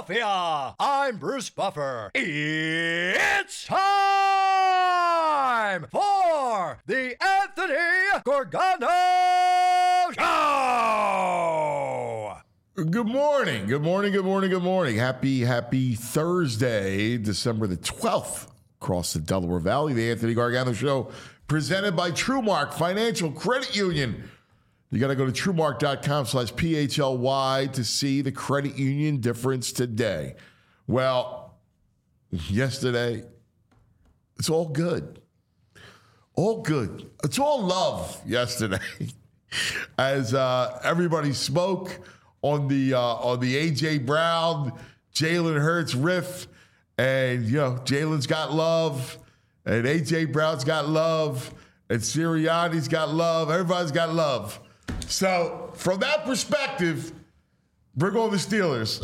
Philadelphia. I'm Bruce Buffer. It's time for the Anthony Gorgano Show. Good morning. Good morning. Good morning. Good morning. Happy Thursday, December the 12th, across the Delaware Valley. The Anthony Gargano Show, presented by TrueMark Financial Credit Union. You got to go to TrueMark.com/PHLY to see the credit union difference today. Well, yesterday, it's all good. All good. It's all love yesterday. As everybody spoke on the A.J. Brown, Jalen Hurts riff, and, Jalen's got love, and A.J. Brown's got love, and Sirianni's got love. Everybody's got love. So, from that perspective, bring on the Steelers.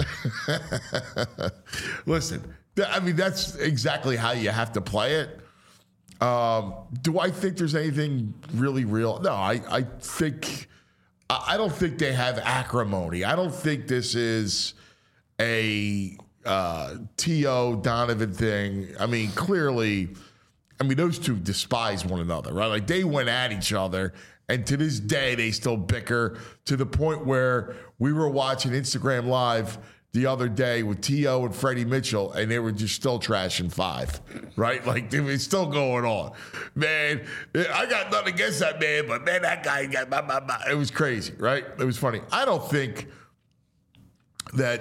Listen, I mean, that's exactly how you have to play it. Do I think there's anything really real? No, I don't think they have acrimony. I don't think this is a T.O. Donovan thing. I mean, clearly, those two despise one another, right? Like, they went at each other. And to this day, they still bicker to the point where we were watching Instagram Live the other day with T.O. and Freddie Mitchell, and they were just still trashing Five, right? Like, it was still going on. Man, I got nothing against that man, but man, that guy got blah. It was crazy, right? It was funny. I don't think that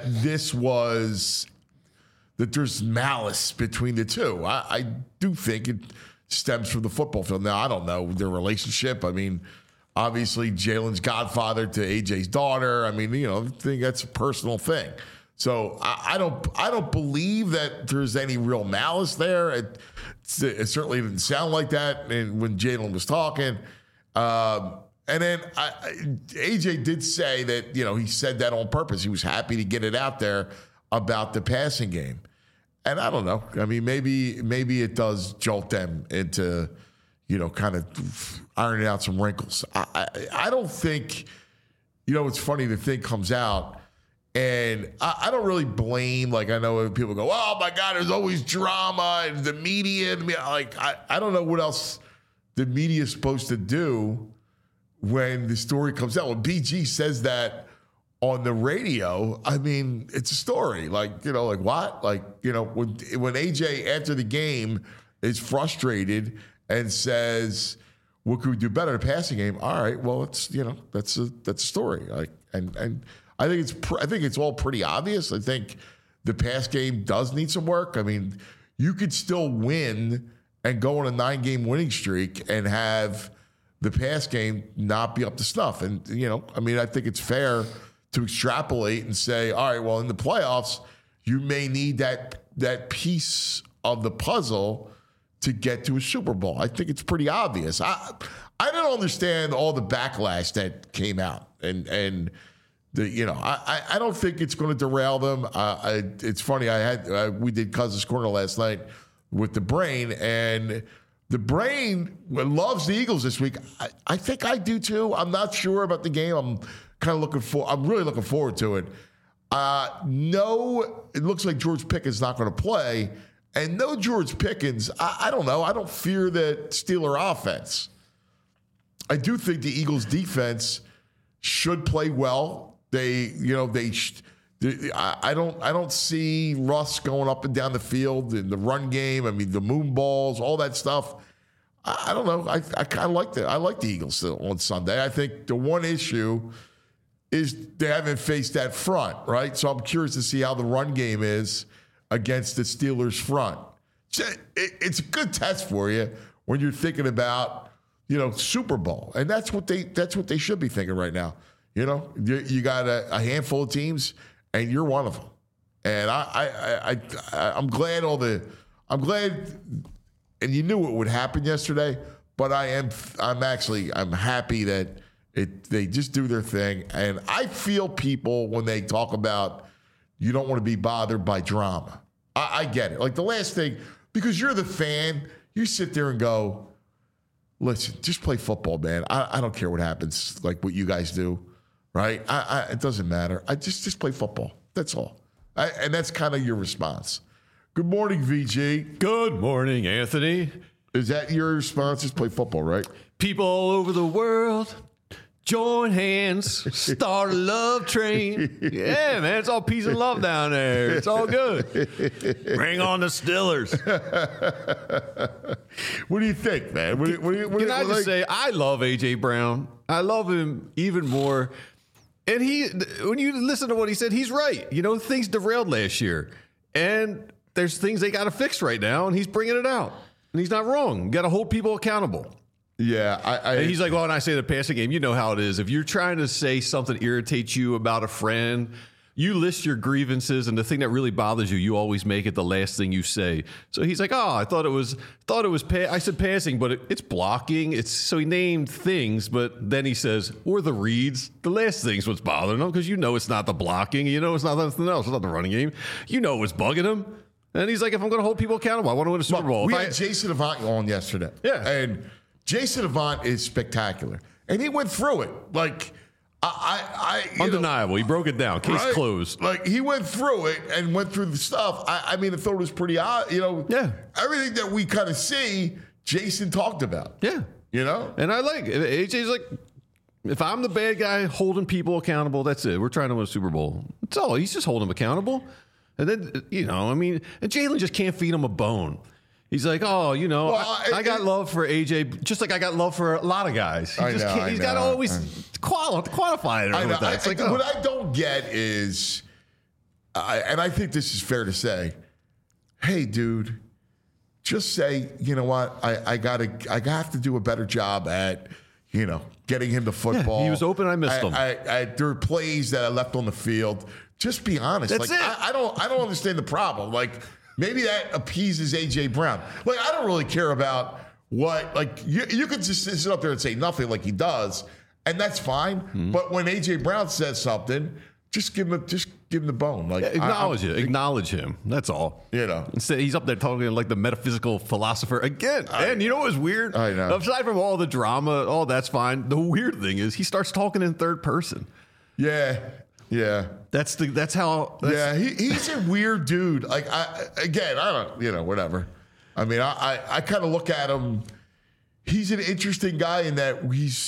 that there's malice between the two. I do think it stems from the football field. Now, I don't know their relationship. Obviously, Jalen's godfather to AJ's daughter. I think that's a personal thing. So I don't believe that there's any real malice there. It certainly didn't sound like that when Jalen was talking. And then AJ did say that, he said that on purpose. He was happy to get it out there about the passing game. And I don't know. Maybe it does jolt them into, kind of ironing out some wrinkles. I don't think, it's funny, the thing comes out, and I don't really blame, I know people go, oh my God, there's always drama and the media. I don't know what else the media is supposed to do when the story comes out. When BG says that on the radio, it's a story. What? When AJ after the game is frustrated and says, "What could we do better in the passing game?" All right, well, it's that's a story. And I think it's all pretty obvious. I think the pass game does need some work. You could still win and go on a 9-game winning streak and have the pass game not be up to snuff. And I think it's fair to extrapolate and say, all right, well, in the playoffs, you may need that piece of the puzzle to get to a Super Bowl. I think it's pretty obvious. I don't understand all the backlash that came out, and I don't think it's going to derail them. It's funny. We did Cousins Corner last night with the Brain, and the Brain loves the Eagles this week. I think I do too. I'm not sure about the game. I'm really looking forward to it. No, it looks like George Pickens not going to play. And no George Pickens, I don't know. I don't fear the Steeler offense. I do think the Eagles defense should play well. I don't see Russ going up and down the field in the run game. The moon balls, all that stuff. I don't know. I kind of like that. I like the Eagles on Sunday. I think the one issue is they haven't faced that front, right? So I'm curious to see how the run game is against the Steelers front. It's a good test for you when you're thinking about, Super Bowl. And that's what they should be thinking right now. You got a handful of teams, and you're one of them. And I'm glad and you knew what would happen yesterday, but I'm happy that they just do their thing. And I feel people when they talk about you don't want to be bothered by drama. I get it. Like the last thing, because you're the fan, you sit there and go, listen, just play football, man. I don't care what happens, like what you guys do, right? It doesn't matter. I just play football. That's all. And that's kind of your response. Good morning, VG. Good morning, Anthony. Is that your response? Just play football, right? People all over the world, join hands, start a love train. Yeah, man, it's all peace and love down there. It's all good. Bring on the Stillers. What do you think, man? Can I just say, I love A.J. Brown. I love him even more. And when you listen to what he said, he's right. You know, things derailed last year. And there's things they got to fix right now, and he's bringing it out. And he's not wrong. You got to hold people accountable. Yeah. And he's like, well, when I say the passing game, you know how it is. If you're trying to say something irritates you about a friend, you list your grievances, and the thing that really bothers you, you always make it the last thing you say. So he's like, I thought it was I said passing, but it's blocking. So he named things, but then he says, or the reads. The last thing's what's bothering him, because you know it's not the blocking. You know it's not anything else. It's not the running game. You know what's bugging him. And he's like, if I'm going to hold people accountable, I want to win a Super Bowl. We had Jason Avant on yesterday. Yeah. And Jason Avant is spectacular. And he went through it. Like, undeniable. He broke it down. Case closed. Like, he went through it and went through the stuff. I mean, I thought it was pretty odd. You know, everything that we kind of see, Jason talked about. Yeah. You know? And I like it. AJ's like, if I'm the bad guy holding people accountable, that's it. We're trying to win a Super Bowl. That's all. He's just holding them accountable. And then, you know, I mean, and Jalen just can't feed him a bone. He's like, I got love for AJ, just like I got love for a lot of guys. He's got to always quantify it. What I don't get is, and I think this is fair to say, hey, dude, just say, you know what, I have to do a better job at, you know, getting him the football. Yeah, he was open. I missed him. There are plays that I left on the field. Just be honest. That's it. I don't understand the problem. Like, maybe that appeases A.J. Brown. Like, I don't really care about what, like, you could just sit up there and say nothing like he does, and that's fine. Mm-hmm. But when A.J. Brown says something, just give him the bone. Like, acknowledge him. That's all. You know. Instead, he's up there talking like the metaphysical philosopher again. And you know what was weird? I know. Aside from all the drama, all that's fine. The weird thing is he starts talking in third person. Yeah. That's how. He's a weird dude. Like, I don't, you know, whatever. I mean, I kind of look at him. He's an interesting guy in that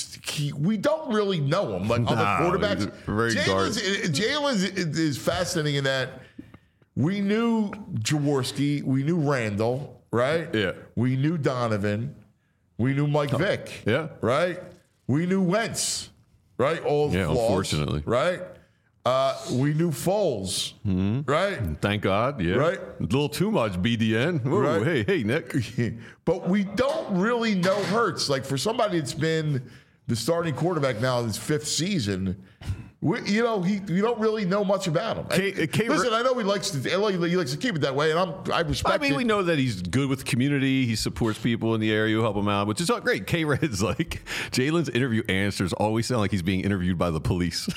we don't really know him like other quarterbacks. Jalen is fascinating in that we knew Jaworski, we knew Randall, right? Yeah. We knew Donovan, we knew Mike Vick, right? We knew Wentz, right? All the flaws, unfortunately, right? We knew Foles, right? Thank God, right? A little too much BDN. Ooh, right? Hey, Nick. But we don't really know Hurts. Like, for somebody that's been the starting quarterback now in his fifth season, we don't really know much about him. Listen, I know he likes to keep it that way, and I respect it. I mean, we know that he's good with the community. He supports people in the area who help him out, which is all great. K-Red's like, Jalen's interview answers always sound like he's being interviewed by the police.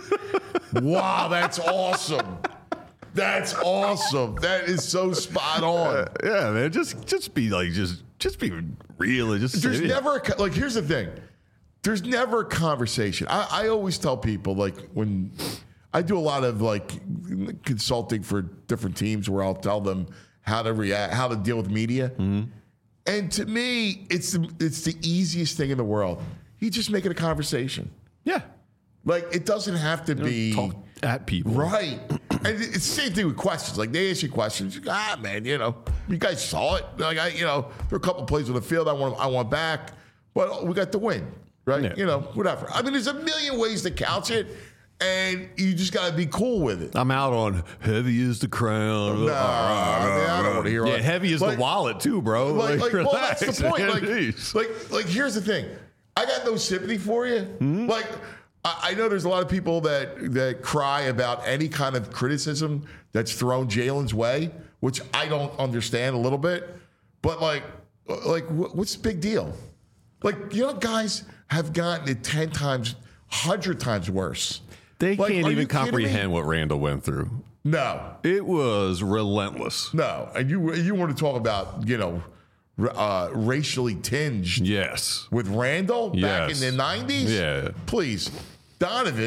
Wow, that's awesome. That's awesome. That is so spot on. Yeah, man. Just be like, just be real. And just there's never like. Here's the thing. There's never a conversation. I always tell people, like, when I do a lot of like consulting for different teams, where I'll tell them how to react, how to deal with media. Mm-hmm. And to me, it's the easiest thing in the world. You just make it a conversation. Yeah. Like, it doesn't have to be talk at people, right? And it's the same thing with questions. Like, they ask you questions. Man, you know, you guys saw it. Like, there are a couple plays on the field I want back, but we got the win, right? Yeah. You know, whatever. I mean, there's a million ways to couch it, and you just got to be cool with it. I'm out on heavy is the crown. I don't want to hear. Yeah, heavy is the wallet too, bro. Well, that's the point. Like, here's the thing. I got no sympathy for you. Mm-hmm. Like, I know there's a lot of people that cry about any kind of criticism that's thrown Jalen's way, which I don't understand a little bit. But like what's the big deal? Like, you know, guys have gotten it 10 times, 100 times worse. They can't even comprehend what Randall went through. No, it was relentless. No, and you want to talk about, you know, racially tinged? Yes, with Randall back in the 90s. Yeah, please. Donovan,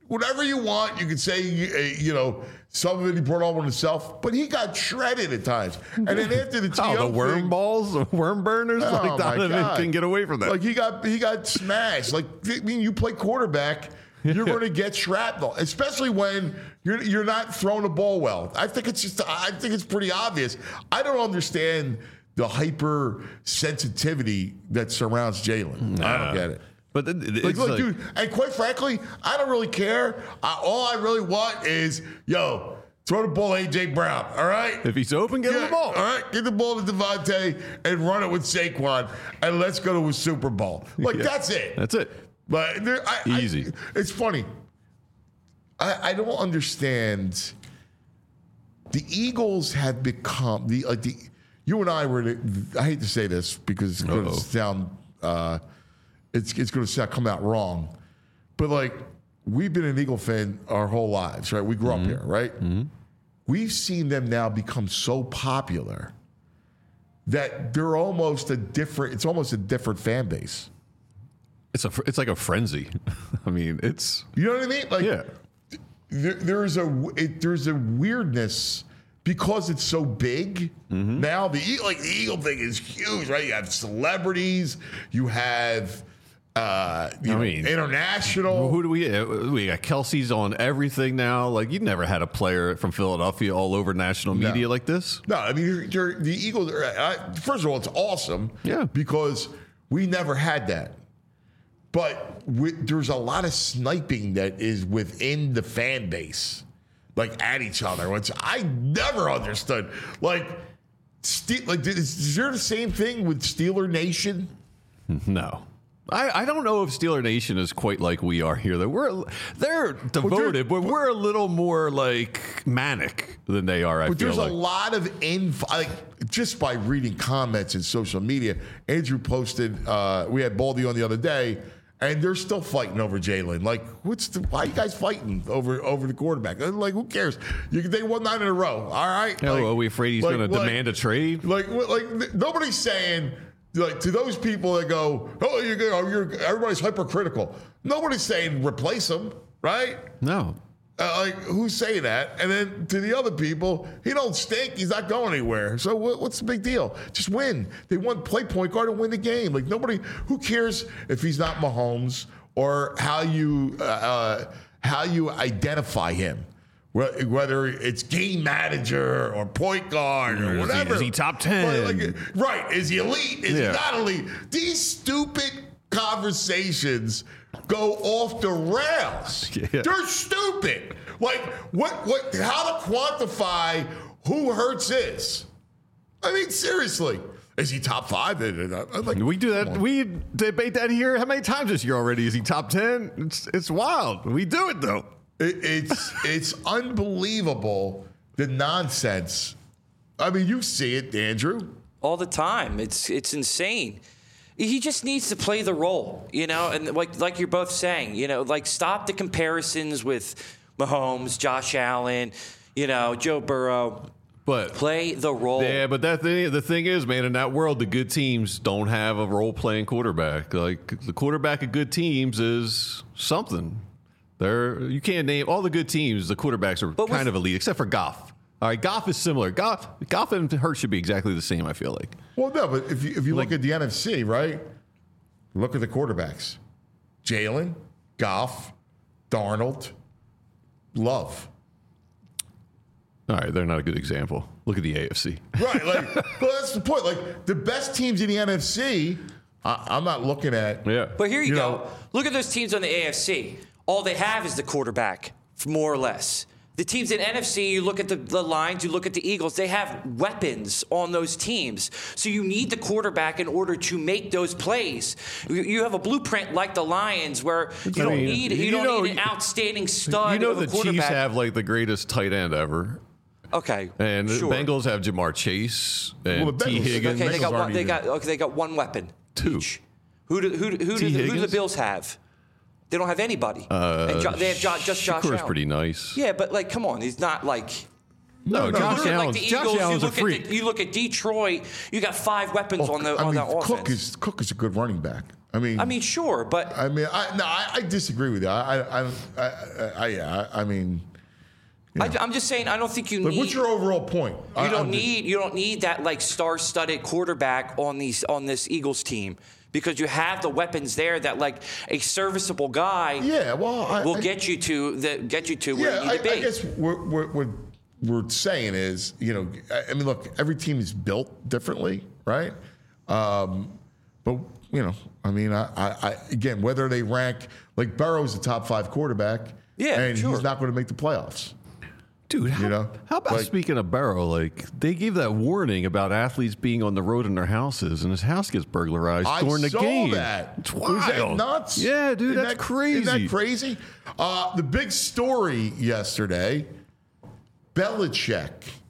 whatever you want. You can say, some of it he brought on himself, but he got shredded at times. And then after the TO the worm thing, balls, the worm burners, like Donovan can get away from that. Like he got smashed. Like, I mean, you play quarterback, you're going to get shrapnel, especially when you're not throwing the ball well. I think it's pretty obvious. I don't understand the hypersensitivity that surrounds Jalen. I don't get it. But look, dude, and quite frankly, I don't really care. All I really want is, throw the ball to A.J. Brown, all right? If he's open, get him the ball. All right, get the ball to Devontae and run it with Saquon, and let's go to a Super Bowl. That's it. That's it. But easy. It's funny. I don't understand. The Eagles have become you and I were. I hate to say this because it's going to sound. It's going to come out wrong, but we've been an Eagle fan our whole lives, right? We grew up here, right? Mm-hmm. We've seen them now become so popular that they're almost it's almost a different fan base. It's like a frenzy. I mean, you know what I mean? Yeah. There's a weirdness because it's so big. Mm-hmm. Now the Eagle thing is huge, right? You have celebrities, you have international. Who do we got? Kelsey's on everything now. You never had a player from Philadelphia all over national media like this. No, I mean the Eagles. First of all, it's awesome. Yeah, because we never had that. But there's a lot of sniping that is within the fan base, at each other, which I never understood. Is there the same thing with Steeler Nation? No. I don't know if Steeler Nation is quite like we are here. They're devoted, but we're a little more manic than they are. But there's a lot of just by reading comments in social media. Andrew posted, we had Baldy on the other day, and they're still fighting over Jalen. Why are you guys fighting over the quarterback? Who cares? They won 9 in a row. All right. Are we afraid he's going to demand a trade? Nobody's saying. To those people that go, everybody's hypercritical. Nobody's saying replace him, right? No. Who's saying that? And then to the other people, he don't stink. He's not going anywhere. So what's the big deal? Just win. They want play point guard and win the game. Nobody. Who cares if he's not Mahomes or how you identify him? Whether it's game manager or point guard or whatever. Is he top 10? Right. Is he elite? Is he not elite? These stupid conversations go off the rails. Yeah. They're stupid. How to quantify who Hurts is? I mean, seriously. Is he top 5? We do that. We debate that here how many times this year already? Is he top 10? It's wild. We do it, though. It's unbelievable, the nonsense. I mean, you see it, Andrew. All the time. It's insane. He just needs to play the role, and like you're both saying, stop the comparisons with Mahomes, Josh Allen, Joe Burrow. But play the role. Yeah, but the thing is, man, in that world, the good teams don't have a role-playing quarterback. The quarterback of good teams is something. You can't name all the good teams. The quarterbacks are kind of elite, except for Goff. All right, Goff is similar. Goff and Hurts should be exactly the same, I feel like. Well, no, but if you look at the NFC, right? Look at the quarterbacks: Jalen, Goff, Darnold, Love. All right, they're not a good example. Look at the AFC. Right, well, that's the point. The best teams in the NFC, I'm not looking at. Yeah, but here you go. Look at those teams on the AFC. All they have is the quarterback, more or less. The teams in NFC, you look at the Lions, you look at the Eagles, they have weapons on those teams. So you need the quarterback in order to make those plays. You have a blueprint like the Lions where you don't need an outstanding stud. The Chiefs have the greatest tight end ever. Okay, and the Bengals have Jamar Chase and T. Higgins. Okay, they got one weapon. 2. Each. Who do the Bills have? They don't have anybody. They have just Josh Allen. Pretty nice. Yeah, but come on, he's not No, Josh Allen's, Josh Allen's a freak. You look at Detroit, you got 5 weapons on that offense. Cook is a good running back. I mean, sure, but I disagree with you. I'm just saying I don't think you like, need. what's your overall point? You don't need that like star-studded quarterback on this Eagles team because you have the weapons there that like a serviceable guy. Yeah, well, will get you to where you need to be. I guess what we're saying is, I mean, look, every team is built differently, right? But I mean, I again, whether they rank like Burrow's a top 5 quarterback, and he's not going to make the playoffs. Dude, how about speaking of Burrow? Like, they gave that warning about athletes being on the road in their houses, and his house gets burglarized during the game. That. It's wild. Was that nuts? Yeah, dude, that's crazy. Isn't that crazy? The big story yesterday, Belichick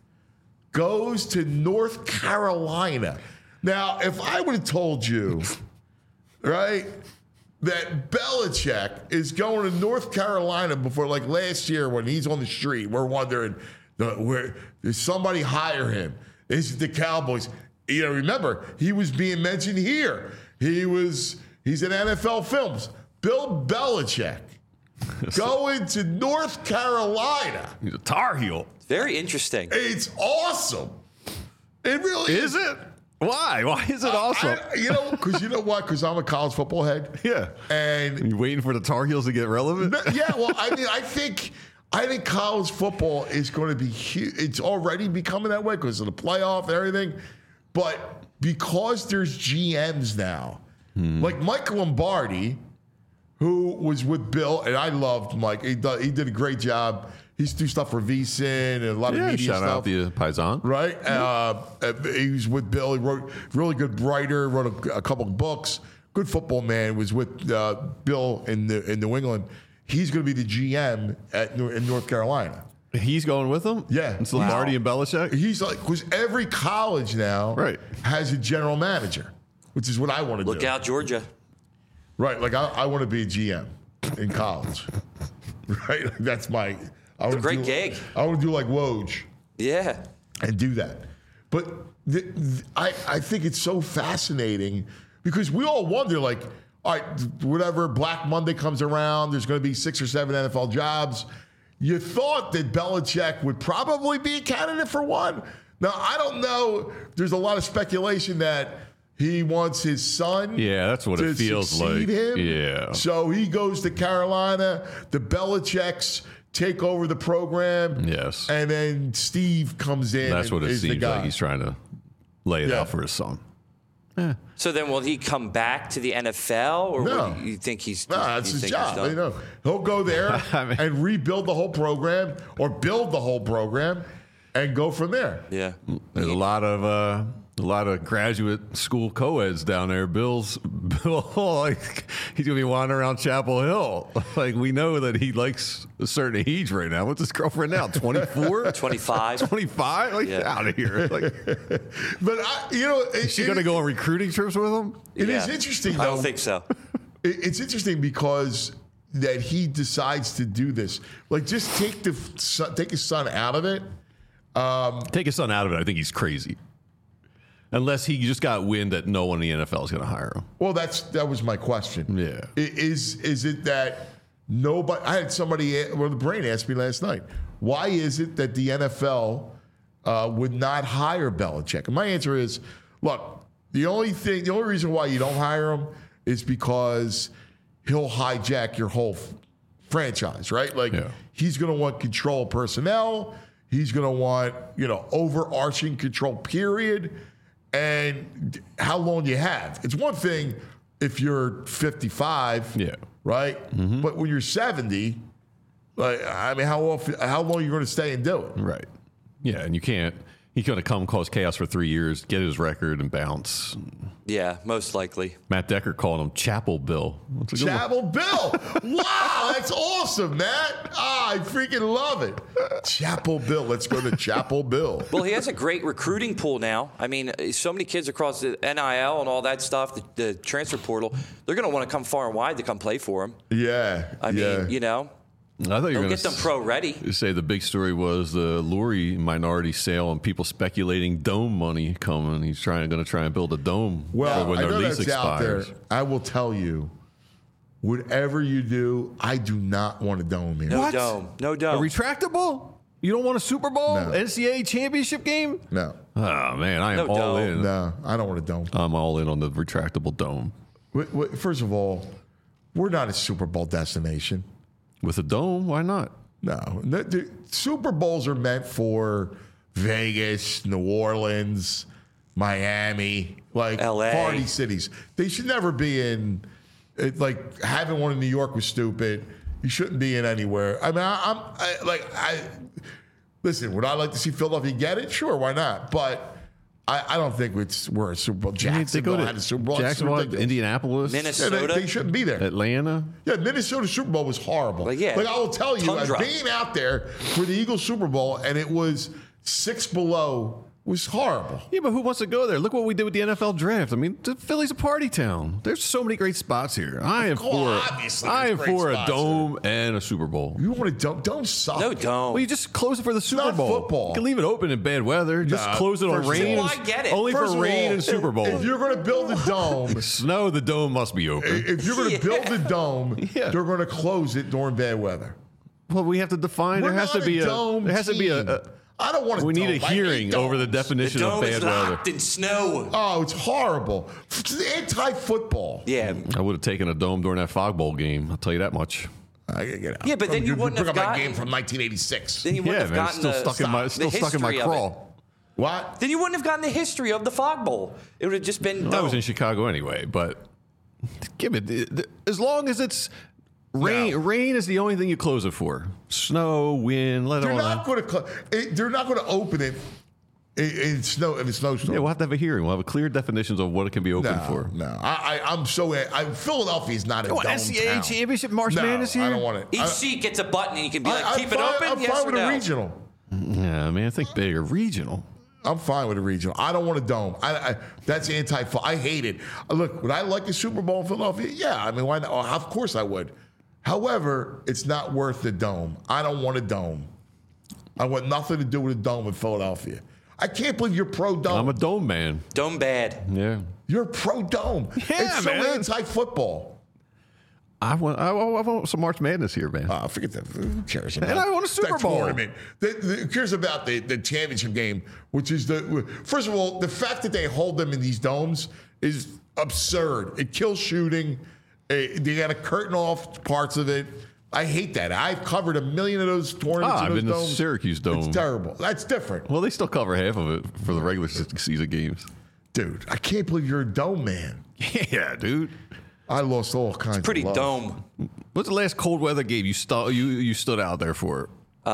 goes to North Carolina. Now, if I would have told you, right, that Belichick is going to North Carolina before, like last year when he's on the street, we're wondering, did somebody hire him? Is it the Cowboys? Remember, he was being mentioned here. He's in NFL films. Bill Belichick going to North Carolina. He's a Tar Heel. Very interesting. It's awesome. It really is. Is it? Why? Why is it awesome? Because you know what? Because I'm a college football head. Yeah. And you waiting for the Tar Heels to get relevant? Yeah. Well, I mean, I think college football is going to be huge. It's already becoming that way because of the playoff and everything. But because there's GMs now, like Mike Lombardi, who was with Bill, and I loved Mike. He did a great job. He used to do stuff for VSiN and a lot of media shout stuff. out the Paisan. Right? He was with Bill. He wrote really good writer, wrote a couple of books. Good football man. Was with Bill in New England. He's going to be the GM in North Carolina. He's going with them? Yeah. It's Lombardi and Belichick? He's like, because every college now has a general manager, which is what I want to do. Look out, Georgia. Right. Like, I want to be a GM in college. Right? Like, that's my... It's a great gig. I would do like Woj. Yeah. And do that. But I think it's so fascinating because we all wonder, like, all right, whatever, Black Monday comes around, there's going to be 6 or 7 NFL jobs. You thought that Belichick would probably be a candidate for one. Now, I don't know. There's a lot of speculation that he wants his son that's what it feels like. Him. Yeah. So he goes to Carolina. The Belichicks take over the program. Yes. And then Steve comes in. That's what it seems like. He's trying to lay it out for his son. Yeah. So then will he come back to the NFL or No. you think he's No, that's his job. done? He'll go there and rebuild the whole program or build the whole program and go from there. Yeah. There's a lot of graduate school co-eds down there. Bill, like, he's gonna be wandering around Chapel Hill. Like, we know that he likes a certain age right now. What's his girlfriend now? 24? 25. 25? Like, out of here. Like, But is she gonna go on recruiting trips with him? It is interesting, though. I don't think so. It's interesting because that he decides to do this. Like, just take his son out of it. Take his son out of it. I think he's crazy. Unless he just got wind that no one in the NFL is going to hire him. Well, that was my question. Yeah. Is it that nobody? I had somebody, the brain asked me last night, why is it that the NFL would not hire Belichick? And my answer is, look, the only reason why you don't hire him is because he'll hijack your whole franchise, right? Like, he's going to want control of personnel. He's going to want, overarching control, period. And how long you have. It's one thing if you're 55, right? Mm-hmm. But when you're 70, like, I mean, how long are you going to stay and do it? Right. Yeah, and you can't. He's going to come cause chaos for 3 years, get his record, and bounce. Yeah, most likely. Matt Decker called him Chapel Bill. Chapel Bill. Wow, that's awesome, Matt. I freaking love it. Chapel Bill. Let's go to Chapel Bill. Well, he has a great recruiting pool now. I mean, so many kids across the NIL and all that stuff, the transfer portal, they're going to want to come far and wide to come play for him. Yeah. I mean, I thought you were They'll going get them pro ready. to say the big story was the Lurie minority sale and people speculating dome money coming. He's going to try and build a dome Well, when I their know lease that's out there. expires. I will tell you, whatever you do, I do not want a dome here. No What? dome. No A dome. retractable? You don't want a Super Bowl? No. NCAA championship game? No, Oh, man, I am No all dome. in. no, I don't want a dome. I'm all in on the retractable dome. First of all, we're not a Super Bowl destination. With a dome, why not? No, the Super Bowls are meant for Vegas, New Orleans, Miami, like LA. party cities. They should never be in. Like having one in New York was stupid. You shouldn't be in anywhere. I mean, listen. Would I like to see Philadelphia get it? Sure, why not? But I don't think we're a Super Bowl. They go Jacksonville to had a Super Bowl. It's Jacksonville, ridiculous. Indianapolis, Yeah, Minnesota. they shouldn't be there. Atlanta. Yeah, Minnesota Super Bowl was horrible. Like, yeah, like I will tell you, tundra. being out there for the Eagles Super Bowl and it was 6 below was horrible. Yeah, but who wants to go there? Look what we did with the NFL draft. I mean, Philly's a party town. There's so many great spots here. I am obviously there's great for a spots dome and a Super Bowl. You want to don't suck. No dome. Well, you just close it for the Super not Bowl. football. You can leave it open in bad weather. Just Nah, close it on first of rain. all- Oh, I get it. Only First for of rain all, and Super Bowl. If you're going to build a dome, Snow, the dome must be open. if you're going to build a dome, Yeah. they're going to close it during bad weather. Well, we have to define. We're There has not to be a. dome There has to be team. a. I don't want to. We need a hearing over the The definition of dome is bad weather. locked in snow. Oh, it's horrible. It's anti-football. Yeah. I would have taken a dome during that Fog Bowl game. I'll tell you that much. I gotta get out. Yeah, but then you wouldn't bring have up my gotten- game from 1986. Then you wouldn't Yeah, have man, gotten still the, stuck in my the still stuck in my history of it. crawl. What? Then you wouldn't have gotten the history of the Fog Bowl. It would have just been. I was dome. in Chicago anyway, but give it as long as it's rain. No. Rain is the only thing you close it for. Snow, wind, let it They're all not out. going to. They're not going to open it in snow in a snowstorm. Yeah, we'll have to have a hearing. We'll have clear definitions of what it can be open for. No, I'm so. Philadelphia's not a dome NCAA town. championship March No, Madness here. I don't want it. Each seat gets a button, and you can be like, I'm keep it fine- open, I'm yes fine or with no. a regional. Yeah, man, think bigger. Regional. I'm fine with a regional. I don't want a dome. That's anti. I hate it. Look, would I like the Super Bowl in Philadelphia? Yeah, I mean, why not? Oh, of course I would. However, it's not worth the dome. I don't want a dome. I want nothing to do with a dome in Philadelphia. I can't believe you're pro dome. I'm a dome man. Dome bad. Yeah. You're pro dome. Yeah, it's so man. anti-football. I want some March Madness here, man. Forget that. Who cares about And I want a Super that Bowl. tournament? Who cares about the championship game, which is first of all, the fact that they hold them in these domes is absurd. It kills shooting. They got to curtain off parts of it. I hate that. I've covered a million of those tournaments. I've in those been to domes. Syracuse Dome. It's terrible. That's different. Well, they still cover half of it for the regular season games. Dude, I can't believe you're a dome man. Yeah, dude. I lost all kinds Pretty of love. dome. What's the last cold weather game you stood out there for?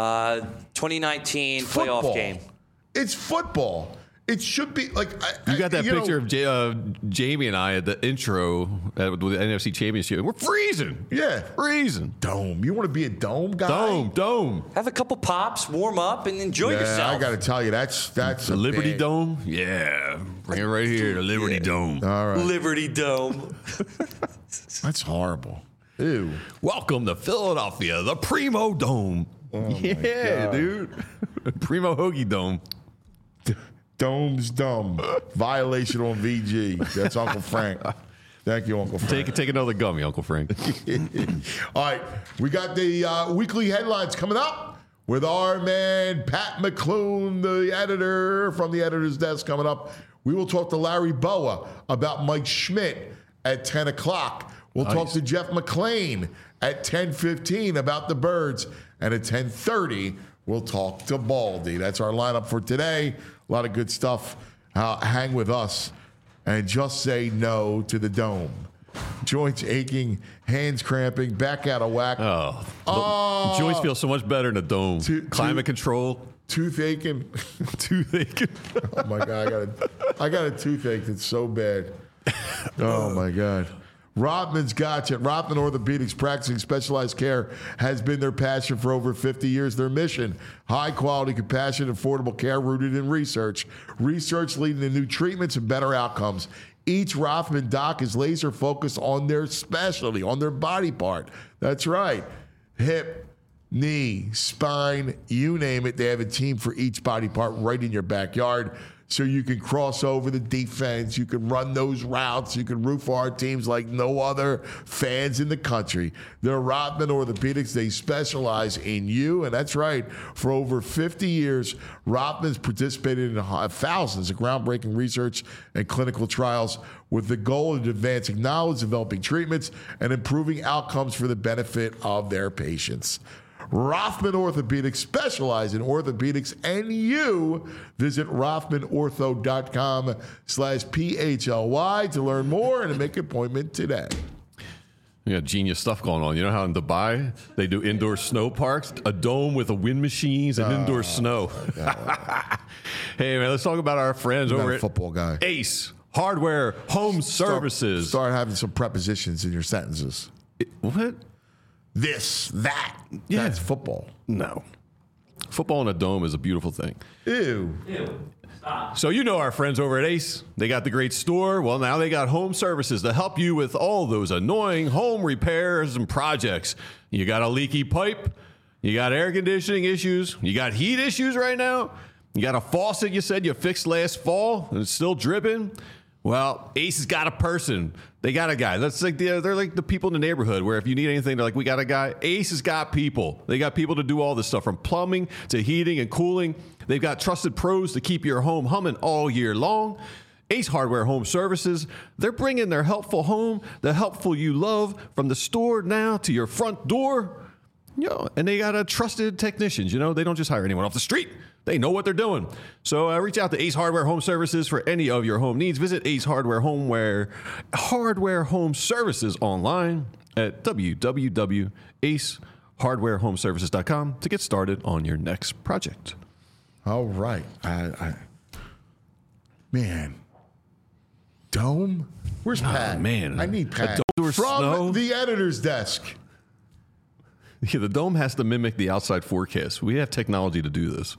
2019 Football. playoff game. It's football. It should be like You got that you picture know, of Jamie and I at the intro with the NFC Championship. And we're freezing. Yeah. Freezing. Dome. You want to be a dome guy? Dome. Have a couple pops, warm up, and enjoy Yeah, yourself. I got to tell you, that's The a Liberty big- Dome? Yeah. Bring it right here, the Liberty Dome. All right, Liberty Dome. that's horrible. Ew. Welcome to Philadelphia, the Primo Dome. Yeah, God. dude. Primo Hoagie Dome. Dome's dumb. Violation on VG. That's Uncle Frank. Thank you, Uncle Frank. Take another gummy, Uncle Frank. All right, we got the weekly headlines coming up with our man Pat McClune, the editor from the editor's desk, coming up. We will talk to Larry Boa about Mike Schmidt at 10 o'clock. We'll talk to Jeff McClain at 10:15 about the Birds. And at 10:30, we'll talk to Baldy. That's our lineup for today. A lot of good stuff. Hang with us and just say no to the dome. Joints aching, hands cramping, back out of whack. Oh, joints feel so much better in a dome. Climate control. Tooth aching. Toothache. Oh my God, I got a toothache that's so bad. Oh my God. Rodman's got you. Rodman Orthopedics, practicing specialized care, has been their passion for over 50 years. Their mission: high quality, compassionate, affordable care rooted in research. Research leading to new treatments and better outcomes. Each Rothman doc is laser focused on their specialty, on their body part. That's right. Hip, knee, spine, you name it. They have a team for each body part right in your backyard. So you can cross over the defense. You can run those routes. You can root for our teams like no other fans in the country. They're Rothman Orthopedics. They specialize in you. And that's right. For over 50 years, Rothman's participated in thousands of groundbreaking research and clinical trials with the goal of advancing knowledge, developing treatments, and improving outcomes for the benefit of their patients. Rothman Orthopedics specialize in orthopedics and you. Visit rothmanortho.com/PHLY to learn more and to make an appointment today. You got genius stuff going on. You know how in Dubai they do indoor snow parks, a dome with a wind machines and indoor snow. Hey man, let's talk about our friends over at football guy. Ace Hardware Home Services. Start having some prepositions in your sentences. What? This, that. Yeah. That's football. No. Football in a dome is a beautiful thing. Ew. So you know our friends over at Ace. They got the great store. Well, now they got home services to help you with all those annoying home repairs and projects. You got a leaky pipe. You got air conditioning issues. You got heat issues right now. You got a faucet you said you fixed last fall and it's still dripping. Well, Ace has got a person. They got a guy. That's like they're like the people in the neighborhood where if you need anything, they're like, we got a guy. Ace has got people. They got people to do all this stuff from plumbing to heating and cooling. They've got trusted pros to keep your home humming all year long. Ace Hardware Home Services, they're bringing their helpful home, the helpful you love, from the store now to your front door. You know, and they got trusted technicians. You know, they don't just hire anyone off the street. They know what they're doing. So reach out to Ace Hardware Home Services for any of your home needs. Visit Ace Hardware Home Services online at www.acehardwarehomeservices.com to get started on your next project. All right. Man. Dome? Where's Pat? Man. I need Pat. From From the editor's desk. Yeah, the dome has to mimic the outside forecast. We have technology to do this.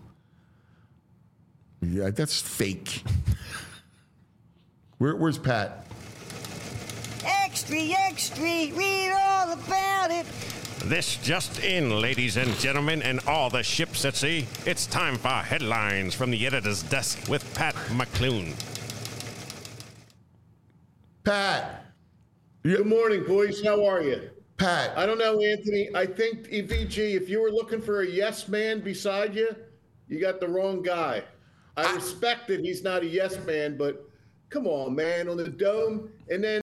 Yeah, that's fake. Where's Pat? Extra, extra, read all about it. This just in, ladies and gentlemen, and all the ships at sea. It's time for headlines from the editor's desk with Pat McClune. Pat. Good morning, boys. How are you? Pat. I don't know, Anthony. I think, EVG, if you were looking for a yes man beside you, you got the wrong guy. I respect that he's not a yes man, but come on, man, on the dome. And then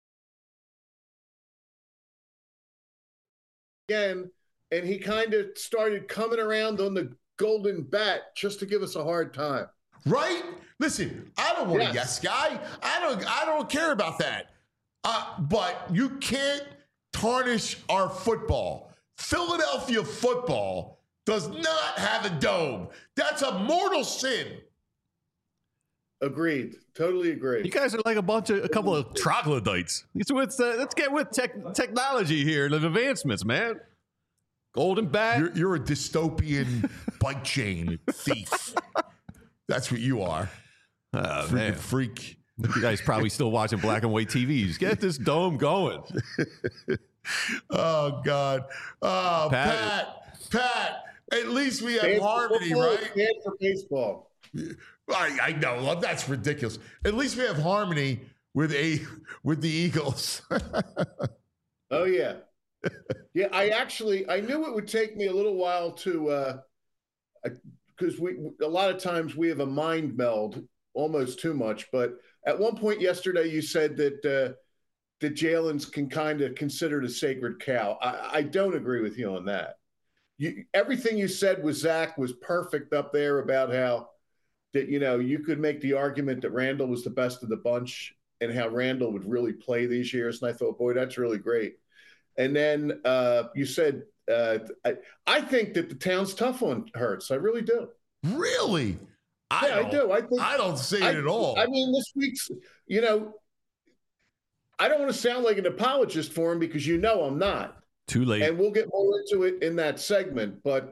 again, and he kind of started coming around on the golden bat just to give us a hard time. Right? Listen, I don't want Yes. a yes guy. I don't care about that. But you can't tarnish our football. Philadelphia football does not have a dome. That's a mortal sin. Agreed. Totally agree. You guys are like a couple of troglodytes. Let's get with technology here and advancements, man. Golden bat. You're a dystopian bike chain thief. That's what you are. Man. Freak. You guys probably still watching black and white TVs. Get this dome going. Oh, God. Oh, Pat. At least we have Stand for harmony, football, right? stand for baseball. I know. That's ridiculous. At least we have harmony with the Eagles. Oh, yeah. Yeah, I knew it would take me a little while to, because a lot of times we have a mind meld, almost too much. But at one point yesterday, you said that Jalen's can kind of considered a sacred cow. I don't agree with you on that. Everything you said with Zach was perfect up there about how that, you could make the argument that Randall was the best of the bunch and how Randall would really play these years. And I thought, boy, that's really great. And then you said, I think that the town's tough on Hurts. I really do. Really? I do. I don't see it at all. I mean, this week's, I don't want to sound like an apologist for him because I'm not. Too late. And we'll get more into it in that segment. But,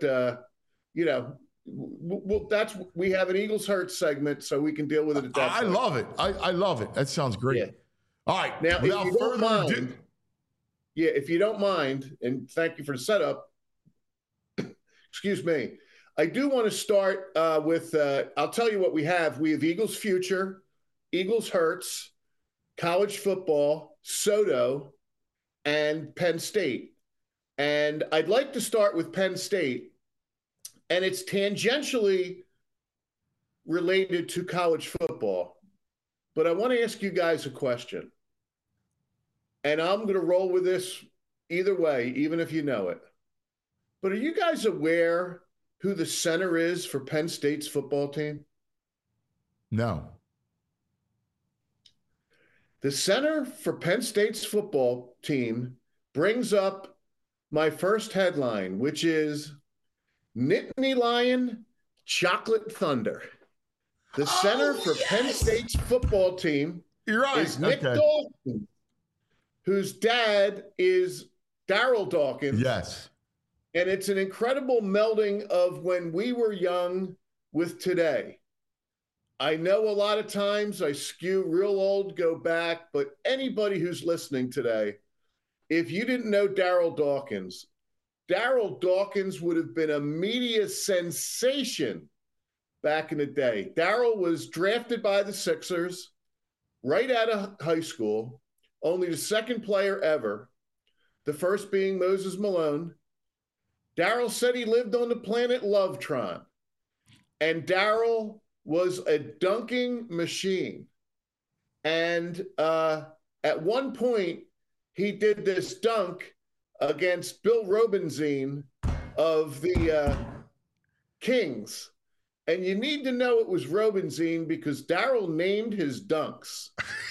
we have an Eagles Hurts segment, so we can deal with it at that point. love it. I love it. That sounds great. Yeah. All right. Now, without further ado, if you don't mind, and thank you for the setup, Excuse me. I do want to start with, I'll tell you what we have. We have Eagles Future, Eagles Hurts, college football, Soto, and Penn State. And I'd like to start with Penn State. And it's tangentially related to college football. But I want to ask you guys a question. And I'm going to roll with this either way, even if you know it. But are you guys aware who the center is for Penn State's football team? No. The center for Penn State's football team brings up my first headline, which is Nittany Lion, Chocolate Thunder. The center for Penn State's football team is Nick Dawkins, whose dad is Darryl Dawkins. Yes. And it's an incredible melding of when we were young with today. I know a lot of times I skew real old, go back, but anybody who's listening today, if you didn't know Darryl Dawkins would have been a media sensation back in the day. Darryl was drafted by the Sixers right out of high school, only the second player ever, the first being Moses Malone. Darryl said he lived on the planet Lovetron, and Darryl was a dunking machine. And at one point, he did this dunk against Bill Robinzine of the Kings. And you need to know it was Robinzine because Darryl named his dunks.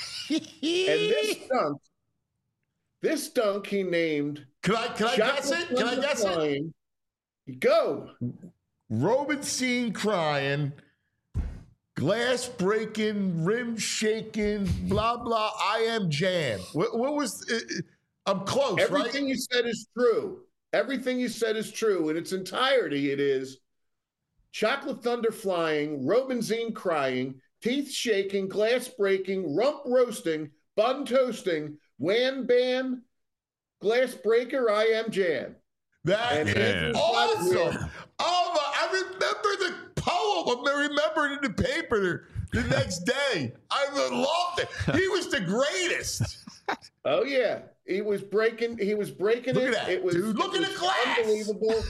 And this dunk he named. Can I guess it? Can I guess it? Go. Robinson crying, glass breaking, rim shaking, blah, blah, I am Jan. What was it? I'm close, Everything right? you said is true. Everything you said is true. In its entirety, it is Chocolate Thunder flying, Robinzine crying, teeth shaking, glass breaking, rump roasting, bun toasting, wham bam, glass breaker, I am Jan. That is awesome. Oh, I remember the poem. I remember it in the paper the next day. I loved it. He was the greatest. Oh yeah, he was breaking. Look it. At that, it was, dude. Look at the glass. Unbelievable.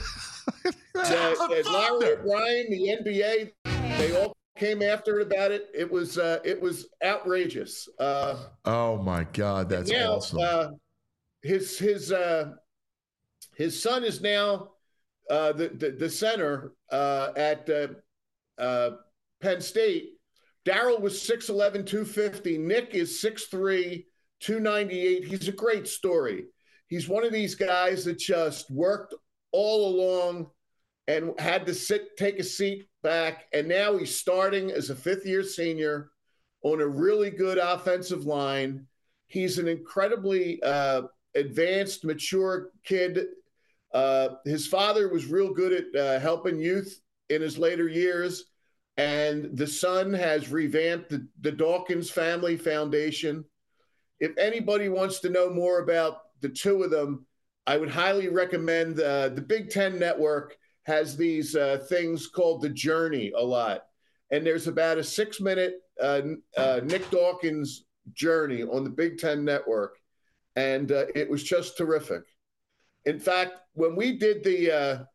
Larry O'Brien, the NBA, they all came after it about it. It was outrageous. Oh my God, that's awesome. His son is now the center at Penn State. Darryl was 6'11", 250. Nick is 6'3", 298. He's a great story. He's one of these guys that just worked all along and had to take a seat back. And now he's starting as a fifth-year senior on a really good offensive line. He's an incredibly advanced, mature kid. His father was real good at helping youth in his later years. And the son has revamped the Dawkins Family Foundation. If anybody wants to know more about the two of them, I would highly recommend the Big Ten Network has these things called The Journey a lot. And there's about a 6-minute Nick Dawkins journey on the Big Ten Network. And it was just terrific. In fact, when we did the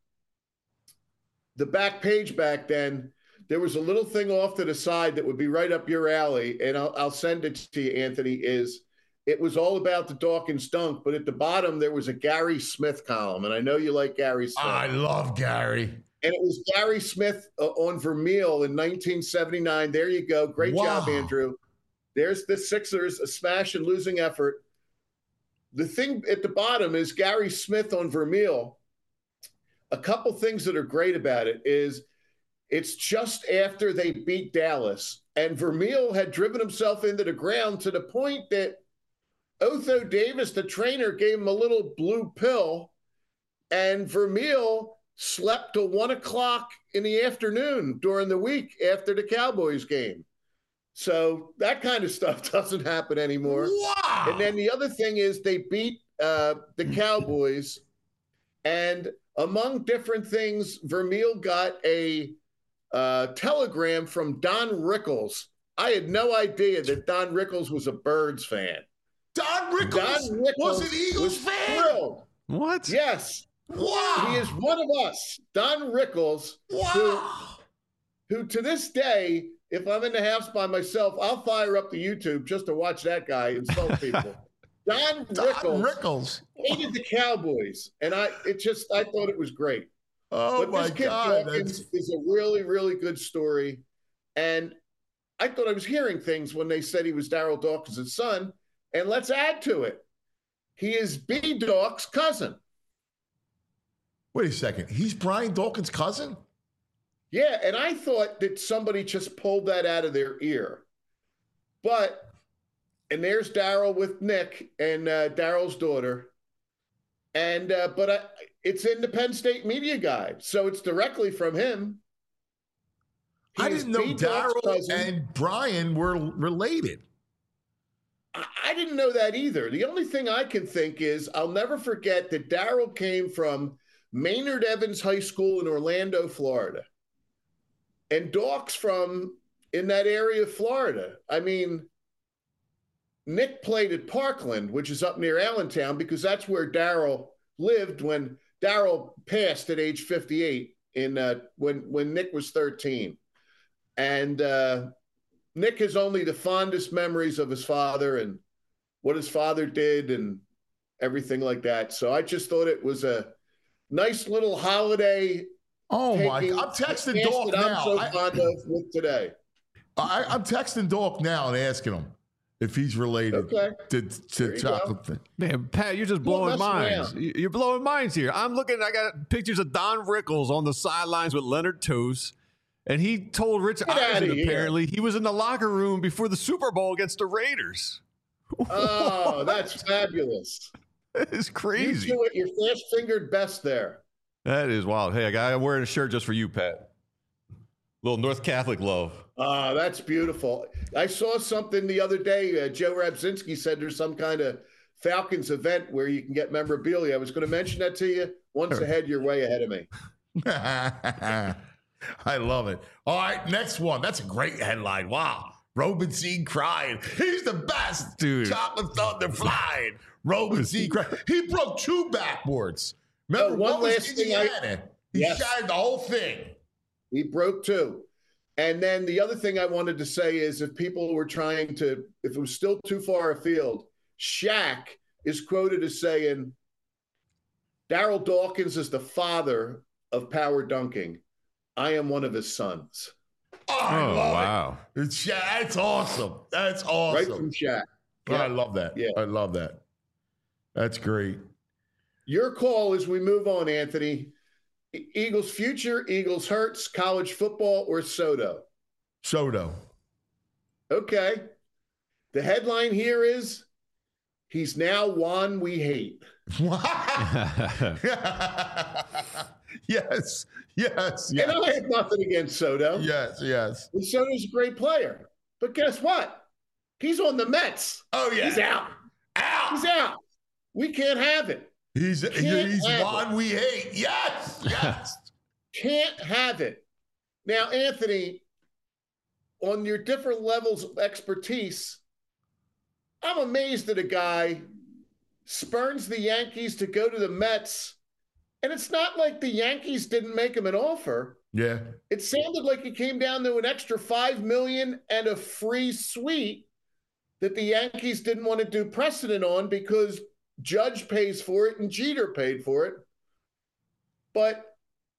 back page back then, there was a little thing off to the side that would be right up your alley, and I'll send it to you, Anthony, it was all about the Dawkins dunk, but at the bottom there was a Gary Smith column, and I know you like Gary Smith. I love Gary. And it was Gary Smith on Vermeil in 1979. There you go. Great job, Andrew. There's the Sixers, a smash and losing effort. The thing at the bottom is Gary Smith on Vermeil. A couple things that are great about it is it's just after they beat Dallas, and Vermeil had driven himself into the ground to the point that Otho Davis, the trainer, gave him a little blue pill, and Vermeil slept till 1 o'clock in the afternoon during the week after the Cowboys game. So that kind of stuff doesn't happen anymore. Wow. And then the other thing is they beat the Cowboys, And among different things, Vermeil got a telegram from Don Rickles. I had no idea that Don Rickles was a Birds fan. Don Rickles was an Eagles fan? Thrilled. What? Yes. Wow. He is one of us. Don Rickles, who to this day, if I'm in the house by myself, I'll fire up the YouTube just to watch that guy insult people. Don Rickles hated the Cowboys, and I thought it was great. Oh, but my this kid God. Dawkins is a really, really good story. And I thought I was hearing things when they said he was Darryl Dawkins' son. And let's add to it. He is B. Dawk's cousin. Wait a second. He's Brian Dawkins' cousin? Yeah, and I thought that somebody just pulled that out of their ear. And there's Darryl with Nick and Darryl's daughter. And it's in the Penn State Media Guide, so it's directly from him. I didn't know Darryl and Brian were related. I didn't know that either. The only thing I can think is I'll never forget that Darryl came from Maynard Evans High School in Orlando, Florida. And Dawk's from in that area of Florida. I mean, Nick played at Parkland, which is up near Allentown, because that's where Darryl lived when Darryl passed at age 58 when Nick was 13. And Nick has only the fondest memories of his father and what his father did and everything like that. So I just thought it was a nice little holiday. Oh, my God. I'm texting Dawk now. I'm so fond of with today. I'm texting Dawk now and asking him if he's related to Chocolate Thing. Man, Pat, you're just blowing minds. You're blowing minds here. I'm looking, I got pictures of Don Rickles on the sidelines with Leonard Toos. And he told Rich Eisen, apparently, he was in the locker room before the Super Bowl against the Raiders. Oh, that's fabulous. That is crazy. You do it your fast-fingered best there. That is wild. Hey, I'm wearing a shirt just for you, Pat. Little North Catholic love. Oh, that's beautiful. I saw something the other day. Joe Rabzinski said there's some kind of Falcons event where you can get memorabilia. I was going to mention that to you. Once ahead, you're way ahead of me. I love it. All right, next one. That's a great headline. Wow. Robinson crying. He's the best. Dude. Chocolate Thunder flying. Robinson crying. He broke 2 backboards. Remember, one last thing He shattered the whole thing. He broke 2. And then the other thing I wanted to say is if people were trying to, if it was still too far afield, Shaq is quoted as saying, Darryl Dawkins is the father of power dunking. I am one of his sons. Oh, wow. That's awesome. That's awesome. Right from Shaq. Yeah. I love that. Yeah. I love that. That's great. Your call as we move on, Anthony. Eagles future, Eagles hurts, college football, or Soto? Soto. Okay. The headline here is, he's now Juan we hate. Yes. And I have nothing against Soto. Yes. And Soto's a great player. But guess what? He's on the Mets. Oh, yeah. He's out. He's out. We can't have it. He's one we hate. Yes. Can't have it. Now, Anthony, on your different levels of expertise, I'm amazed that a guy spurns the Yankees to go to the Mets. And it's not like the Yankees didn't make him an offer. Yeah. It sounded like it came down to an extra $5 million and a free suite that the Yankees didn't want to do precedent on because Judge pays for it and Jeter paid for it. But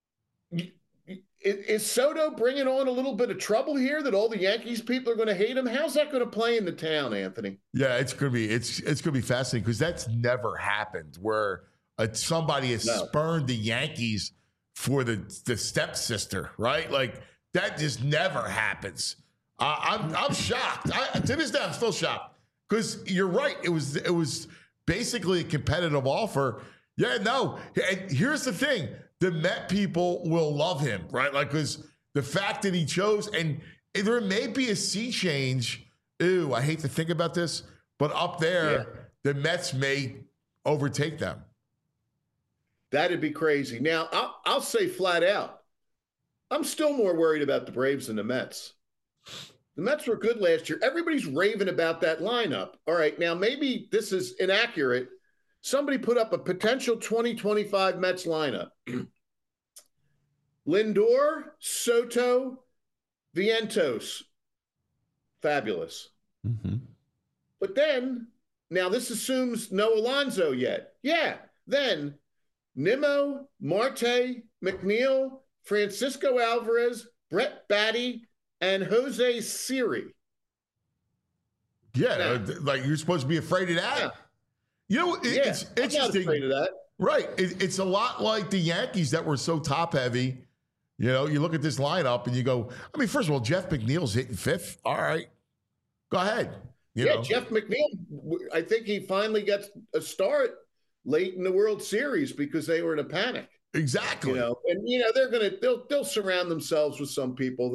is Soto bringing on a little bit of trouble here that all the Yankees people are going to hate him? How's that going to play in the town, Anthony? Yeah, it's going to be fascinating because that's never happened where somebody has spurned the Yankees for the stepsister, right? Like that just never happens. I'm shocked. To this day, I'm still shocked because you're right. It was basically a competitive offer. Yeah, no. And here's the thing: the Met people will love him, right? Like, because the fact that he chose, and there may be a sea change. Ew, I hate to think about this, but up there, the Mets may overtake them. That'd be crazy. Now, I'll say flat out, I'm still more worried about the Braves than the Mets. The Mets were good last year. Everybody's raving about that lineup. All right, now maybe this is inaccurate. Somebody put up a potential 2025 Mets lineup. Lindor, Soto, Vientos. Fabulous. Mm-hmm. But then, now this assumes no Alonso yet. Yeah, then Nimmo, Marte, McNeil, Francisco Alvarez, Brett Batty, and Jose Siri. Yeah, like you're supposed to be afraid of that. Yeah. You know, it's I'm interesting. not afraid of that. Right. It's a lot like the Yankees that were so top heavy. You know, you look at this lineup and you go, I mean, first of all, Jeff McNeil's hitting fifth. All right. Go ahead. You know. Jeff McNeil, I think he finally gets a start late in the World Series because they were in a panic. Exactly. You know, and they'll surround themselves with some people.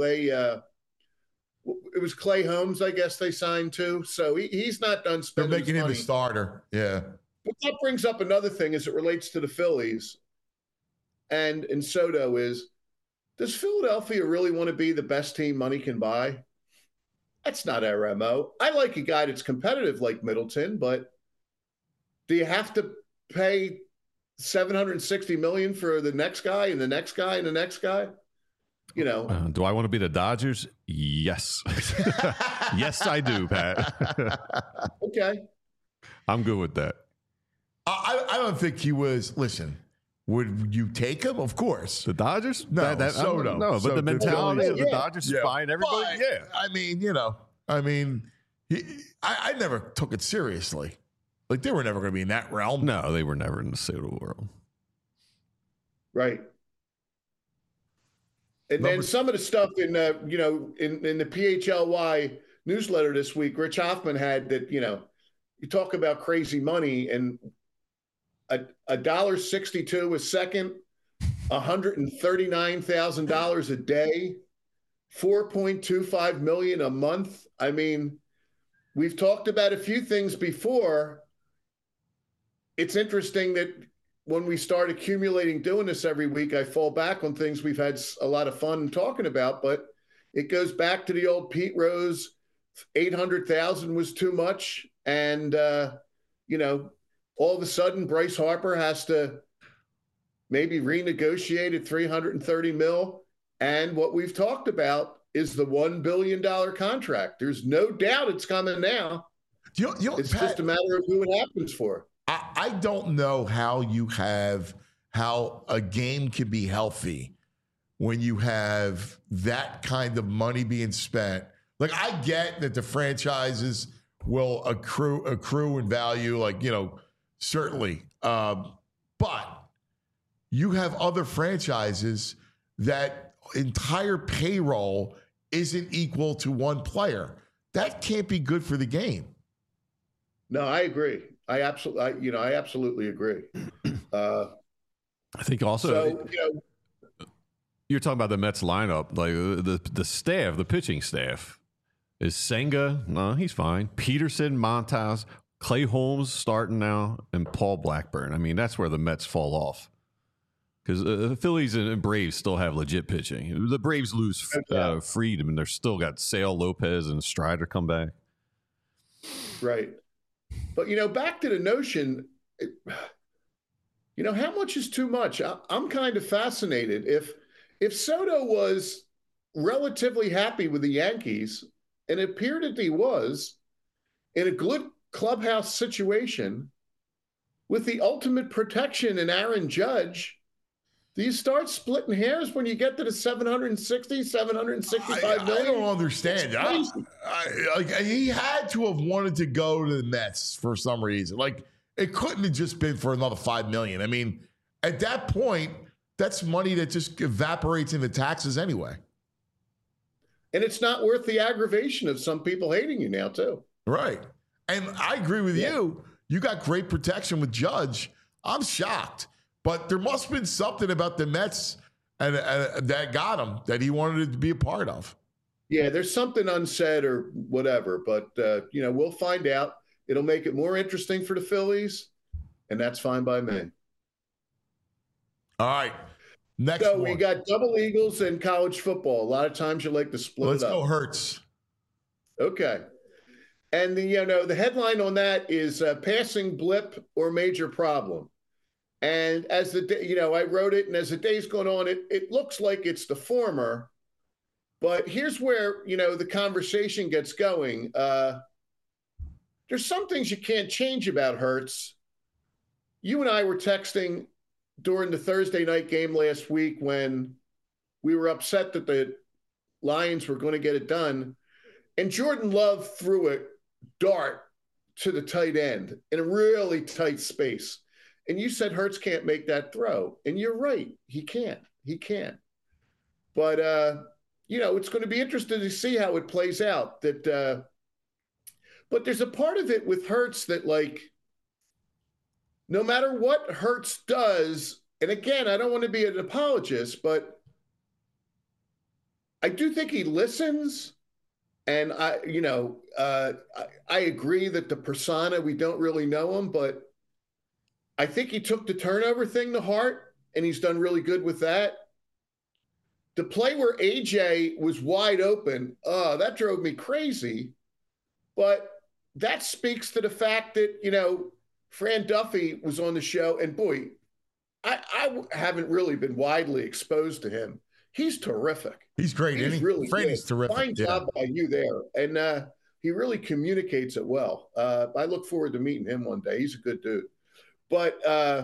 It was Clay Holmes, I guess they signed to. So he's not done spending. They're making him money. a starter. Yeah. But that brings up another thing as it relates to the Phillies and Soto is, does Philadelphia really want to be the best team money can buy? That's not our MO. I like a guy that's competitive like Middleton, but do you have to pay $760 million for the next guy and the next guy and the next guy? You know, do I want to be the Dodgers? Yes. Yes, I do, Pat. Okay. I'm good with that. I don't think he was. Listen, would you take him? Of course. The Dodgers? No, Soto. No, but So the mentality of the yeah. Dodgers is fine. Everybody, But, I mean, I never took it seriously. Like, they were never going to be in that realm. No, they were never in the Soto world. Right. And then some of the stuff in the PHLY newsletter this week, Rich Hoffman had that, you talk about crazy money and $1.62 a second, $139,000 a day, $4.25 million a month. I mean, we've talked about a few things before. It's interesting that when we start accumulating doing this every week, I fall back on things we've had a lot of fun talking about, but it goes back to the old Pete Rose, 800,000 was too much. And, all of a sudden Bryce Harper has to maybe renegotiate at $330 million. And what we've talked about is the $1 billion contract. There's no doubt it's coming now. It's Pat, just a matter of who it happens for. I don't know how a game can be healthy when you have that kind of money being spent. Like, I get that the franchises will accrue in value, certainly. But you have other franchises that entire payroll isn't equal to one player. That can't be good for the game. No, I agree. I absolutely agree. I think also you're talking about the Mets lineup, like the staff, the pitching staff. Is Senga? No, he's fine. Peterson, Montas, Clay Holmes starting now, and Paul Blackburn. I mean, that's where the Mets fall off. Because the Phillies and Braves still have legit pitching. The Braves lose Fried, and they're still got Sale, Lopez, and Strider come back. Right. But, back to the notion, how much is too much? I'm kind of fascinated. If Soto was relatively happy with the Yankees, and it appeared that he was, in a good clubhouse situation, with the ultimate protection in Aaron Judge, do you start splitting hairs when you get to the 760, 765 million? I don't understand. He had to have wanted to go to the Mets for some reason. Like, it couldn't have just been for another $5 million. I mean, at that point, that's money that just evaporates into taxes anyway. And it's not worth the aggravation of some people hating you now, too. Right. And I agree with you. You got great protection with Judge. I'm shocked. But there must have been something about the Mets and that got him that he wanted to be a part of. Yeah, there's something unsaid or whatever. But, we'll find out. It'll make it more interesting for the Phillies, and that's fine by me. All right. Next So one. we got double Eagles in college football. A lot of times you like to split Let's it up. go Hurts. Okay. And the headline on that is passing blip or major problem. And as the day, I wrote it, and as the day's going on, it looks like it's the former. But here's where, the conversation gets going. There's some things you can't change about Hurts. You and I were texting during the Thursday night game last week when we were upset that the Lions were going to get it done. And Jordan Love threw a dart to the tight end in a really tight space. And you said Hurts can't make that throw. And you're right. He can't. But, it's going to be interesting to see how it plays out. But there's a part of it with Hurts that, no matter what Hurts does, and again, I don't want to be an apologist, but I do think he listens. And I agree that the persona, we don't really know him, but I think he took the turnover thing to heart, and he's done really good with that. The play where AJ was wide open, that drove me crazy. But that speaks to the fact that, Fran Duffy was on the show, and boy, I haven't really been widely exposed to him. He's terrific. He's great. He's really Franny's terrific. Fine job by you there. And he really communicates it well. I look forward to meeting him one day. He's a good dude. But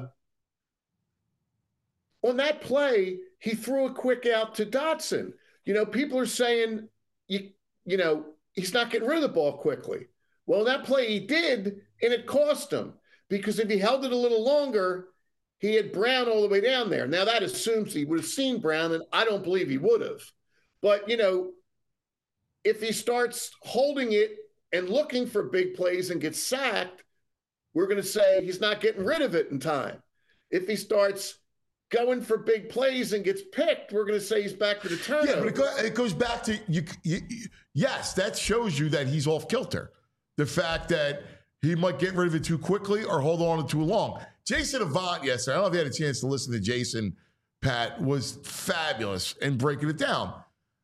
on that play, he threw a quick out to Dotson. People are saying, he's not getting rid of the ball quickly. Well, that play he did, and it cost him. Because if he held it a little longer, he had Brown all the way down there. Now, that assumes he would have seen Brown, and I don't believe he would have. But, if he starts holding it and looking for big plays and gets sacked, we're going to say he's not getting rid of it in time. If he starts going for big plays and gets picked, we're going to say he's back to the turnover. Yeah, but it goes back to, yes, that shows you that he's off kilter. The fact that he might get rid of it too quickly or hold on to it too long. Jason Avant yesterday, I don't know if you had a chance to listen to Jason, Pat, was fabulous in breaking it down.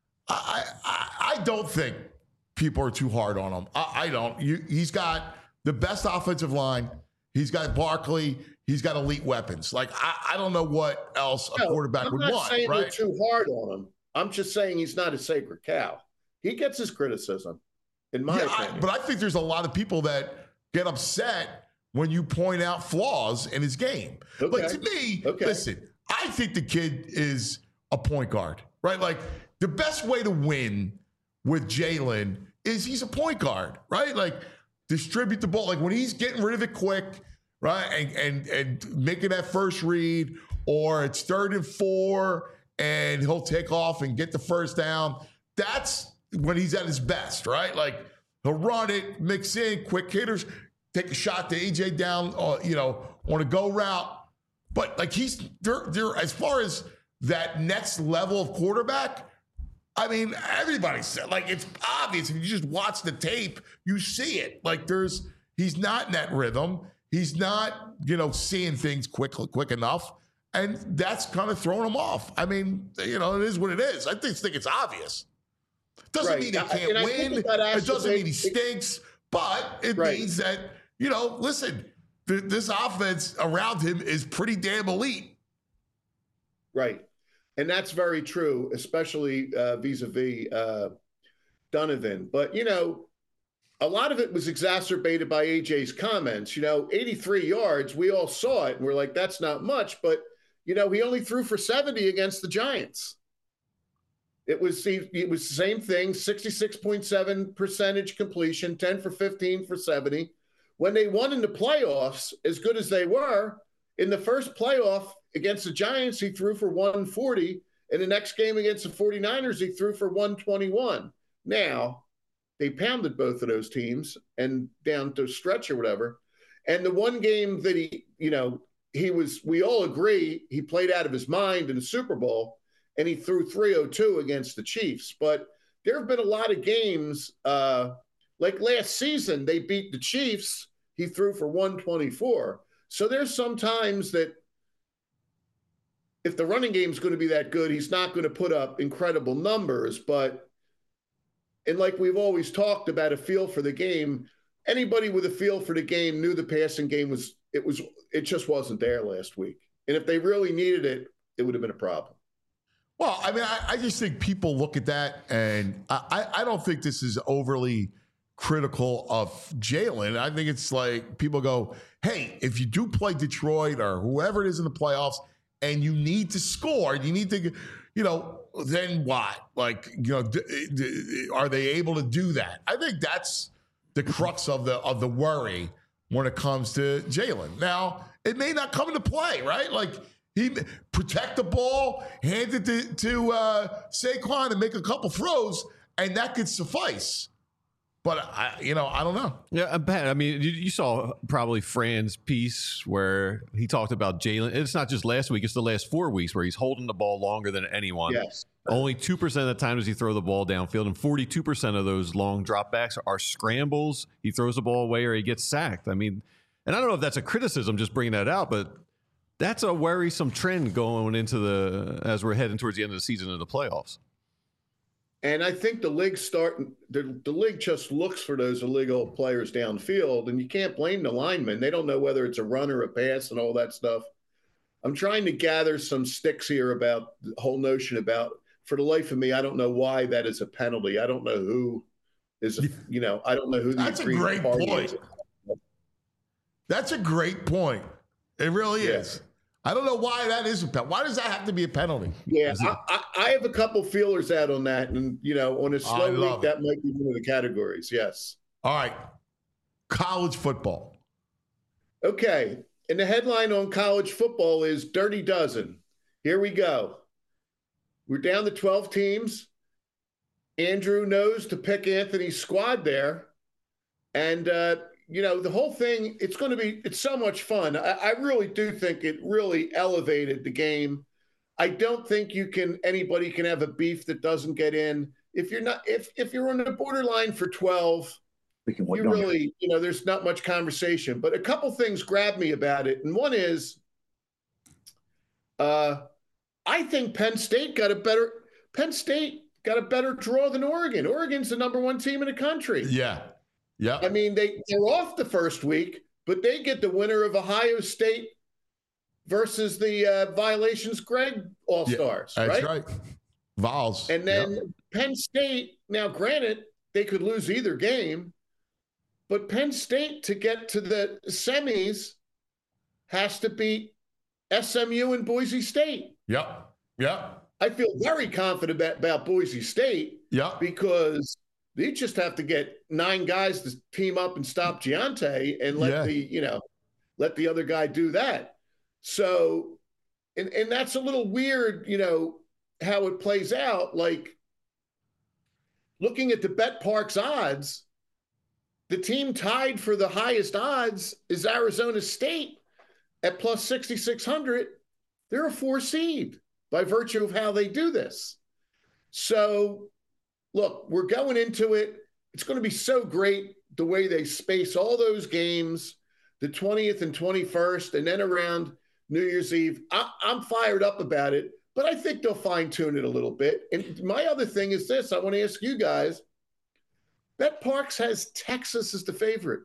I don't think people are too hard on him. I don't. He's got the best offensive line. He's got Barkley. He's got elite weapons. I don't know what else a quarterback would want. I'm not saying right? they're too hard on him. I'm just saying he's not a sacred cow. He gets his criticism, in my opinion. But I think there's a lot of people that get upset when you point out flaws in his game. Okay. To me, listen, I think the kid is a point guard, right? The best way to win with Jalen is he's a point guard, right? Distribute the ball. When he's getting rid of it quick, right? And making that first read, or it's 3rd and 4 and he'll take off and get the first down. That's when he's at his best, right? He'll run it, mix in, quick hitters, take a shot to AJ down, on a go route. But they're as far as that next level of quarterback, I mean, everybody said, it's obvious. If you just watch the tape, you see it. He's not in that rhythm. He's not, seeing things quick enough. And that's kind of throwing him off. I mean, it is what it is. I just think it's obvious. Doesn't mean he can't win. It doesn't mean he stinks. But it means that, listen, this offense around him is pretty damn elite. Right. And that's very true, especially vis-a-vis Donovan. But, a lot of it was exacerbated by AJ's comments. 83 yards, we all saw it, and we're like, that's not much. But, he only threw for 70 against the Giants. It was the same thing, 66.7% completion, 10 for 15 for 70. When they won in the playoffs, as good as they were, in the first playoff against the Giants, he threw for 140. In the next game against the 49ers, he threw for 121. Now, they pounded both of those teams and down to stretch or whatever. And the one game that we all agree he played out of his mind in the Super Bowl, and he threw 302 against the Chiefs. But there have been a lot of games, like last season, they beat the Chiefs. He threw for 124. So there's some times that if the running game is going to be that good, he's not going to put up incredible numbers. And like we've always talked about a feel for the game, anybody with a feel for the game knew the passing game it just wasn't there last week. And if they really needed it, it would have been a problem. Well, I mean, I just think people look at that, and I don't think this is overly critical of Jalen. I think it's like people go, hey, if you do play Detroit or whoever it is in the playoffs and you need to score, you need to, then what? Like, are they able to do that? I think that's the crux of the worry when it comes to Jalen. Now, it may not come into play, right? Like, he protect the ball, hand it to Saquon and make a couple throws, and that could suffice. But I don't know. Yeah, Pat. I mean, you saw probably Fran's piece where he talked about Jalen. It's not just last week; it's the last 4 weeks where he's holding the ball longer than anyone. Yes. Only 2% of the time does he throw the ball downfield, and 42% of those long dropbacks are scrambles. He throws the ball away or he gets sacked. I mean, and I don't know if that's a criticism, just bringing that out, but that's a worrisome trend going into as we're heading towards the end of the season and the playoffs. And I think the league just looks for those illegal players downfield, and you can't blame the linemen. They don't know whether it's a run or a pass and all that stuff. I'm trying to gather some sticks here about the whole notion about, for the life of me, I don't know why that is a penalty. I don't know who is, I don't know who the That's a great point. That's a great point. It really is. I don't know why that is a penalty. Why does that have to be a penalty? Yeah, I have a couple feelers out on that. And, on a slow week, that might be one of the categories. Yes. All right. College football. Okay. And the headline on college football is Dirty Dozen. Here we go. We're down to 12 teams. Andrew knows to pick Anthony's squad there. And, the whole thing, it's so much fun. I really do think it really elevated the game. I don't think anybody can have a beef that doesn't get in. If you're on the borderline for 12, you really, there's not much conversation. But a couple things grabbed me about it. And one is, I think Penn State got a better draw than Oregon. Oregon's the number 1 team in the country. Yeah. Yeah. I mean, they're off the first week, but they get the winner of Ohio State versus the Violations Greg All-Stars, yeah, that's right? Vols. And then Penn State, now granted, they could lose either game, but Penn State to get to the semis has to beat SMU and Boise State. Yep. Yep. I feel very confident about Boise State. Yep. Because you just have to get 9 guys to team up and stop Giante and let the other guy do that. So, and that's a little weird, how it plays out. Like, looking at the BetParx odds, the team tied for the highest odds is Arizona State at plus 6,600. They're a 4 seed by virtue of how they do this. So, look, we're going into it. It's going to be so great the way they space all those games, the 20th and 21st, and then around New Year's Eve. I'm fired up about it, but I think they'll fine-tune it a little bit. And my other thing is this. I want to ask you guys, BetParx has Texas as the favorite.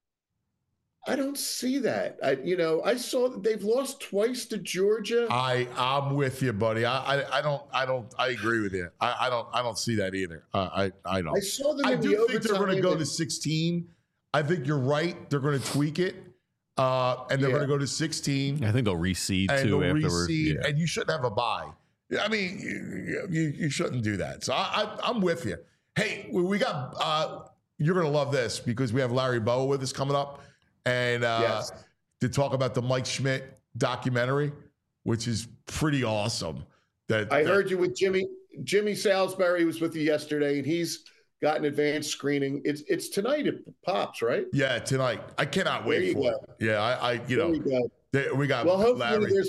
I don't see that. I saw that they've lost twice to Georgia. I'm with you, buddy. I agree with you. I don't see that either. I don't. I saw them. I do think they're going to go to 16. I think you're right. They're going to tweak it, and they're going to go to 16. I think they'll reseed too afterwards. Yeah. And you shouldn't have a bye. I mean, you shouldn't do that. So I'm with you. Hey, we got. You're going to love this because we have Larry Bowa with us coming up. And to talk about the Mike Schmidt documentary, which is pretty awesome. I heard you with Jimmy. Jimmy Salisbury was with you yesterday, and he's got an advanced screening. It's tonight at Pops, right? Yeah, tonight. I cannot wait for it. Yeah, we got. Well, hopefully Larry. There's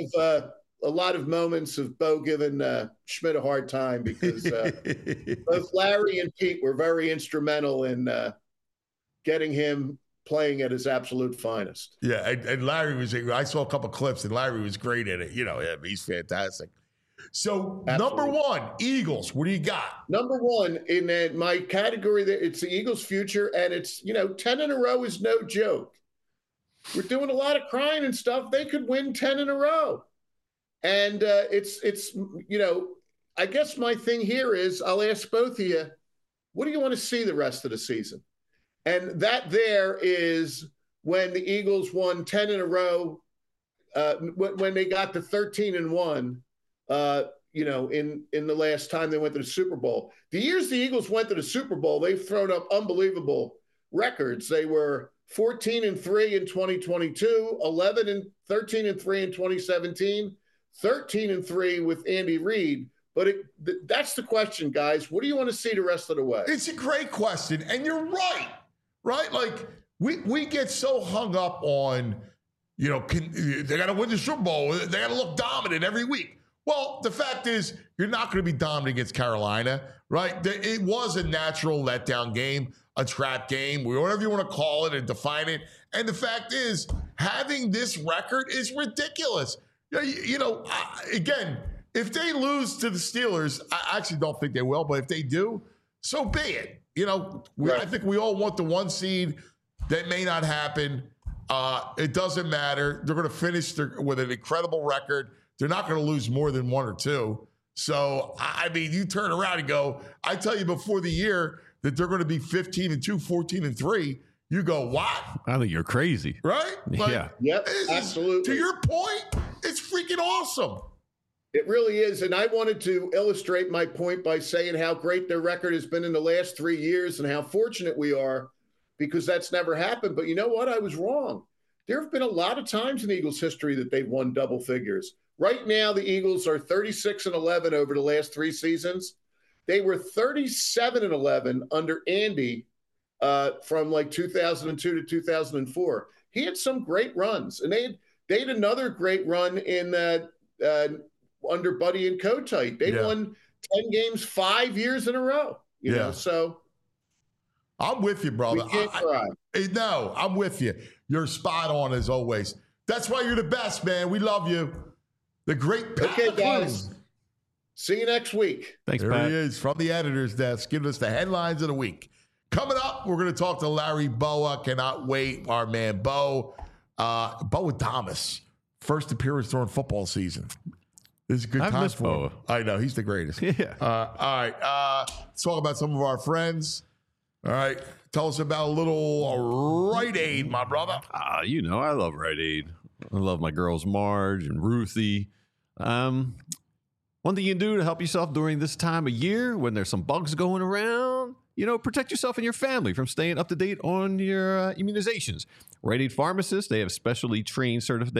a lot of moments of Bo giving Schmidt a hard time because both Larry and Pete were very instrumental in getting him playing at his absolute finest. Yeah, and Larry was. I saw a couple clips, and Larry was great at it. He's fantastic. So, Absolutely. Number one, Eagles. What do you got? Number one in my category, there it's the Eagles' future, and it's 10 in a row is no joke. We're doing a lot of crying and stuff. They could win 10 in a row, and it's I guess my thing here is I'll ask both of you, what do you want to see the rest of the season? And that there is when the Eagles won 10 in a row, when they got to 13-1. In the last time they went to the Super Bowl. The years the Eagles went to the Super Bowl, they've thrown up unbelievable records. They were 14-3 in 2022, 13-3 in 2017, 13-3 with Andy Reid. But that's the question, guys. What do you want to see the rest of the way? It's a great question, and you're right? Like we get so hung up on, they got to win the Super Bowl. They got to look dominant every week. Well, the fact is, you're not going to be dominant against Carolina, right? It was a natural letdown game, a trap game, whatever you want to call it and define it. And the fact is, having this record is ridiculous. Again, if they lose to the Steelers, I actually don't think they will, but if they do, so be it. I think we all want the one seed. That may not happen. It doesn't matter. They're going to finish with an incredible record. They're not going to lose more than one or two. So, you turn around and go, I tell you before the year that they're going to be 15-2, 14-3. You go, what? I think you're crazy. Right? Yeah. Yep, absolutely. To your point, it's freaking awesome. It really is. And I wanted to illustrate my point by saying how great their record has been in the last 3 years and how fortunate we are because that's never happened. But you know what? I was wrong. There have been a lot of times in Eagles history that they've won double figures. Right now, the Eagles are 36-11 over the last 3 seasons. They were 37-11 under Andy from 2002 to 2004. He had some great runs, and they had another great run in under Buddy and Kotite. They won 10 games 5 years in a row. You know, so I'm with you, brother. We can't cry. No, I'm with you. You're spot on as always. That's why you're the best, man. We love you. The great Pat Okay, McClune. guys. See you next week. Thanks, There Pat. he is from the editor's desk, giving us the headlines of the week. Coming up, we're going to talk to Larry Bowa. Cannot wait. Our man, Bo. Bo Adamas. First appearance during football season. This is a good I've time missed for Boa. him. I know. He's the greatest. Yeah. All right. Let's talk about some of our friends. All right. Tell us about a little Rite Aid, my brother. I love Rite Aid. I love my girls Marge and Ruthie. One thing you can do to help yourself during this time of year when there's some bugs going around, protect yourself and your family from staying up to date on your immunizations. Rite Aid pharmacists, they are specially trained certified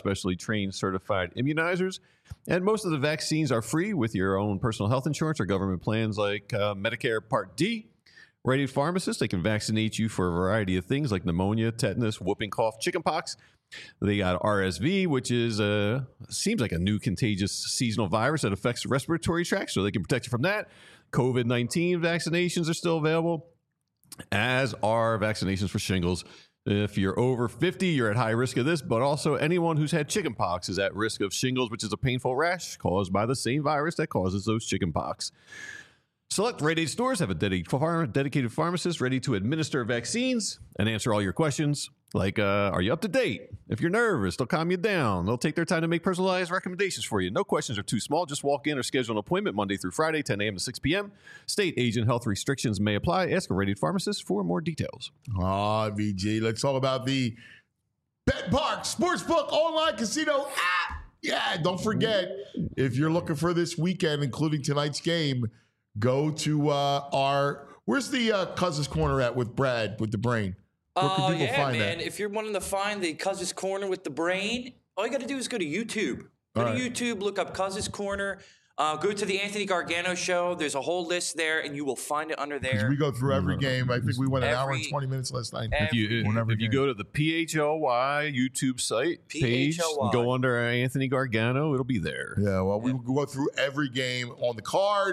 immunizers, and most of the vaccines are free with your own personal health insurance or government plans like Medicare Part D. Rite Aid pharmacists, they can vaccinate you for a variety of things like pneumonia, tetanus, whooping cough, chickenpox. They got RSV, which is seems like a new contagious seasonal virus that affects the respiratory tract, so they can protect you from that. COVID-19 vaccinations are still available, as are vaccinations for shingles. If you're over 50, you're at high risk of this, but also anyone who's had chickenpox is at risk of shingles, which is a painful rash caused by the same virus that causes those chickenpox. Select Rite Aid stores have a dedicated pharmacist ready to administer vaccines and answer all your questions. Like, are you up to date? If you're nervous, they'll calm you down. They'll take their time to make personalized recommendations for you. No questions are too small. Just walk in or schedule an appointment Monday through Friday, 10 a.m. to 6 p.m. State, age, and health restrictions may apply. Ask a Rite Aid pharmacist for more details. VG. Let's talk about the BetPark Sportsbook online casino app. Yeah, don't forget, if you're looking for this weekend, including tonight's game, go to where's the Cousins Corner at with Brad, with the brain? Where can people find man. that? If you're wanting to find the Cousins Corner with the brain, all you got to do is go to YouTube. Go to YouTube, look up Cousins Corner. Go to the Anthony Gargano show. There's a whole list there, and you will find it under there. We go through every game. I think we went an hour and 20 minutes last night. If you go to the PHLY YouTube site page, and go under Anthony Gargano, it'll be there. Yeah, well, we will go through every game on the card,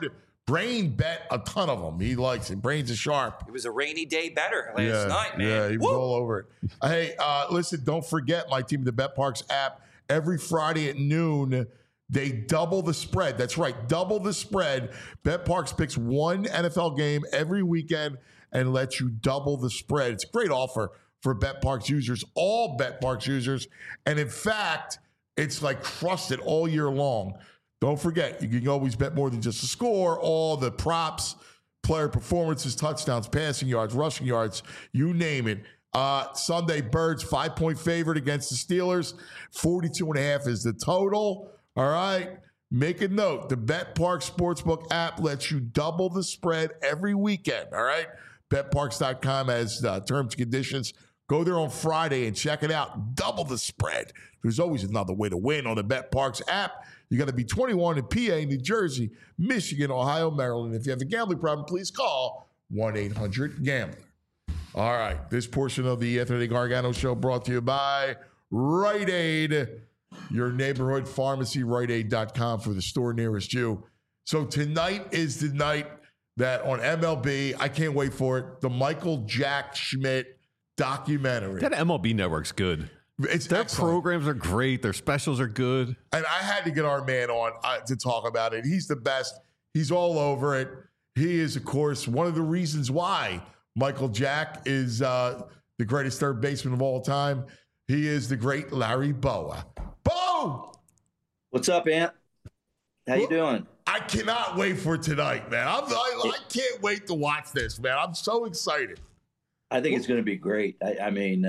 Brain bet a ton of them. He likes it. Brains are sharp. It was a rainy day better last night, man. Yeah, he was all over it. Hey, listen, don't forget my team, the BetParx app. Every Friday at noon, they double the spread. That's right, double the spread. BetParx picks one NFL game every weekend and lets you double the spread. It's a great offer for BetParx users, all BetParx users. And in fact, it's like crusted all year long. Don't forget, you can always bet more than just the score, all the props, player performances, touchdowns, passing yards, rushing yards, you name it. Sunday, Birds, 5-point favorite against the Steelers. 42.5 is the total. All right. Make a note. The BetParx Sportsbook app lets you double the spread every weekend. All right. BetParx.com has terms and conditions. Go there on Friday and check it out. Double the spread. There's always another way to win on the BetParx app. You got to be 21 in PA, New Jersey, Michigan, Ohio, Maryland. If you have a gambling problem, please call 1-800-GAMBLER. All right. This portion of the Anthony Gargano Show brought to you by Rite Aid, your neighborhood pharmacy, RiteAid.com for the store nearest you. So tonight is the night that on MLB, I can't wait for it, the Michael Jack Schmidt documentary. That MLB network's good. Their excellent. programs are great. Their specials are good. And I had to get our man on to talk about it. He's the best. He's all over it. He is, of course, one of the reasons why Michael Jack is the greatest third baseman of all time. He is the great Larry Bowa. Bo! What's up, Ant? How you doing? I cannot wait for tonight, man. I can't wait to watch this, man. I'm so excited. I think it's going to be great. I mean,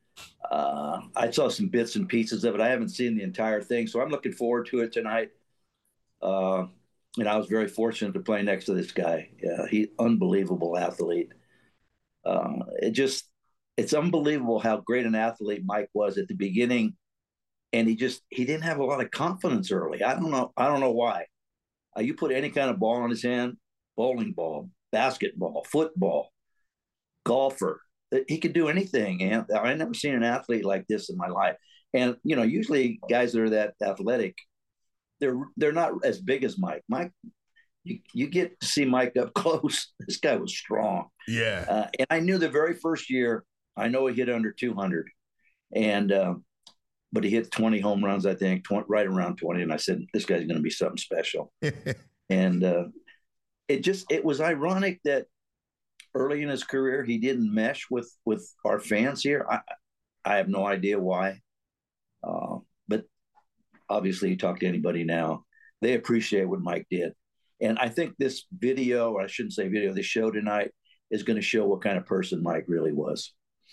I saw some bits and pieces of it. I haven't seen the entire thing, so I'm looking forward to it tonight. And I was very fortunate to play next to this guy. He's unbelievable athlete. It's unbelievable how great an athlete Mike was at the beginning, and he didn't have a lot of confidence early. I don't know why. You put any kind of ball in his hand, bowling ball, basketball, football, golfer, he could do anything. And I never seen an athlete like this in my life. And usually guys that are that athletic, they're not as big as Mike. Mike, you get to see Mike up close. This guy was strong. Yeah. And I knew the very first year, I know he hit under 200, but he hit 20 home runs, I think, right around 20. And I said, this guy's going to be something special. And it was ironic that early in his career, he didn't mesh with our fans here. I have no idea why. But obviously, you talk to anybody now, they appreciate what Mike did. And I think this video, or I shouldn't say video, this show tonight is going to show what kind of person Mike really was.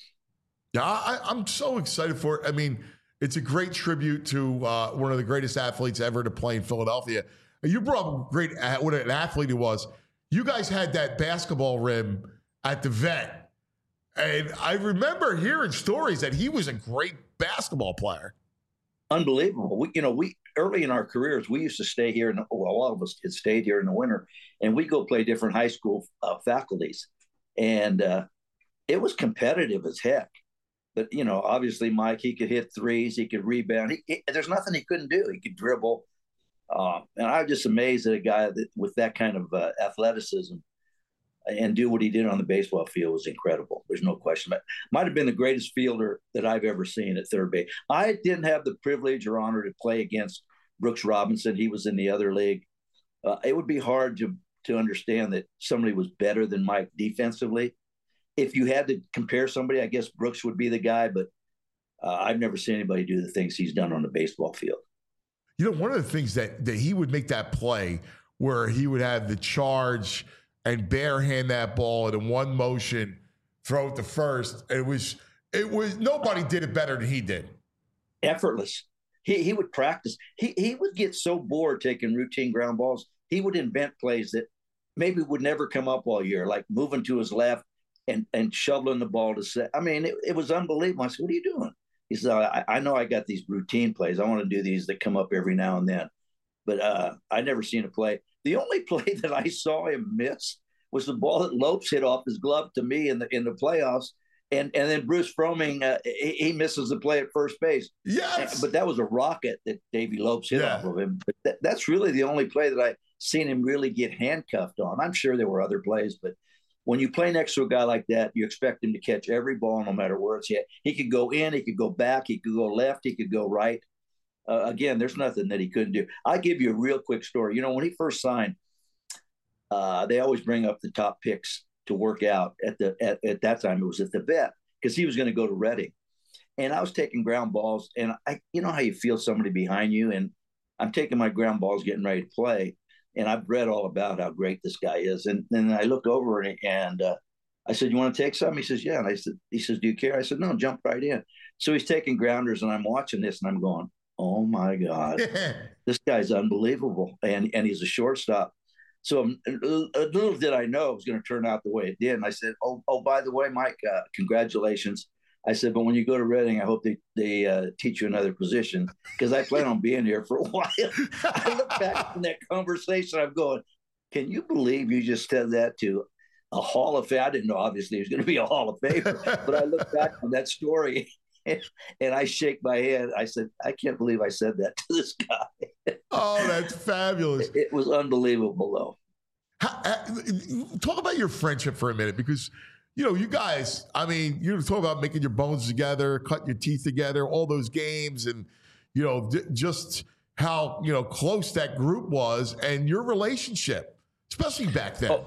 Yeah, I'm so excited for it. I mean, it's a great tribute to one of the greatest athletes ever to play in Philadelphia. You brought up what an athlete he was. You guys had that basketball rim at the Vet. And I remember hearing stories that he was a great basketball player. Unbelievable. We early in our careers, we used to stay here, and all of us had stayed here in the winter, and we'd go play different high school faculties. And it was competitive as heck. But, obviously, Mike, he could hit threes, he could rebound. There's nothing he couldn't do. He could dribble. And I'm just amazed at a guy with that kind of athleticism and do what he did on the baseball field was incredible. There's no question. But might have been the greatest fielder that I've ever seen at third base. I didn't have the privilege or honor to play against Brooks Robinson. He was in the other league. It would be hard to understand that somebody was better than Mike defensively. If you had to compare somebody, I guess Brooks would be the guy, but I've never seen anybody do the things he's done on the baseball field. One of the things that he would make that play where he would have the charge and barehand that ball and in one motion throw it to first. It was nobody did it better than he did. Effortless. He would practice. He would get so bored taking routine ground balls. He would invent plays that maybe would never come up all year, like moving to his left and shoveling the ball to set. I mean, it was unbelievable. I said, what are you doing? He said, I know I got these routine plays. I want to do these that come up every now and then. But I never seen a play. The only play that I saw him miss was the ball that Lopes hit off his glove to me in the playoffs. And then Bruce Fromming, he misses the play at first base. Yes. But that was a rocket that Davey Lopes hit off of him. But that's really the only play that I seen him really get handcuffed on. I'm sure there were other plays, but when you play next to a guy like that, you expect him to catch every ball no matter where it's at. He could go in, he could go back, he could go left, he could go right. Again, there's nothing that he couldn't do. I'll give you a real quick story. When he first signed, they always bring up the top picks to work out at that time. It was at the vet because he was going to go to Reading. And I was taking ground balls, and you know how you feel somebody behind you, and I'm taking my ground balls, getting ready to play. And I've read all about how great this guy is. And then I looked over and I said, "You want to take some?" He says, "Yeah." And he says, "Do you care?" I said, "No, jump right in." So he's taking grounders, and I'm watching this, and I'm going, "Oh my God, this guy's unbelievable." And he's a shortstop. So little did I know it was going to turn out the way it did. And I said, "Oh, by the way, Mike, congratulations." I said, "But when you go to Reading, I hope they teach you another position because I plan on being here for a while." I look back in that conversation, I'm going, "Can you believe you just said that to a Hall of Fame?" I didn't know, obviously, he was going to be a Hall of Famer, but I look back on that story and I shake my head. I said, "I can't believe I said that to this guy." Oh, that's fabulous. It was unbelievable, though. Talk about your friendship for a minute because – you guys, I mean, you talk about making your bones together, cutting your teeth together, all those games, and, just how, close that group was and your relationship, especially back then.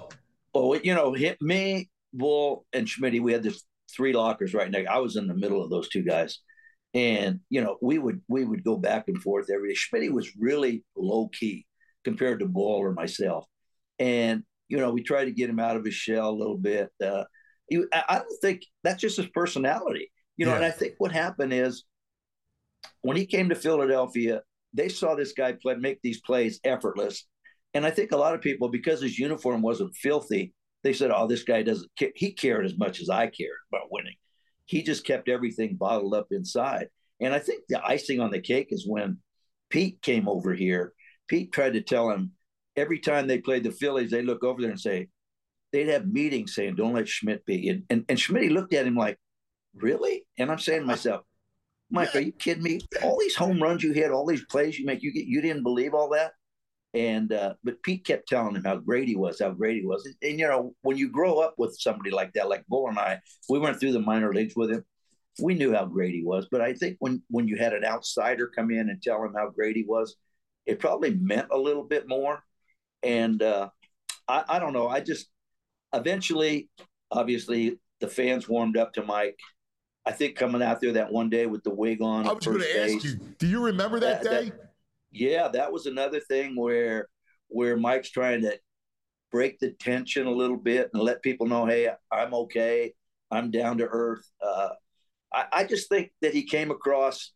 Me, Bull, and Schmitty, we had this 3 lockers right next. I was in the middle of those 2 guys. And, we would go back and forth every day. Schmitty was really low key compared to Bull or myself. And, we tried to get him out of his shell a little bit. I don't think that's just his personality, And I think what happened is when he came to Philadelphia, they saw this guy make these plays effortless. And I think a lot of people, because his uniform wasn't filthy, they said, "Oh, this guy doesn't care." He cared as much as I cared about winning. He just kept everything bottled up inside. And I think the icing on the cake is when Pete came over here. Pete tried to tell him every time they played the Phillies, they look over there and say, they'd have meetings saying, "Don't let Schmidt be." And Schmidt looked at him like, "Really?" And I'm saying to myself, "Mike, are you kidding me? All these home runs you hit, all these plays you make, you didn't believe all that?" And but Pete kept telling him how great he was. And when you grow up with somebody like that, like Bull and I, we went through the minor leagues with him. We knew how great he was. But I think when you had an outsider come in and tell him how great he was, it probably meant a little bit more. And I don't know. Eventually, obviously, the fans warmed up to Mike. I think coming out there that one day with the wig on. I was going to ask you, do you remember that day? Yeah, that was another thing where Mike's trying to break the tension a little bit and let people know, "Hey, I'm okay. I'm down to earth." I just think that he came across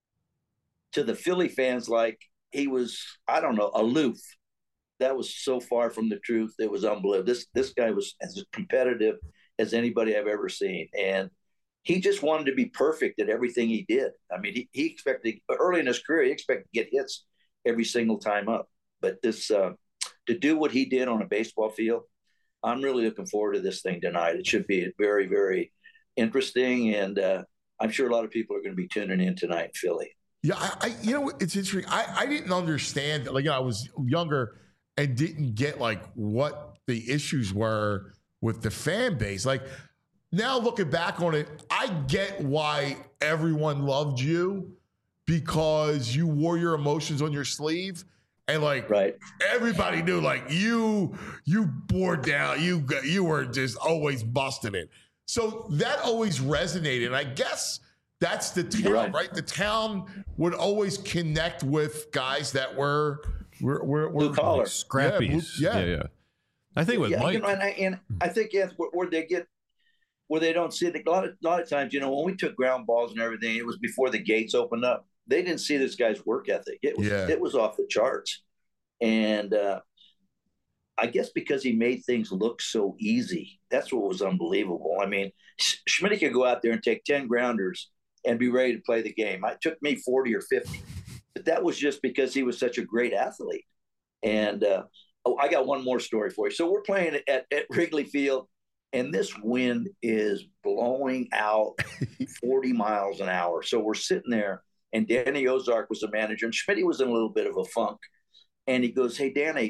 to the Philly fans like he was, I don't know, aloof. That was so far from the truth. It was unbelievable. This guy was as competitive as anybody I've ever seen. And he just wanted to be perfect at everything he did. I mean, he expected, early in his career, he expected to get hits every single time up. But to do what he did on a baseball field, I'm really looking forward to this thing tonight. It should be very, very interesting. And I'm sure a lot of people are going to be tuning in tonight in Philly. Yeah, it's interesting. I didn't understand. I was younger and didn't get what the issues were with the fan base. Now looking back on it, I get why everyone loved you because you wore your emotions on your sleeve. And right. Everybody knew you bore down, you were just always busting it. So that always resonated. And I guess that's the town, right? The town would always connect with guys that were blue collar, scrappies. Yeah. I think with Mike, and I think where they don't see it. A lot of times, when we took ground balls and everything, it was before the gates opened up. They didn't see this guy's work ethic. It was off the charts, and I guess because he made things look so easy, that's what was unbelievable. I mean, Schmidt could go out there and take 10 grounders and be ready to play the game. It took me 40 or 50. But that was just because he was such a great athlete. And I got one more story for you. So we're playing at Wrigley Field, and this wind is blowing out 40 miles an hour. So we're sitting there, and Danny Ozark was the manager, and Schmitty was in a little bit of a funk. And he goes, "Hey, Danny,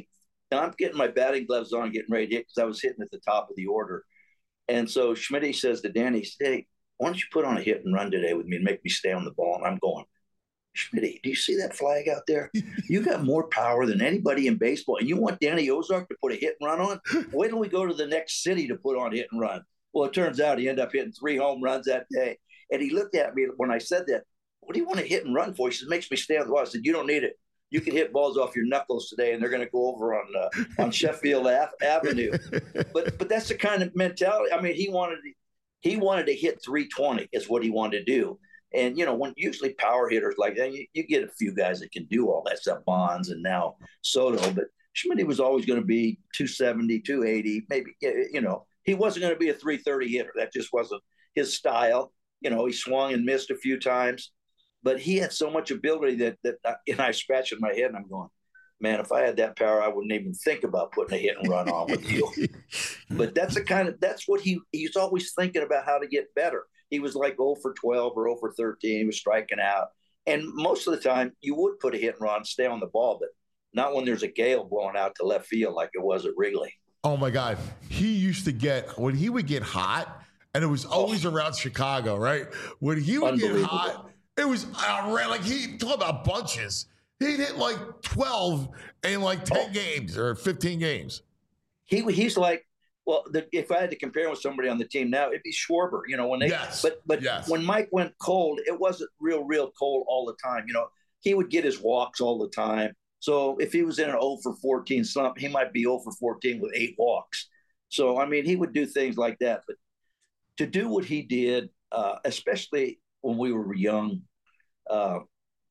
and I'm getting my batting gloves on, getting ready to hit because I was hitting at the top of the order. And so Schmidt says to Danny, hey, why don't you put on a hit and run today with me and make me stay on the ball? And I'm going, Schmidt, do you see that flag out there? You got more power than anybody in baseball, and you want Danny Ozark to put a hit and run on? Wait till we go to the next city to put on hit and run. Well, it turns out he ended up hitting 3 home runs that day. And he looked at me when I said that. What do you want to hit and run for? He says, makes me stay on the ball. I said, you don't need it. You can hit balls off your knuckles today, and they're going to go over on Sheffield Avenue. But that's the kind of mentality. I mean, he wanted to hit 320 is what he wanted to do. And, when usually power hitters like that, you get a few guys that can do all that stuff, Bonds and now Soto. But Schmidt was always going to be 270, 280, maybe, he wasn't going to be a 330 hitter. That just wasn't his style. He swung and missed a few times. But he had so much ability that I scratched in my head and I'm going, man, if I had that power, I wouldn't even think about putting a hit and run on with you. But that's what he's always thinking about, how to get better. He was like 0 for 12 or 0 for 13. He was striking out. And most of the time you would put a hit and run, stay on the ball, but not when there's a gale blowing out to left field like it was at Wrigley. Oh my God. He used to when he would get hot, and it was always around Chicago, right? When he would get hot, it was like talk about bunches. He'd hit like 12 in like 10 games or 15 games. He's like, well, if I had to compare him with somebody on the team now, it'd be Schwarber. When they, but yes. When Mike went cold, it wasn't real cold all the time. He would get his walks all the time. So if he was in an 0 for 14 slump, he might be 0 for 14 with 8 walks. So, I mean, he would do things like that. But to do what he did, especially when we were young, I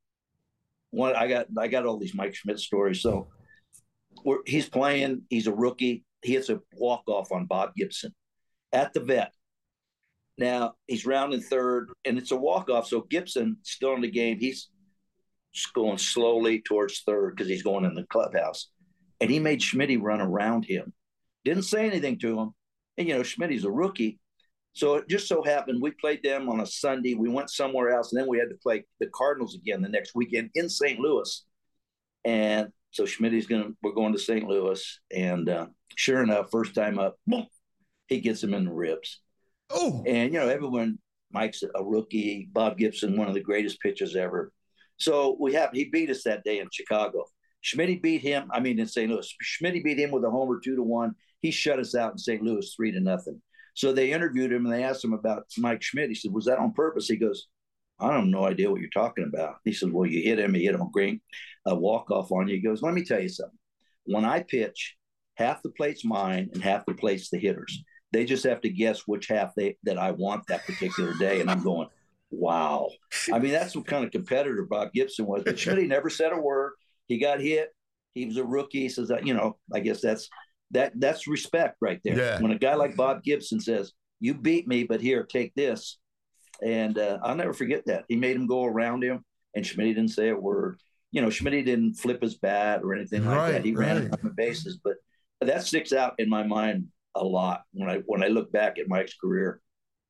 got all these Mike Schmidt stories. So he's playing, he's a rookie. He hits a walk-off on Bob Gibson at the vet. Now, he's rounding third, and it's a walk-off. So Gibson, still in the game, he's going slowly towards third because he's going in the clubhouse. And he made Schmidt run around him. Didn't say anything to him. And, Schmidt's a rookie. So it just so happened we played them on a Sunday. We went somewhere else, and then we had to play the Cardinals again the next weekend in St. Louis. And so we're going to St. Louis. And sure enough, first time up, boom, he gets him in the ribs. Oh. And, everyone, Mike's a rookie, Bob Gibson, one of the greatest pitchers ever. So he beat us that day in Chicago. Schmidt beat him, in St. Louis. Schmidt beat him with a homer 2-1. He shut us out in St. Louis 3-0. So they interviewed him and they asked him about Mike Schmidt. He said, was that on purpose? He goes, I have no idea what you're talking about. He said, well, you hit him. He hit him a walk-off on you. He goes, let me tell you something. When I pitch, half the plate's mine and half the plate's the hitters. They just have to guess which half that I want that particular day. And I'm going, wow. That's what kind of competitor Bob Gibson was. But Schmidt never said a word. He got hit. He was a rookie. He says, I guess that's respect right there. Yeah. When a guy like Bob Gibson says, you beat me, but here, take this. And I'll never forget that. He made him go around him, and Schmidt didn't say a word. Schmidt didn't flip his bat or anything like that. He ran on the bases. But that sticks out in my mind a lot when I look back at Mike's career.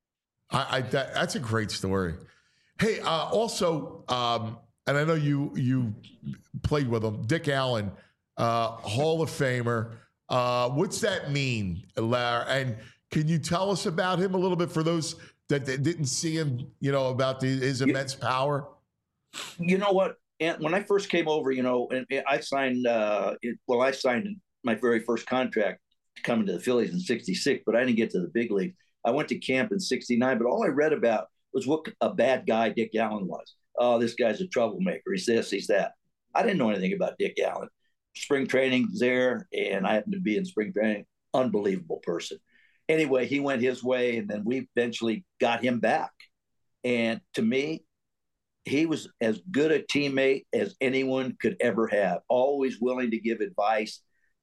That's a great story. Hey, also, and I know you played with him, Dick Allen, Hall of Famer. What's that mean, Larry? And can you tell us about him a little bit for those that didn't see him, about his immense power? You know what? And when I first came over, and I signed, I signed my very first contract coming to the Phillies in '66, but I didn't get to the big league. I went to camp in '69, but all I read about was what a bad guy Dick Allen was. Oh, this guy's a troublemaker. He's this, he's that. I didn't know anything about Dick Allen. Spring training was there, and I happened to be in spring training. Unbelievable person. Anyway, he went his way, and then we eventually got him back. And to me, he was as good a teammate as anyone could ever have. Always willing to give advice.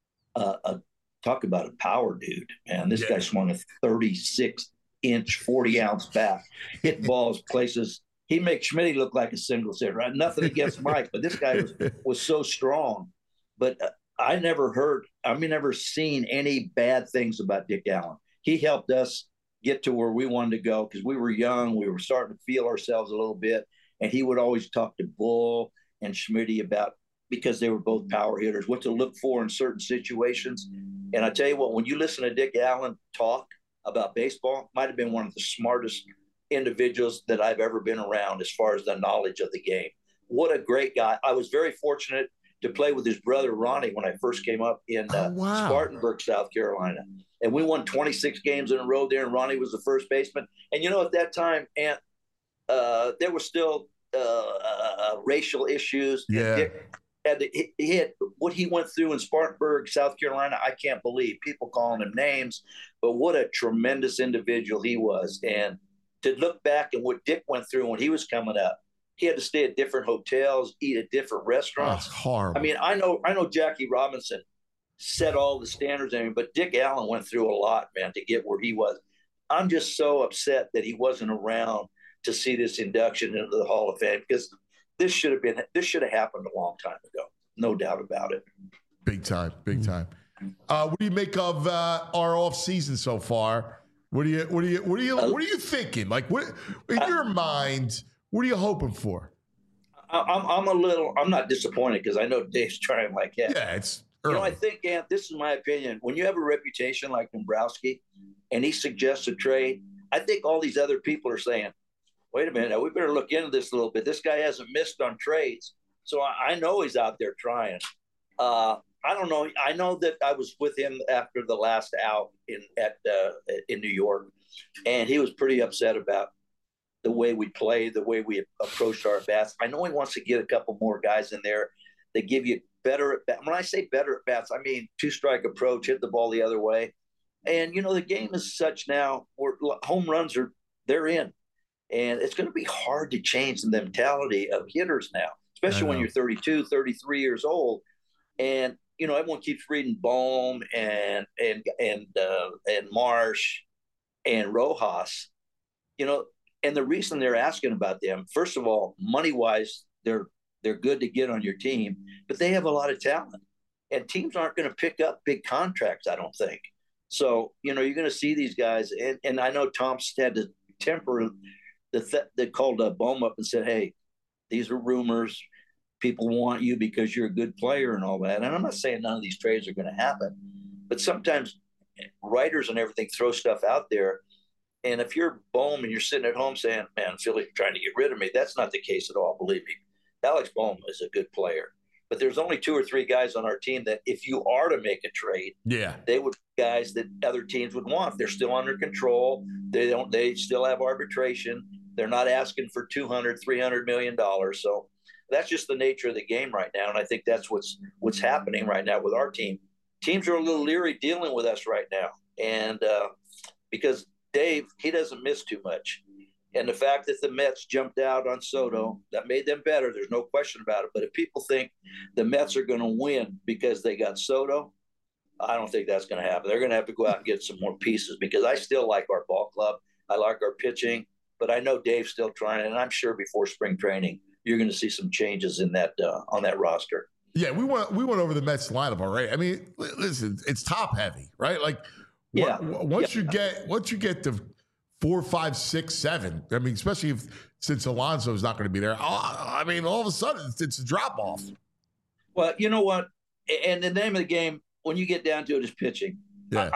Talk about a power dude, man. This guy swung a 36-inch, 40-ounce bat, hit balls places. He makes Schmidt look like a single hitter. Right? Nothing against Mike, but this guy was so strong. But I never seen any bad things about Dick Allen. He helped us get to where we wanted to go because we were young. We were starting to feel ourselves a little bit. And he would always talk to Bull and Schmidt about because they were both power hitters, what to look for in certain situations. And I tell you what, when you listen to Dick Allen talk about baseball, might have been one of the smartest individuals that I've ever been around as far as the knowledge of the game. What a great guy. I was very fortunate to play with his brother Ronnie when I first came up in Spartanburg, South Carolina. And we won 26 games in a row there, and Ronnie was the first baseman. And, you know, at that time, there were still racial issues. Yeah. He had what he went through in Spartanburg, South Carolina. I can't believe people calling him names, but what a tremendous individual he was. And to look back at what Dick went through when he was coming up, he had to stay at different hotels, eat at different restaurants. That's horrible. I mean, I know Jackie Robinson set all the standards, but Dick Allen went through a lot, man, to get where he was. I'm just so upset that he wasn't around to see this induction into the Hall of Fame, because this should have happened a long time ago. No doubt about it. Big time. What do you make of our off season so far? What are you thinking? Like, what in your mind? What are you hoping for? I'm not disappointed, because I know Dave's trying like that. Yeah, it's early. I think, Ant, this is my opinion. When you have a reputation like Dombrowski and he suggests a trade, I think all these other people are saying, wait a minute, we better look into this a little bit. This guy hasn't missed on trades. So I know he's out there trying. I don't know. I know that I was with him after the last out in New York, and he was pretty upset about the way we played, the way we approached our bats. I know he wants to get a couple more guys in there that give you better at bats. When I say better at bats, I mean two-strike approach, hit the ball the other way. And, you know, the game is such now where home runs they're in. And it's going to be hard to change the mentality of hitters now, especially when you're 32, 33 years old. And, you know, everyone keeps reading Bohm and Marsh and Rojas, you know, and the reason they're asking about them, first of all, money-wise, they're good to get on your team, but they have a lot of talent. And teams aren't going to pick up big contracts, I don't think. So, you know, you're going to see these guys. And I know Tom's had to temper they called Bohm up and said, hey, these are rumors. People want you because you're a good player and all that. And I'm not saying none of these trades are going to happen, but sometimes writers and everything throw stuff out there. And if you're Bohm and you're sitting at home saying, man, Philly's trying to get rid of me, that's not the case at all, believe me. Alex Bohm is a good player. But there's only 2 or 3 guys on our team that if you are to make a trade, they would be guys that other teams would want. They're still under control. They still have arbitration. They're not asking for $200, $300 million. So that's just the nature of the game right now. And I think that's what's happening right now with our team. Teams are a little leery dealing with us right now. And because Dave, he doesn't miss too much. And the fact that the Mets jumped out on Soto, that made them better. There's no question about it. But if people think the Mets are going to win because they got Soto, I don't think that's going to happen. They're going to have to go out and get some more pieces, because I still like our ball club. I like our pitching. But I know Dave's still trying, and I'm sure before spring training, you're going to see some changes in that on that roster. Yeah, we went over the Mets lineup already. I mean, listen, it's top heavy, right? Like, once you get to 4, 5, 6, 7. I mean, especially since Alonso's not going to be there. I mean, all of a sudden, it's a drop off. Well, you know what? And the name of the game, when you get down to it, is pitching. Yeah.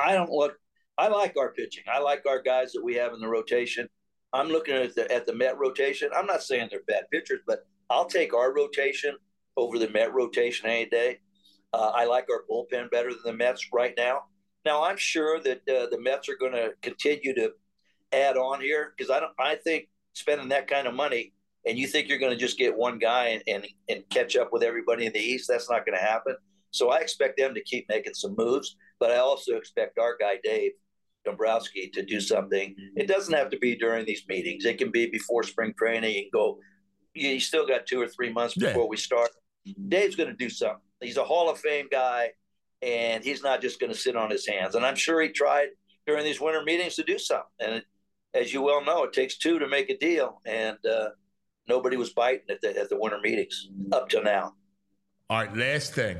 I like our pitching. I like our guys that we have in the rotation. I'm looking at the Met rotation. I'm not saying they're bad pitchers, but I'll take our rotation over the Met rotation any day. I like our bullpen better than the Mets right now. Now, I'm sure that the Mets are going to continue to add on here, because I think spending that kind of money and you think you're going to just get one guy and catch up with everybody in the East, that's not going to happen. So I expect them to keep making some moves, but I also expect our guy, Dave Dombrowski, to do something. It doesn't have to be during these meetings. It can be before spring training. You can go, you still got 2 or 3 months before we start. Dave's going to do something. He's a Hall of Fame guy, and he's not just going to sit on his hands. And I'm sure he tried during these winter meetings to do something. And as you well know, it takes 2 to make a deal. And nobody was biting at the winter meetings up till now. All right, last thing.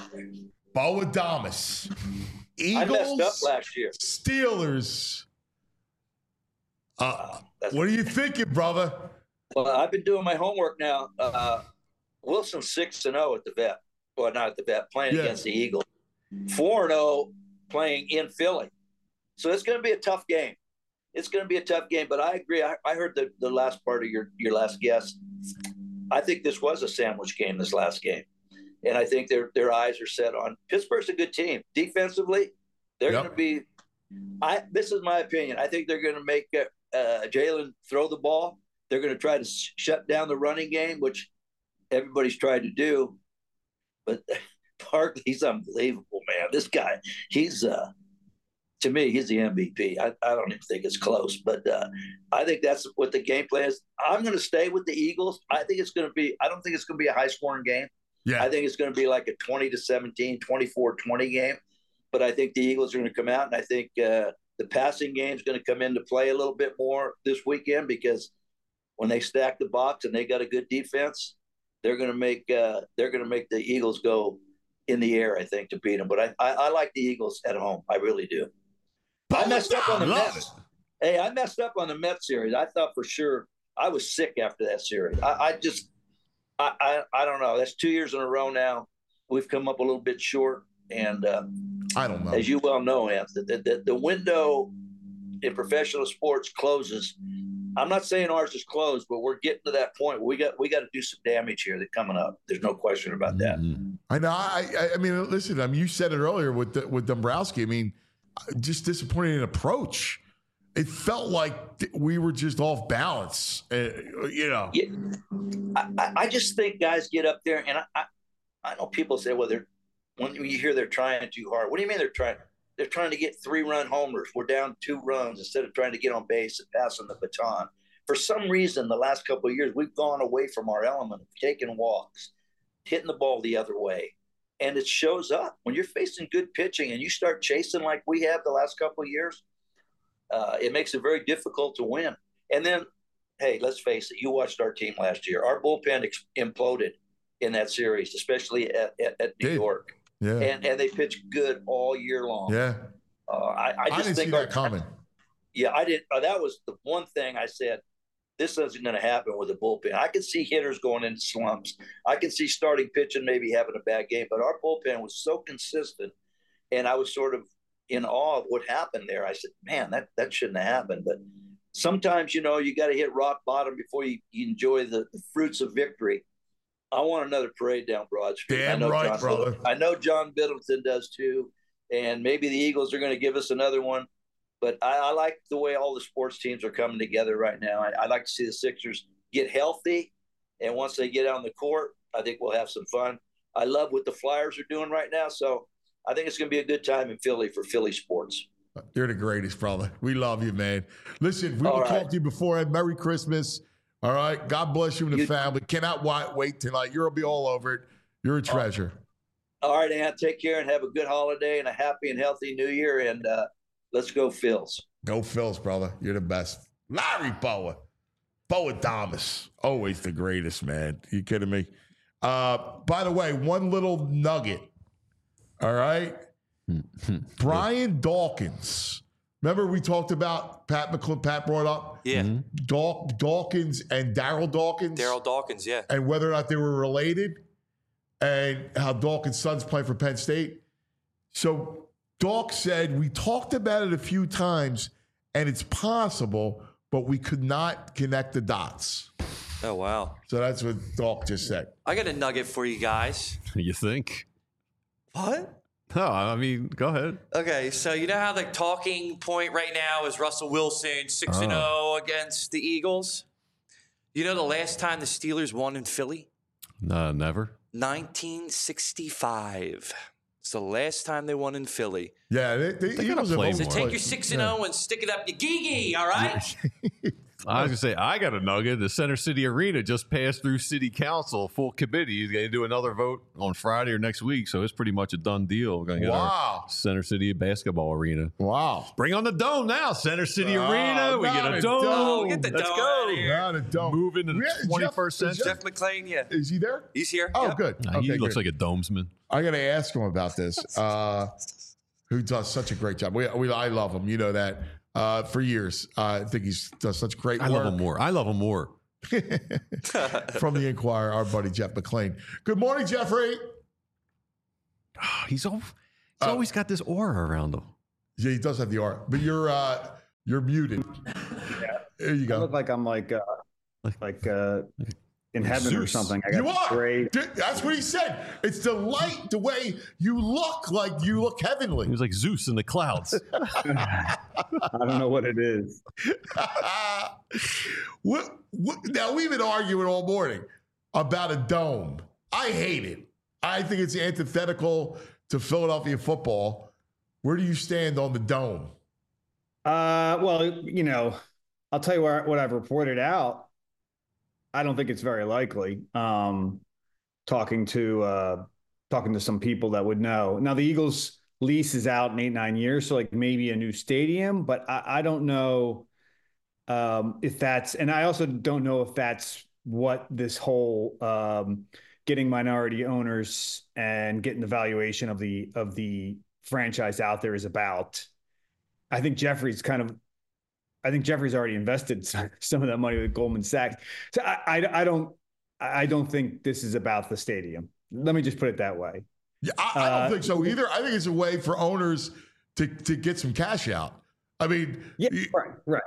Bo Adames. Eagles, I messed up last year. Steelers. What are you thinking, brother? Well, I've been doing my homework now. Wilson's 6-0 at the Vet. Well, not at the Vet, playing against the Eagles. 4-0 playing in Philly. So it's going to be a tough game. It's going to be a tough game, but I agree. I heard the last part of your last guess. I think this was a sandwich game, this last game. And I think their eyes are set on Pittsburgh's a good team. Defensively, they're going to be this is my opinion. I think they're going to make Jalen throw the ball. They're going to try to shut down the running game, which everybody's tried to do. But Barkley's unbelievable, man. This guy, he's to me, he's the MVP. I don't even think it's close, but I think that's what the game plan is. I'm going to stay with the Eagles. I think it's going to be – I don't think it's going to be a high-scoring game. Yeah. I think it's going to be like a 20-17, 24-20 game. But I think the Eagles are going to come out, and I think the passing game is going to come into play a little bit more this weekend because when they stack the box and they got a good defense, they're going to make the Eagles go in the air, I think, to beat them. But I like the Eagles at home. I really do. I messed up on the Mets. Hey, I messed up on the Mets series. I thought for sure I was sick after that series. I don't know. That's 2 years in a row now. We've come up a little bit short. And I don't know. As you well know, Anthony, the window in professional sports closes. I'm not saying ours is closed, but we're getting to that point where we got to do some damage here that's coming up. There's no question about that. I know. I mean, listen. You said it earlier with Dombrowski. I mean, just disappointing approach. It felt like we were just off balance. Yeah, I just think guys get up there, and I know people say, well, when you hear they're trying too hard. What do you mean they're trying? They're trying to get 3-run homers. We're down 2 runs instead of trying to get on base and passing the baton. For some reason, the last couple of years, we've gone away from our element of taking walks, hitting the ball the other way. And it shows up. When you're facing good pitching and you start chasing like we have the last couple of years, it makes it very difficult to win. And then, hey, let's face it. You watched our team last year. Our bullpen imploded in that series, especially at New York. Yeah. And they pitched good all year long. Yeah. I just didn't think see that coming. Yeah, I didn't. That was the one thing I said, this isn't going to happen with the bullpen. I can see hitters going into slumps. I can see starting pitching maybe having a bad game, but our bullpen was so consistent, and I was sort of in awe of what happened there. I said, man, that shouldn't have happened. But sometimes, you got to hit rock bottom before you enjoy the fruits of victory. I want another parade down Broad Street. Damn right, brother. I know John Middleton does too, and maybe the Eagles are going to give us another one. But I like the way all the sports teams are coming together right now. I like to see the Sixers get healthy, and once they get on the court, I think we'll have some fun. I love what the Flyers are doing right now, so I think it's going to be a good time in Philly for Philly sports. You're the greatest, brother. We love you, man. Listen, we will talk to you beforehand. Merry Christmas. All right. God bless you and the family. Cannot wait tonight. You'll be all over it. You're a treasure. All right, Ant. Take care and have a good holiday and a happy and healthy New Year. And let's go Phils. Go Phils, brother. You're the best. Larry Boa. Boa Thomas. Always the greatest, man. You kidding me? By the way, one little nugget. All right. Brian Dawkins. Remember we talked about Pat brought up? Yeah. Dawkins and Darryl Dawkins. Darryl Dawkins, yeah. And whether or not they were related and how Dawkins' sons play for Penn State. So Dawk said, we talked about it a few times and it's possible, but we could not connect the dots. Oh, wow. So that's what Dawk just said. I got a nugget for you guys. You think? What? No, I mean, go ahead. Okay, so you know how the talking point right now is Russell Wilson 6-0 against the Eagles? You know the last time the Steelers won in Philly? Never. 1965. It's the last time they won in Philly. Yeah, they Eagles have So take your 6-0 and stick it up your gigi, all right? I was going to say, I got a nugget. The Center City Arena just passed through City Council, full committee. He's going to do another vote on Friday or next week, so it's pretty much a done deal. We're going to get our Center City basketball arena. Wow. Bring on the dome now, Center City Arena. We get a dome. Get the Let's dome go. out of here. Not a dome. Move into the 21st century. Jeff McClain, yeah. Is he there? He's here. Oh, yep. good. He looks like a domesman. I got to ask him about this. Who does such a great job. I love him. You know that. For years. I think he does such great work. I love him more. From the Inquirer, our buddy Jeff McClain. Good morning, Jeffrey. Oh, he's always got this aura around him. Yeah, he does have the aura, but you're muted. Yeah. There you go. I look like I'm like in heaven Zeus. or something. I got You are. great. Dude, that's what he said. It's the light, the way you look heavenly. He was like Zeus in the clouds. I don't know what it is. Now, we've been arguing all morning about a dome. I hate it. I think it's antithetical to Philadelphia football. Where do you stand on the dome? Well, I'll tell you what I've reported out. I don't think it's very likely. Talking to some people that would know. Now, the Eagles' lease is out in 8-9 years, so like maybe a new stadium, but I don't know if that's, and I also don't know if that's what this whole getting minority owners and getting the valuation of the franchise out there is about. I think Jeffrey's already invested some of that money with Goldman Sachs. So I don't think this is about the stadium. Let me just put it that way. Yeah, I don't think so either. I think it's a way for owners to get some cash out. I mean, yeah, right.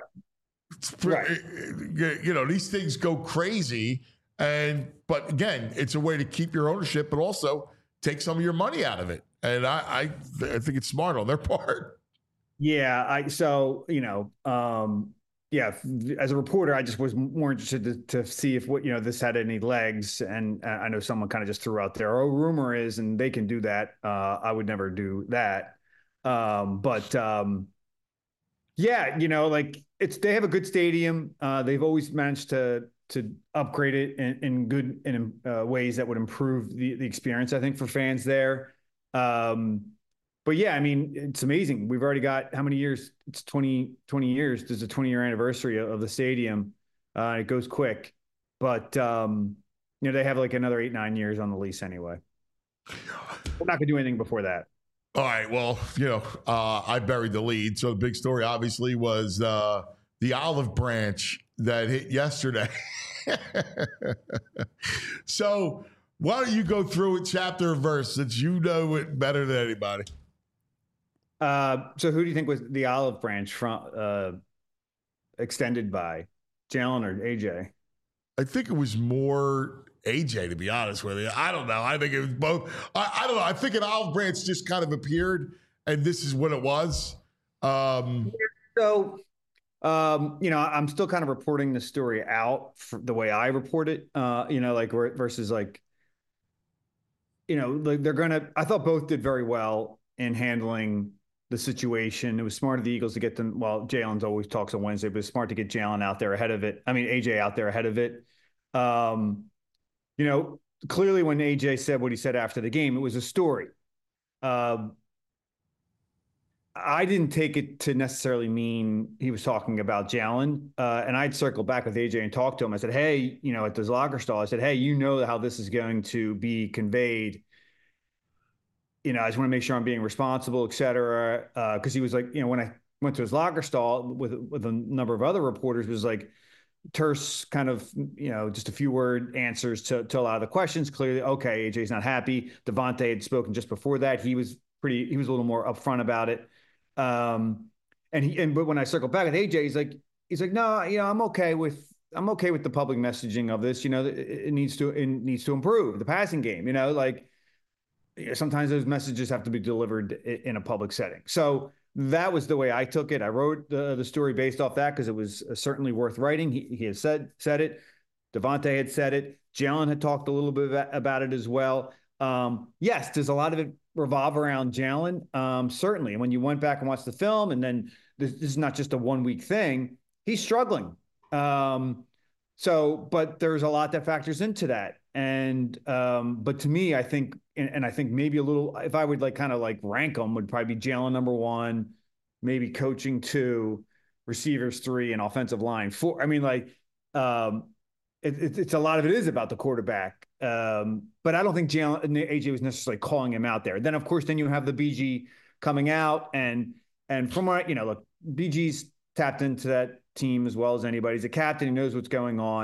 These things go crazy, but again, it's a way to keep your ownership, but also take some of your money out of it. And I think it's smart on their part. Yeah, as a reporter, I just was more interested to see if this had any legs. And I know someone kind of just threw out there, rumor is, and they can do that. I would never do that. They have a good stadium. They've always managed to upgrade it in ways that would improve the experience, I think, for fans there. But yeah, I mean, it's amazing. We've already got how many years? It's 20 years. There's a 20-year anniversary of the stadium. It goes quick, but they have like another 8-9 years on the lease anyway. We're not gonna do anything before that. All right. Well, I buried the lead. So the big story obviously was the olive branch that hit yesterday. So why don't you go through it chapter and verse, since you know it better than anybody? So who do you think was the olive branch from extended by, Jalen or AJ? I think it was more AJ, to be honest with you. I don't know. I think it was both. I don't know. I think an olive branch just kind of appeared, and this is what it was. I'm still kind of reporting the story out for the way I report it. Versus like, they're gonna. I thought both did very well in handling the situation. It was smart of the Eagles to get them. Well, Jalen's always talks on Wednesday, but it's smart to get Jalen out there ahead of it. I mean, AJ out there ahead of it. Clearly when AJ said what he said after the game, it was a story. I didn't take it to necessarily mean he was talking about Jalen. And I'd circle back with AJ and talk to him. I said, hey, at this locker stall, I said, hey, how this is going to be conveyed. I just want to make sure I'm being responsible, et cetera. Because he was like, when I went to his locker stall with a number of other reporters, was like terse kind of, just a few word answers to a lot of the questions. Clearly, okay, AJ's not happy. Devontae had spoken just before that. He was a little more upfront about it. But when I circled back with AJ, he's like, no, I'm okay with the public messaging of this. It needs to improve the passing game. Sometimes those messages have to be delivered in a public setting. So that was the way I took it. I wrote the story based off that because it was certainly worth writing. He had said it. Devontae had said it. Jalen had talked a little bit about it as well. Yes, does a lot of it revolve around Jalen? Certainly. And when you went back and watched the film, and then this is not just a 1 week thing, he's struggling. But there's a lot that factors into that. But to me, I think, and I think maybe a little, if I would rank them, would probably be Jalen number 1, maybe coaching 2, receivers 3, and offensive line 4. I mean, it's a lot of it is about the quarterback. But I don't think AJ was necessarily calling him out there. Then of course, you have the BG coming out, and from what look, BG's tapped into that team as well as anybody. He's a captain. He knows what's going on.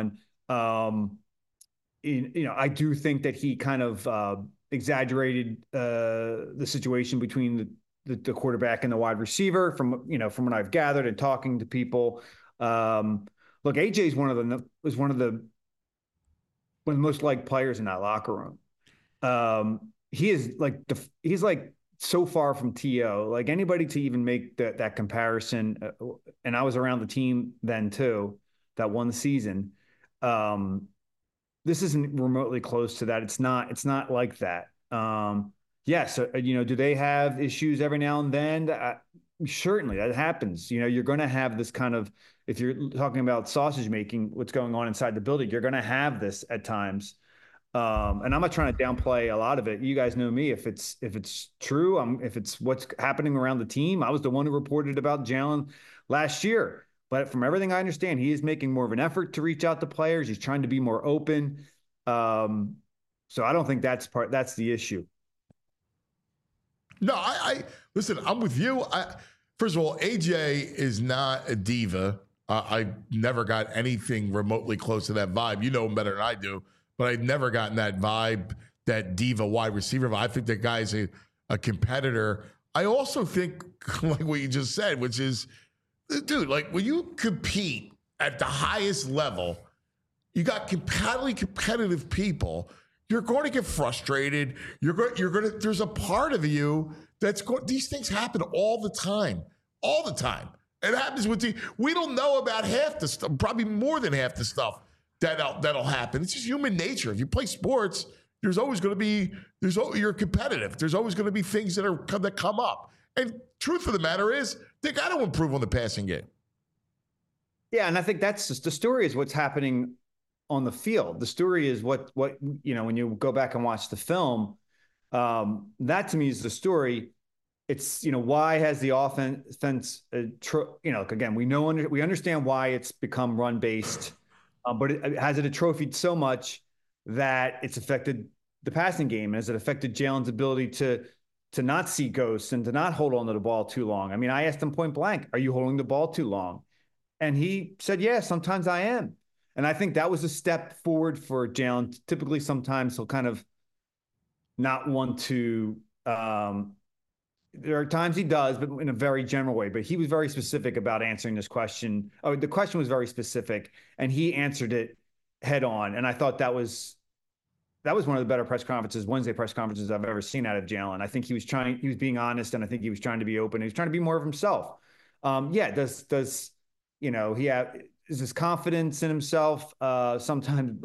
I do think that he kind of exaggerated the situation between the quarterback and the wide receiver from what I've gathered and talking to people. Look, AJ is one of the most liked players in that locker room. He's like so far from T.O. Like anybody to even make that comparison. And I was around the team then too, that won the season. This isn't remotely close to that. It's not like that. Yes. Do they have issues every now and then? Certainly that happens. You're going to have this kind of, if you're talking about sausage making, what's going on inside the building, you're going to have this at times. And I'm not trying to downplay a lot of it. You guys know me. If it's true, if it's what's happening around the team, I was the one who reported about Jalen last year. But from everything I understand, he is making more of an effort to reach out to players. He's trying to be more open. So I don't think that's the issue. No, I listen, I'm with you. First of all, AJ is not a diva. I never got anything remotely close to that vibe. You know him better than I do, but I've never gotten that vibe, that diva wide receiver vibe. I think that guy's a competitor. I also think, like what you just said, which is, dude, like when you compete at the highest level, you got highly competitive people. You're going to get frustrated. You're going to. There's a part of you that's going. These things happen all the time. It happens with we don't know about half the stuff, probably more than half the stuff that'll happen. It's just human nature. If you play sports, there's always going to be you're competitive. There's always going to be things that come up. And truth of the matter is, they got to improve on the passing game. Yeah, and I think that's just the story. Is what's happening on the field. The story is what when you go back and watch the film, that to me is the story. It's why has the offense again, we understand why it's become run based, but has it atrophied so much that it's affected the passing game? Has it affected Jalen's ability to not see ghosts and to not hold on to the ball too long? I mean, I asked him point blank, "Are you holding the ball too long?" And he said, "Yeah, sometimes I am." And I think that was a step forward for Jalen. Typically, sometimes he'll kind of not want to. There are times he does, but in a very general way. But he was very specific about answering this question. Oh, the question was very specific, and he answered it head on. And I thought that was one of the better Wednesday press conferences I've ever seen out of Jalen. I think he was being honest, and I think he was trying to be open. He was trying to be more of himself. Does he have. Is his confidence in himself sometimes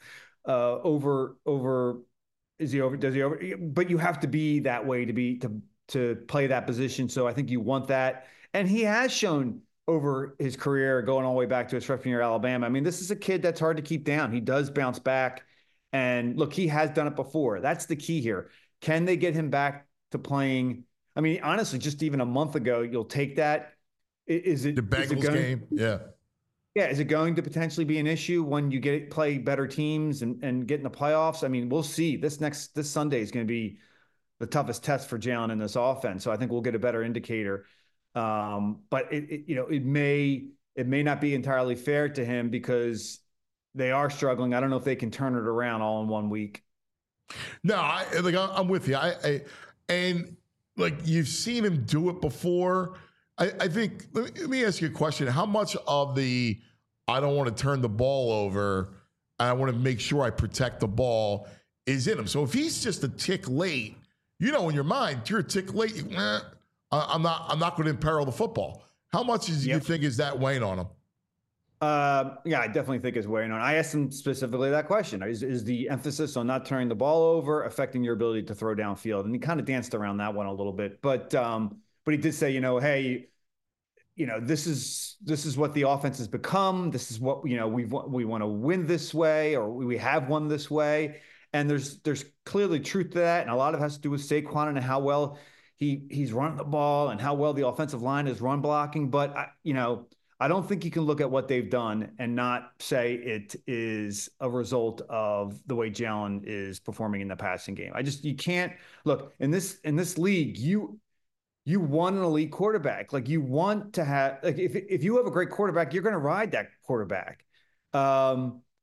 over? Does he over? But you have to be that way to play that position. So I think you want that, and he has shown over his career, going all the way back to his freshman year at Alabama. I mean, this is a kid that's hard to keep down. He does bounce back, and look, he has done it before. That's the key here. Can they get him back to playing? I mean, honestly, just even a month ago, you'll take that. Is it the Bengals game? Yeah. Yeah, is it going to potentially be an issue when you play better teams and get in the playoffs? I mean, we'll see. This Sunday is going to be the toughest test for Jalen in this offense. So I think we'll get a better indicator. But it may not be entirely fair to him because they are struggling. I don't know if they can turn it around all in 1 week. No, I'm with you. And you've seen him do it before. I think, let me ask you a question. How much of I don't want to turn the ball over, I want to make sure I protect the ball is in him? So if he's just a tick late, in your mind, you're a tick late, I'm not going to imperil the football. How much you think is that weighing on him? Yeah, I definitely think it's weighing on. I asked him specifically that question. Is the emphasis on not turning the ball over affecting your ability to throw downfield? And he kind of danced around that one a little bit. But he did say, hey, this is what the offense has become. This is what, we want to win this way, or we have won this way. And there's clearly truth to that. And a lot of it has to do with Saquon and how well he's running the ball and how well the offensive line is run blocking. But I don't think you can look at what they've done and not say it is a result of the way Jalen is performing in the passing game. You can't look in this league. You want an elite quarterback. Like, you want to have, if you have a great quarterback, you're going to ride that quarterback.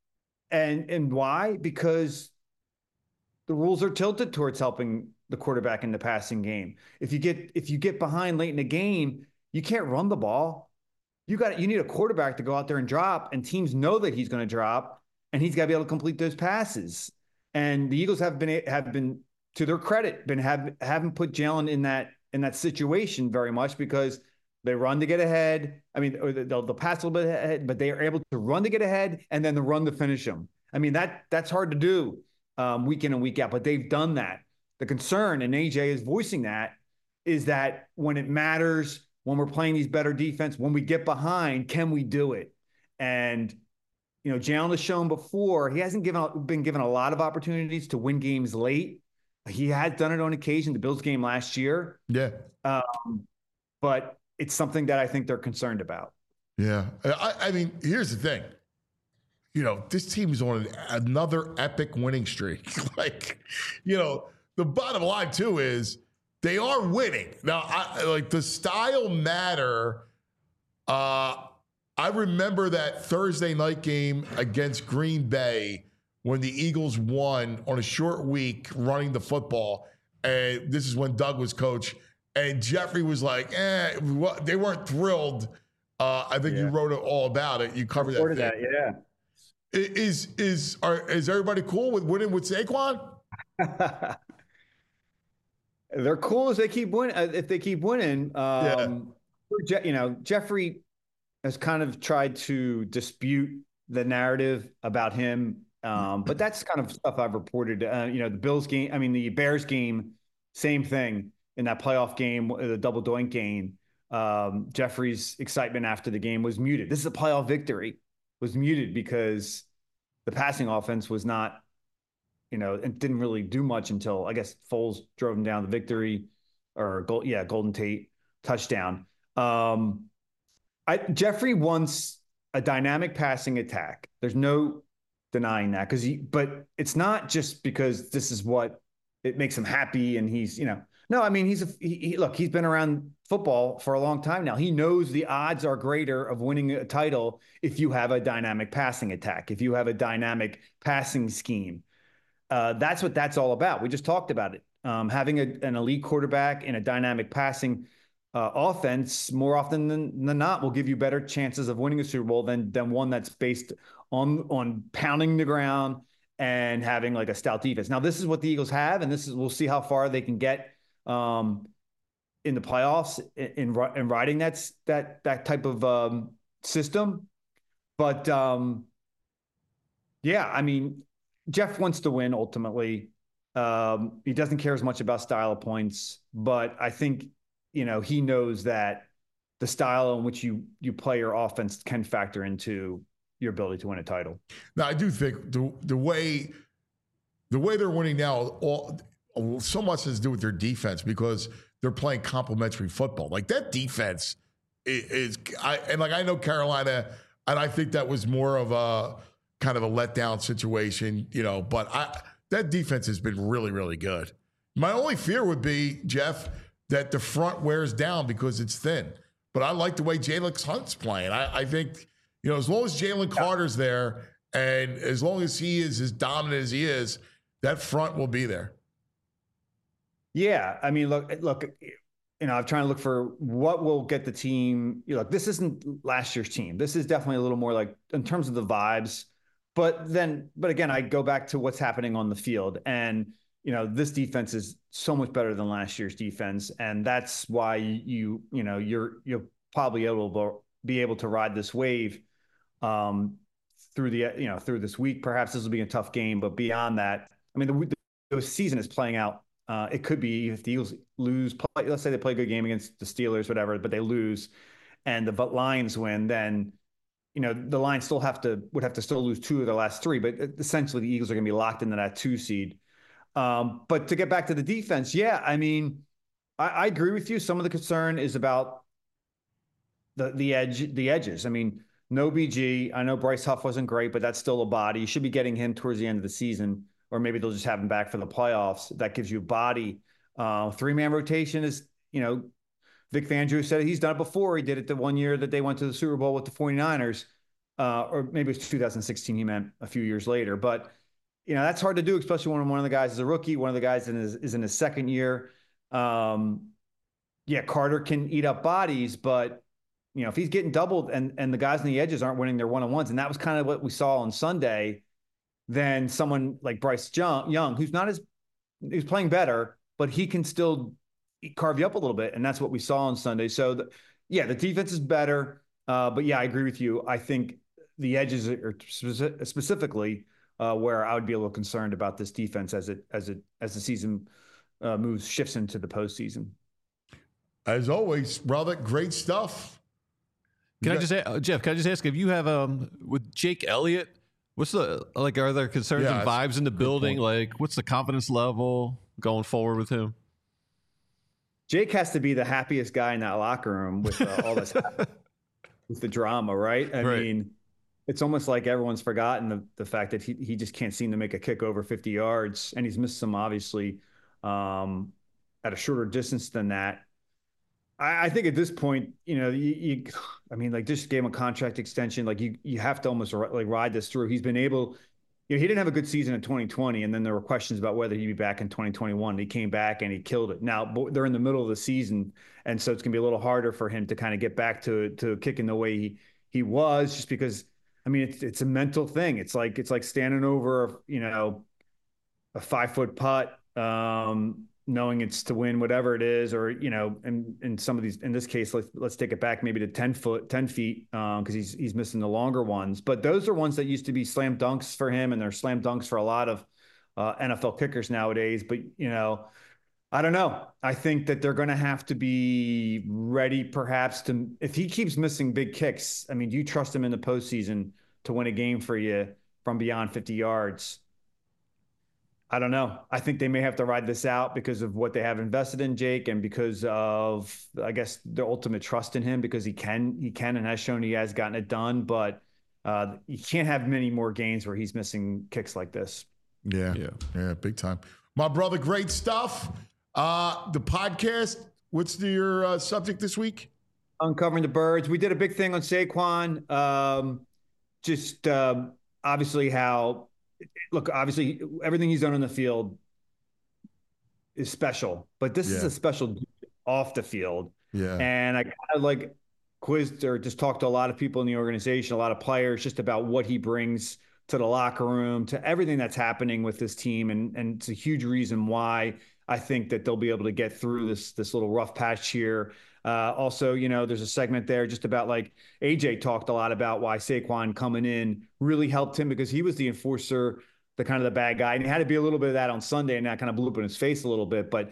And why? Because the rules are tilted towards helping the quarterback in the passing game. If you get behind late in the game, you can't run the ball. You need a quarterback to go out there and drop, and teams know that he's going to drop, and he's got to be able to complete those passes. And the Eagles have been to their credit, haven't put Jalen in that situation very much, because they run to get ahead. I mean, or they'll pass a little bit ahead, but they are able to run to get ahead and then the run to finish them. I mean, that's hard to do week in and week out, but they've done that. The concern, and AJ is voicing that, is that when it matters, when we're playing these better defense, when we get behind, can we do it? And, Jalen has shown before, he hasn't been given a lot of opportunities to win games late. He has done it on occasion, the Bills game last year. Yeah. But it's something that I think they're concerned about. Yeah. I mean, here's the thing. This team is on another epic winning streak. The bottom line, too, is they are winning. Now, the style matter. I remember that Thursday night game against Green Bay when the Eagles won on a short week running the football. And this is when Doug was coach. And Jeffrey was like, they weren't thrilled. I think you wrote it all about it. You covered that. Yeah. Is everybody cool with winning with Saquon? They're cool as they keep winning. If they keep winning, Jeffrey has kind of tried to dispute the narrative about him, but that's kind of stuff I've reported. The Bears game, same thing. In that playoff game, the double doink game, Jeffrey's excitement after the game was muted. This is a playoff victory, was muted because the passing offense was not, it didn't really do much until, I guess, Foles drove him down the victory, or Golden Tate touchdown. Jeffrey wants a dynamic passing attack. There's no denying that, but it's not just because this is what it makes him happy and he's, No, I mean, he's been around football for a long time now. He knows the odds are greater of winning a title if you have a dynamic passing attack, if you have a dynamic passing scheme. That's what that's all about. We just talked about it. Having an elite quarterback in a dynamic passing offense more often than not will give you better chances of winning a Super Bowl than one that's based on pounding the ground and having like a stout defense. Now, this is what the Eagles have, and we'll see how far they can get in the playoffs in riding that type of system. But I mean, Jeff wants to win ultimately. He doesn't care as much about style of points, but I think, he knows that the style in which you play your offense can factor into your ability to win a title. Now, I do think the way they're winning now, so much has to do with their defense, because they're playing complementary football. Like, that defense I know Carolina, and I think that was more of a kind of a letdown situation, but that defense has been really, really good. My only fear would be, Jeff, that the front wears down because it's thin. But I like the way Jalen Hunt's playing. I think, as long as Jalen Carter's there and as long as he is as dominant as he is, that front will be there. Yeah. I mean, look, I'm trying to look for what will get the team. This isn't last year's team. This is definitely a little more like in terms of the vibes. But again, I go back to what's happening on the field. And, this defense is so much better than last year's defense. And that's why you'll probably be able to ride this wave through this week. Perhaps this will be a tough game, but beyond that, I mean, the season is playing out. It could be if the Eagles lose, let's say they play a good game against the Steelers, whatever, but they lose and the Lions win, then, the Lions would have to still lose 2 of the last 3, but essentially the Eagles are going to be locked into that 2 seed. But to get back to the defense, I mean, I agree with you. Some of the concern is about the edges. I mean, no BG. I know Bryce Huff wasn't great, but that's still a body. You should be getting him towards the end of the season, or maybe they'll just have him back for the playoffs. That gives you body. 3-man rotation is, Vic Fangio said he's done it before. He did it the one year that they went to the Super Bowl with the 49ers. or maybe it was 2016. He meant a few years later, but that's hard to do, especially when one of the guys is a rookie. One of the guys is in his second year. Carter can eat up bodies, but if he's getting doubled and the guys on the edges aren't winning their one-on-ones, and that was kind of what we saw on Sunday, then someone like Bryce Young, who's playing better, but he can still carve you up a little bit, and that's what we saw on Sunday. So, the defense is better, but I agree with you. I think the edges are specifically where I would be a little concerned about this defense as the season shifts into the postseason. As always, brother, great stuff. Can I just ask, Jeff? Can I just ask if you have with Jake Elliott? What's are there concerns and vibes in the building? Like, what's the confidence level going forward with him? Jake has to be the happiest guy in that locker room with all this with the drama, right? I mean, it's almost like everyone's forgotten the fact that he just can't seem to make a kick over 50 yards, and he's missed some obviously at a shorter distance than that. I think at this point, just gave him a contract extension. Like you have to almost ride this through. He's been able, he didn't have a good season in 2020, and then there were questions about whether he'd be back in 2021. He came back and he killed it. Now they're in the middle of the season, and so it's gonna be a little harder for him to kind of get back to kicking the way he was, just because it's a mental thing. It's like standing over a 5-foot putt, knowing it's to win whatever it is, or in some of these, in this case, let's take it back maybe to 10 feet because he's missing the longer ones. But those are ones that used to be slam dunks for him, and they're slam dunks for a lot of NFL kickers nowadays. But I don't know. I think that they're going to have to be ready, perhaps, to, if he keeps missing big kicks. Do you trust him in the postseason to win a game for you from beyond 50 yards? I don't know. I think they may have to ride this out because of what they have invested in Jake, and because of, I guess, their ultimate trust in him, because he can and has shown he has gotten it done. But you can't have many more games where he's missing kicks like this. Yeah, big time. My brother, great stuff. The podcast, what's your subject this week? Uncovering the Birds. We did a big thing on Saquon. Obviously obviously everything he's done on the field is special, but this is a special off the field. Yeah. And I kind of quizzed or just talked to a lot of people in the organization, a lot of players, just about what he brings to the locker room, to everything that's happening with this team. And it's a huge reason why I think that they'll be able to get through this little rough patch here. Also, there's a segment there just about AJ talked a lot about why Saquon coming in really helped him, because he was the enforcer, the kind of the bad guy. And he had to be a little bit of that on Sunday, and that kind of blew up in his face a little bit. But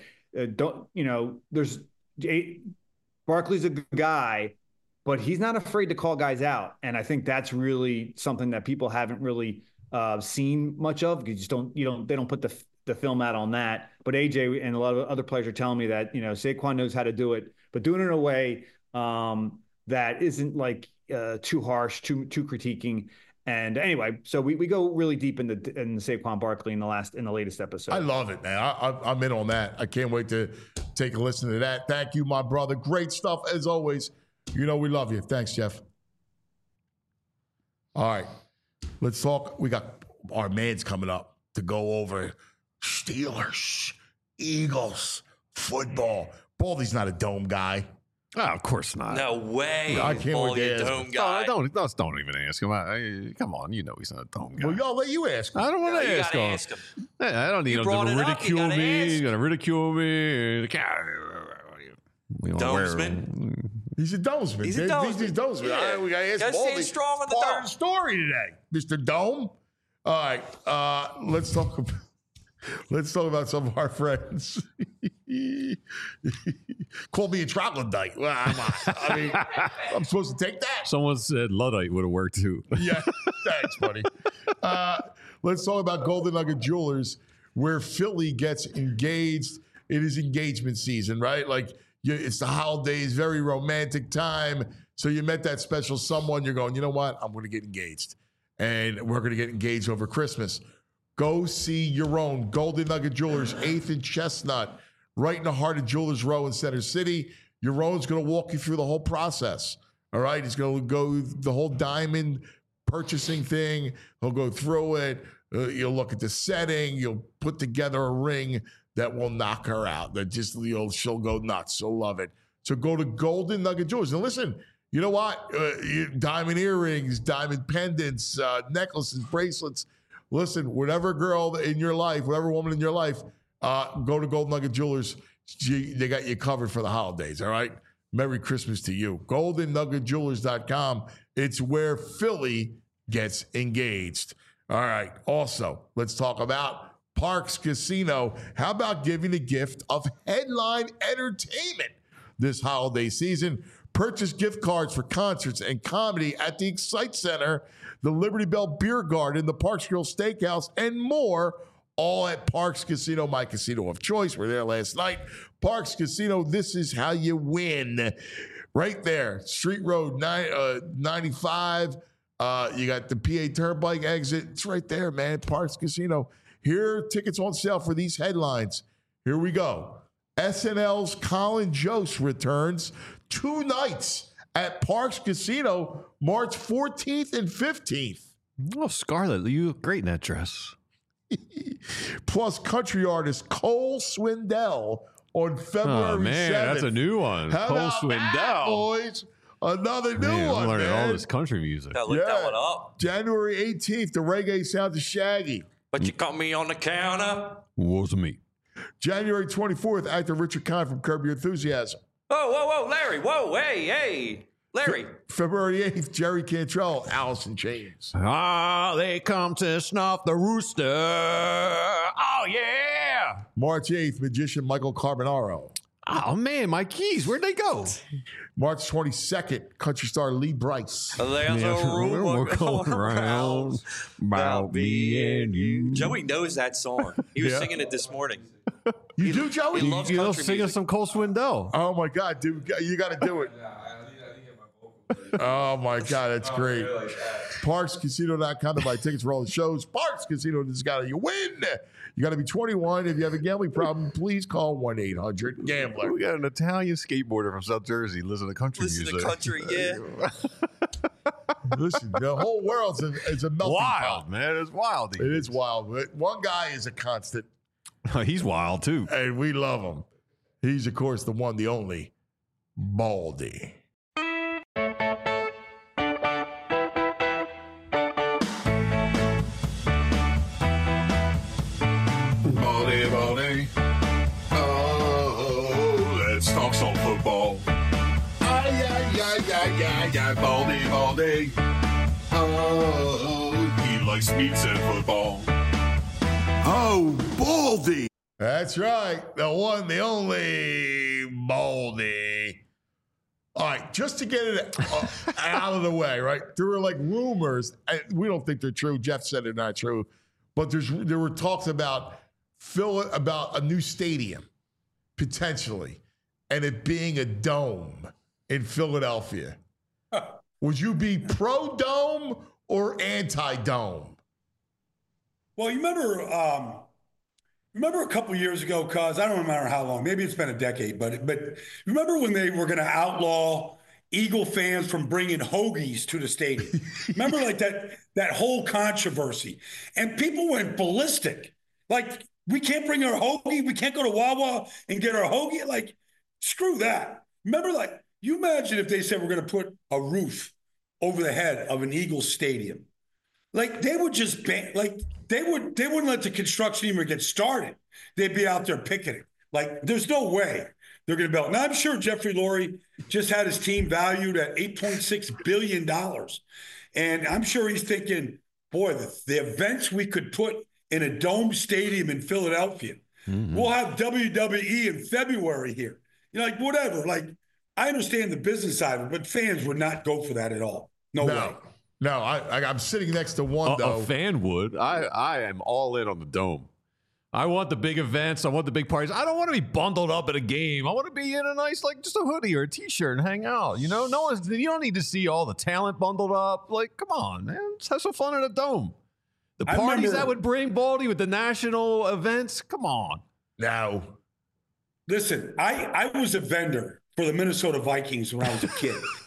Barkley's a good guy, but he's not afraid to call guys out. And I think that's really something that people haven't really seen much of. They don't put the film out on that. But AJ and a lot of other players are telling me that, Saquon knows how to do it, but doing it in a way that isn't too harsh, too critiquing. And anyway, so we go really deep in the Saquon Barkley in the latest episode. I love it, man. I'm in on that. I can't wait to take a listen to that. Thank you, my brother. Great stuff as always. We love you. Thanks, Jeff. All right, let's talk. We got our man's coming up to go over Steelers, Eagles, football. Baldy's not a dome guy. Oh, of course not. No way. I can't wait to ask dome guy. Don't even ask him. Come on, he's not a dome guy. Well, y'all let you ask him. I don't want to ask him. I don't need him to ridicule me. He's going to ridicule me. Domesman. He's a domesman. He's a domesman. Yeah. We got to ask Gotta Baldy. stay strong on the Part dome. of the story today, Mr. Dome. All right, let's talk about some of our friends. Call me a troglodyte. Well, I'm supposed to take that. Someone said Luddite would have worked too. Yeah, thanks, buddy. Let's talk about Golden Nugget Jewelers, where Philly gets engaged. It is engagement season, right? It's the holidays, very romantic time. So you met that special someone. You're going, you know what? I'm going to get engaged. And we're going to get engaged over Christmas. Go see your own Golden Nugget Jewelers, 8th and Chestnut, right in the heart of Jewelers Row in Center City. Your own's going to walk you through the whole process. All right? He's going to go the whole diamond purchasing thing. He'll go through it. You'll look at the setting. You'll put together a ring that will knock her out. That just she'll go nuts. She'll love it. So go to Golden Nugget Jewelers. And listen, you know what? Diamond earrings, diamond pendants, necklaces, bracelets. Listen, whatever girl in your life, whatever woman in your life, go to Golden Nugget Jewelers. They got you covered for the holidays, all right? Merry Christmas to you. GoldenNuggetJewelers.com. It's where Philly gets engaged. All right. Also, let's talk about Parx Casino. How about giving the gift of headline entertainment this holiday season? Purchase gift cards for concerts and comedy at the Excite Center, the Liberty Bell Beer Garden, the Parx Grill Steakhouse, and more, all at Parx Casino, my casino of choice. We're there last night. Parx Casino, this is how you win. Right there, Street Road 95. You got the PA Turnpike exit. It's right there, man. Parx Casino. Here are tickets on sale for these headlines. Here we go. SNL's Colin Jost returns 2 nights at Parx Casino, March 14th and 15th. Oh, Scarlett, you look great in that dress. Plus, country artist Cole Swindell on February 7th. That's a new one. How Cole about Swindell. that, boys? Another new Man, one, I'm learning man. all this country music. Gotta look that one up. January 18th, the reggae sounds of Shaggy. But you caught me on the counter. Was me. January 24th, actor Richard Kind from Curb Your Enthusiasm. Oh, whoa, Larry. Whoa, hey. Larry. February 8th, Jerry Cantrell, Alice in Chains. Ah, they come to snuff the rooster. Oh, yeah. March 8th, magician Michael Carbonaro. Oh, man, my keys. Where'd they go? March 22nd, country star Lee Bryce. There's a rumor going around about me and you. Joey knows that song. He was singing it this morning. You do, Joey? He loves You know, country sing us music. some Cole Swindell. Oh, my God, dude. You got to do it. Oh, my God, that's great. ParxCasino.com to buy tickets for all the shows. Parx Casino, this got to you win. You got to be 21. If you have a gambling problem, please call 1-800-GAMBLER. We got an Italian skateboarder from South Jersey. Listen to country music. Listen to country, yeah. Listen, the whole world's a melting Wild, pot. man. It's wild. It is wild. But one guy is a constant, He's wild, too. and we love him. He's, of course, the one, the only, Baldy. Baldy. Oh, let's talk some football. Baldy. Oh, he likes meats and football. Oh, Baldy. That's right. The one, the only, Baldy. All right, just to get it out of the way, right? There were like rumors. And we don't think they're true. Jeff said they're not true. But there were talks about a new stadium, potentially, and it being a dome in Philadelphia. Would you be pro-dome or anti-dome? Well, you remember a couple years ago, cuz I don't remember how long, maybe it's been a decade, but remember when they were going to outlaw Eagle fans from bringing hoagies to the stadium? Remember like that whole controversy, and people went ballistic. Like, we can't bring our hoagie. We can't go to Wawa and get our hoagie. Like, screw that. Remember, like, you imagine if they said we're going to put a roof over the head of an Eagles stadium. Like, they would just ban, like, they wouldn't let the construction even get started. They'd be out there picketing. Like, there's no way they're going to build. Now, I'm sure Jeffrey Lurie just had his team valued at $8.6 billion. And I'm sure he's thinking, boy, the events we could put in a dome stadium in Philadelphia. Mm-hmm. We'll have WWE in February here. You know, like, whatever. Like, I understand the business side of it, but fans would not go for that at all. No way. No, I'm sitting next to one, though. A fan would. I am all in on the dome. I want the big events. I want the big parties. I don't want to be bundled up at a game. I want to be in a nice, like, just a hoodie or a T-shirt and hang out. You know, you don't need to see all the talent bundled up. Like, come on, man. Let's have some fun at a dome. The parties that would bring Baldy with the national events. Come on. No. Listen, I was a vendor for the Minnesota Vikings when I was a kid.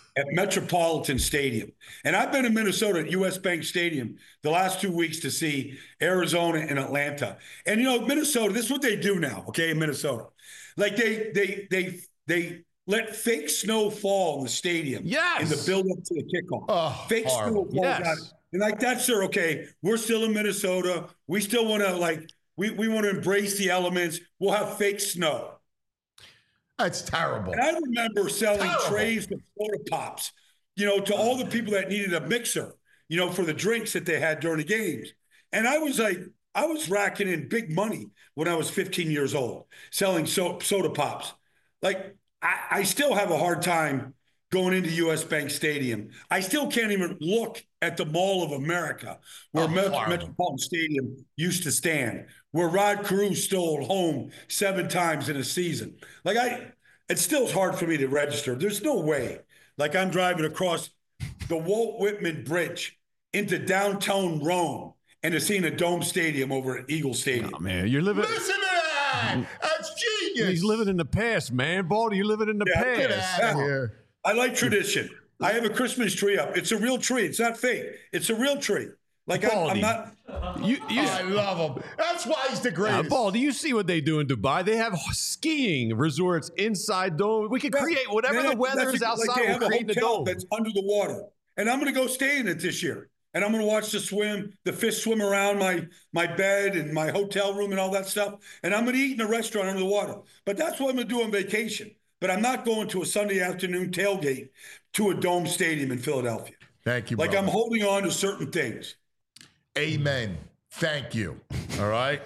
at Metropolitan Stadium. And I've been in Minnesota at US Bank Stadium the last 2 weeks to see Arizona and Atlanta. And, Minnesota, this is what they do now, okay, in Minnesota. Like they let fake snow fall in the stadium in the build-up to the kickoff. Oh, fake horrible. snow falls out. And like that's okay. We're still in Minnesota. We still want to we want to embrace the elements. We'll have fake snow. That's terrible. And I remember selling trays of soda pops, to all the people that needed a mixer, for the drinks that they had during the games. And I was racking in big money when I was 15 years old, selling soda pops. Like I still have a hard time going into US Bank Stadium. I still can't even look at the Mall of America where Metropolitan Stadium used to stand, where Rod Carew stole home 7 times in a season. It still is hard for me to register. There's no way. Like I'm driving across the Walt Whitman Bridge into downtown Rome and to seeing a dome stadium over at Eagle Stadium. Oh, man, you're living. Listen to that. That's genius. He's living in the past, man. Baldy, you're living in the past. Get out of here. I like tradition. I have a Christmas tree up. It's a real tree. It's not fake. It's a real tree. Like I'm not. I love him. That's why he's the greatest. Baldy, you see what they do in Dubai? They have skiing resorts inside dome. We can create whatever the weather is outside. They have we'll create a hotel dome. that's under the water, and I'm going to go stay in it this year. And I'm going to watch the fish swim around my bed and my hotel room and all that stuff. And I'm going to eat in a restaurant under the water. But that's what I'm going to do on vacation. But I'm not going to a Sunday afternoon tailgate to a dome stadium in Philadelphia. Thank you, Like brother. I'm holding on to certain things. Amen. Thank you. All right.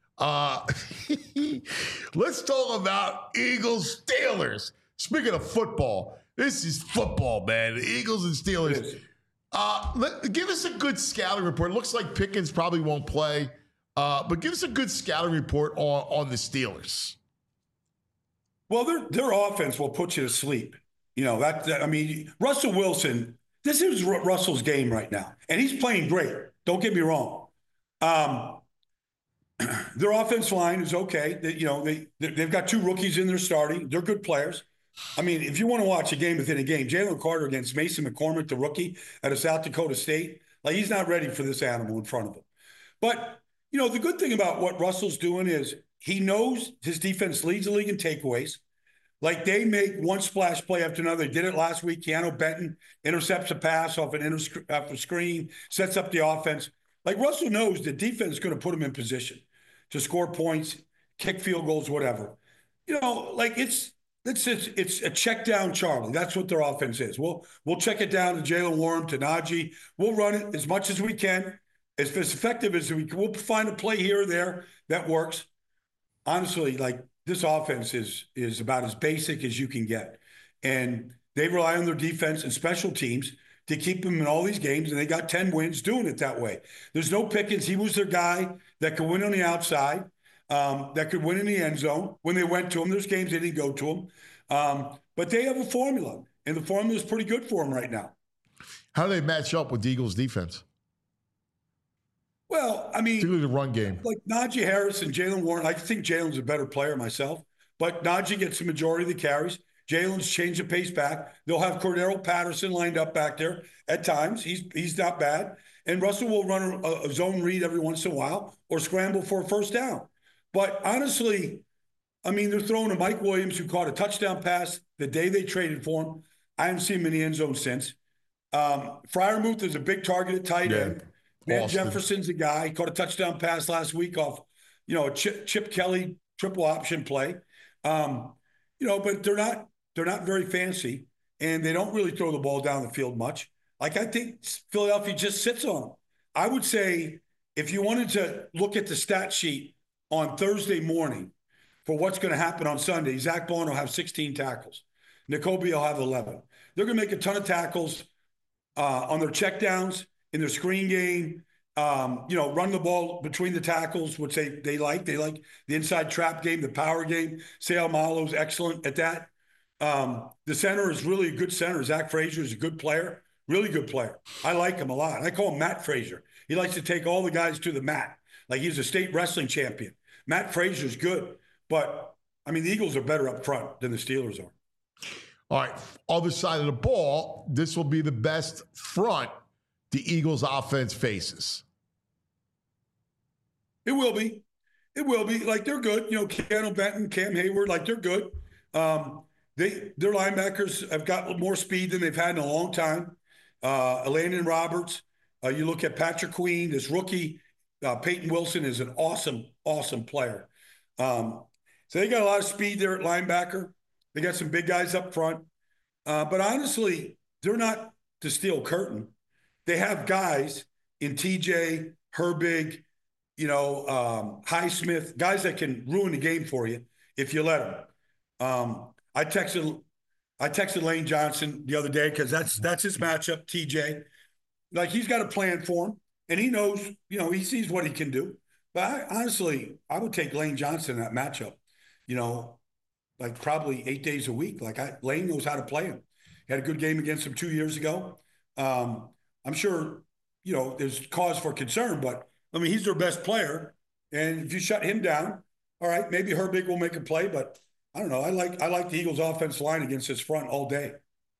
Let's talk about Eagles Steelers. Speaking of football, this is football, man. The Eagles and Steelers. Give us a good scouting report. It looks like Pickens probably won't play, but give us a good scouting report on the Steelers. Well, their offense will put you to sleep. Russell Wilson, this is Russell's game right now, and he's playing great. Don't get me wrong. Their offense line is okay. They've got 2 rookies in there starting. They're good players. I mean, if you want to watch a game within a game, Jalen Carter against Mason McCormick, the rookie out of South Dakota State, he's not ready for this animal in front of him. But, the good thing about what Russell's doing is he knows his defense leads the league in takeaways. Like they make one splash play after another. They did it last week. Keanu Benton intercepts a pass off a screen, sets up the offense. Like Russell knows the defense is going to put him in position to score points, kick field goals, whatever. It's a check down Charlie. That's what their offense is. We'll check it down to Jalen Warren, to Najee. We'll run it as much as we can, as effective as we can. We'll find a play here or there that works. Honestly, this offense is about as basic as you can get. And they rely on their defense and special teams to keep them in all these games, and they got 10 wins doing it that way. There's no Pickens. He was their guy that could win on the outside, that could win in the end zone. When they went to him, there's games they didn't go to him. But they have a formula, and the formula is pretty good for them right now. How do they match up with the Eagles' defense? Well, particularly the run game. Like Najee Harris and Jalen Warren, I think Jalen's a better player myself, but Najee gets the majority of the carries. Jalen's changed the pace back. They'll have Cordero Patterson lined up back there at times. He's not bad. And Russell will run a zone read every once in a while or scramble for a first down. But honestly, they're throwing to Mike Williams, who caught a touchdown pass the day they traded for him. I haven't seen him in the end zone since. Freiermuth is a big target at tight end. Van Jefferson's a guy. He caught a touchdown pass last week off, a Chip Kelly triple option play. But they're not very fancy, and they don't really throw the ball down the field much. I think Philadelphia just sits on them. I would say if you wanted to look at the stat sheet on Thursday morning for what's going to happen on Sunday, Zach Bond will have 16 tackles. N'Kobe will have 11. They're going to make a ton of tackles on their checkdowns, in their screen game, run the ball between the tackles, which they like. They like the inside trap game, the power game. Seumalo's excellent at that. The center is really a good center. Zach Frazier is a good player, really good player. I like him a lot. I call him Matt Frazier. He likes to take all the guys to the mat. Like he's a state wrestling champion. Matt Frazier's good. But, the Eagles are better up front than the Steelers are. All right, other side of the ball, this will be the best front the Eagles offense faces. It will be. It will be. Like, they're good. You know, Keanu Benton, Cam Hayward, like, they're good. Their linebackers have got more speed than they've had in a long time. Landon Roberts. You look at Patrick Queen, this rookie. Peyton Wilson is an awesome, awesome player. So they got a lot of speed there at linebacker. They got some big guys up front. But honestly, they're not the steel curtain. They have guys in TJ, Herbig, Highsmith, guys that can ruin the game for you if you let them. I texted Lane Johnson the other day because that's his matchup, TJ. Like, he's got a plan for him, and he knows, he sees what he can do. But I would take Lane Johnson in that matchup, like probably 8 days a week. Like, Lane knows how to play him. He had a good game against him 2 years ago. I'm sure, there's cause for concern, but I mean, he's their best player. And if you shut him down, all right, maybe Herbig will make a play, but I don't know. I like the Eagles' offensive line against his front all day.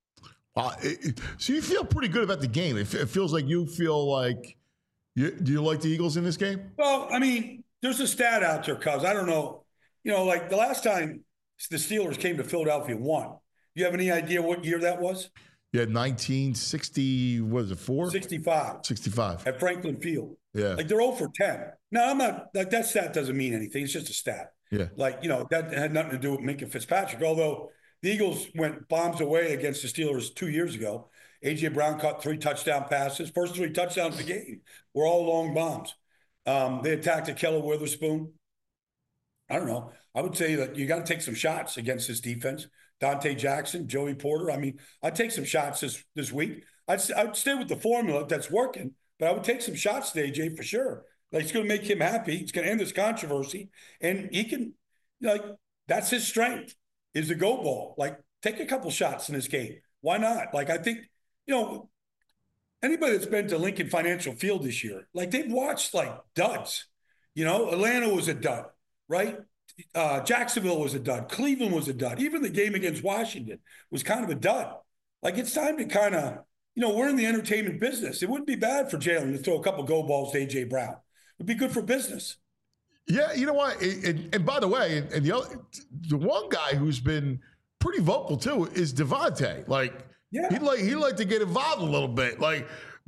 So you feel pretty good about the game. It feels like you feel like do you like the Eagles in this game? Well, I mean, there's a stat out there, cuz I don't know. Like the last time the Steelers came to Philadelphia and won. You have any idea what year that was? Yeah, 1960, what is it, 4? 65. 65. At Franklin Field. Yeah. Like, they're 0 for 10. Now, I'm not, like, that stat doesn't mean anything. It's just a stat. Yeah. Like, that had nothing to do with Minkah Fitzpatrick, although the Eagles went bombs away against the Steelers 2 years ago. A.J. Brown caught 3 touchdown passes. First 3 touchdowns of the game were all long bombs. They attacked Ahkello Witherspoon. I don't know. I would say that you got to take some shots against this defense. Dante Jackson, Joey Porter. I mean, I'd take some shots this week. I'd stay with the formula that's working, but I would take some shots to AJ for sure. Like, it's going to make him happy. It's going to end this controversy. And he can, that's his strength, is the go ball. Like, take a couple shots in this game. Why not? Like, I think, anybody that's been to Lincoln Financial Field this year, like, they've watched, like, duds. Atlanta was a dud, right? Jacksonville was a dud. Cleveland was a dud. Even the game against Washington was kind of a dud. Like, it's time to kind of, we're in the entertainment business. It wouldn't be bad for Jalen to throw a couple go balls to A.J. Brown. It'd be good for business. Yeah, you know what? And by the way, and the one guy who's been pretty vocal too is Devontae. Like, he'd like to get involved a little bit. Like,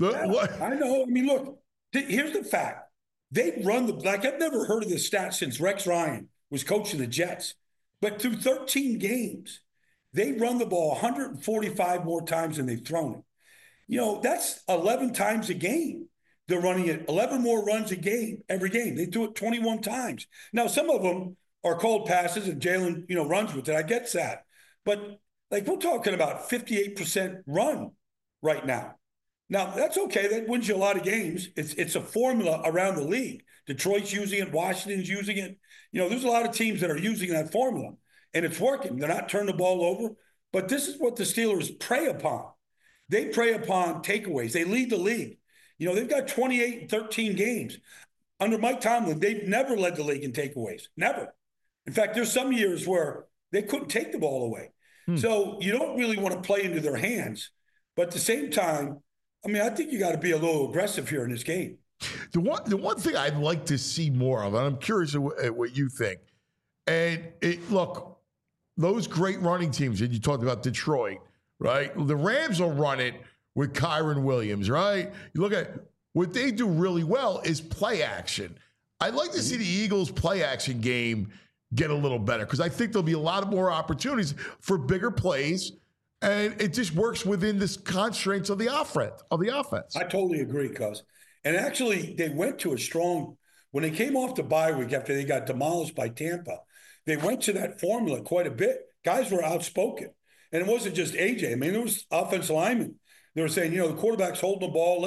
I know. I mean, look, here's the fact. They run I've never heard of this stat since Rex Ryan was coaching the Jets. But through 13 games, they run the ball 145 more times than they've thrown it. That's 11 times a game. They're running it 11 more runs a game, every game. They do it 21 times. Now, some of them are called passes and Jalen, runs with it. I get that. But, like, we're talking about 58% run right now. Now, that's okay. That wins you a lot of games. It's a formula around the league. Detroit's using it. Washington's using it. There's a lot of teams that are using that formula, and it's working. They're not turning the ball over. But this is what the Steelers prey upon. They prey upon takeaways. They lead the league. They've got 28 and 13 games. Under Mike Tomlin, they've never led the league in takeaways. Never. In fact, there's some years where they couldn't take the ball away. So you don't really want to play into their hands. But at the same time, I mean, I think you got to be a little aggressive here in this game. The one thing I'd like to see more of, and I'm curious at what you think, and look, those great running teams that you talked about, Detroit, right? The Rams will run it with Kyron Williams, right? You look at what they do really well is play action. I'd like to see the Eagles' play action game get a little better because I think there'll be a lot of more opportunities for bigger plays, and it just works within the constraints of the offense. I totally agree, cuz. And actually, they went to a strong when they came off the bye week after they got demolished by Tampa. They went to that formula quite a bit. Guys were outspoken, and it wasn't just AJ. I mean, there was offensive linemen. They were saying, the quarterback's holding the ball.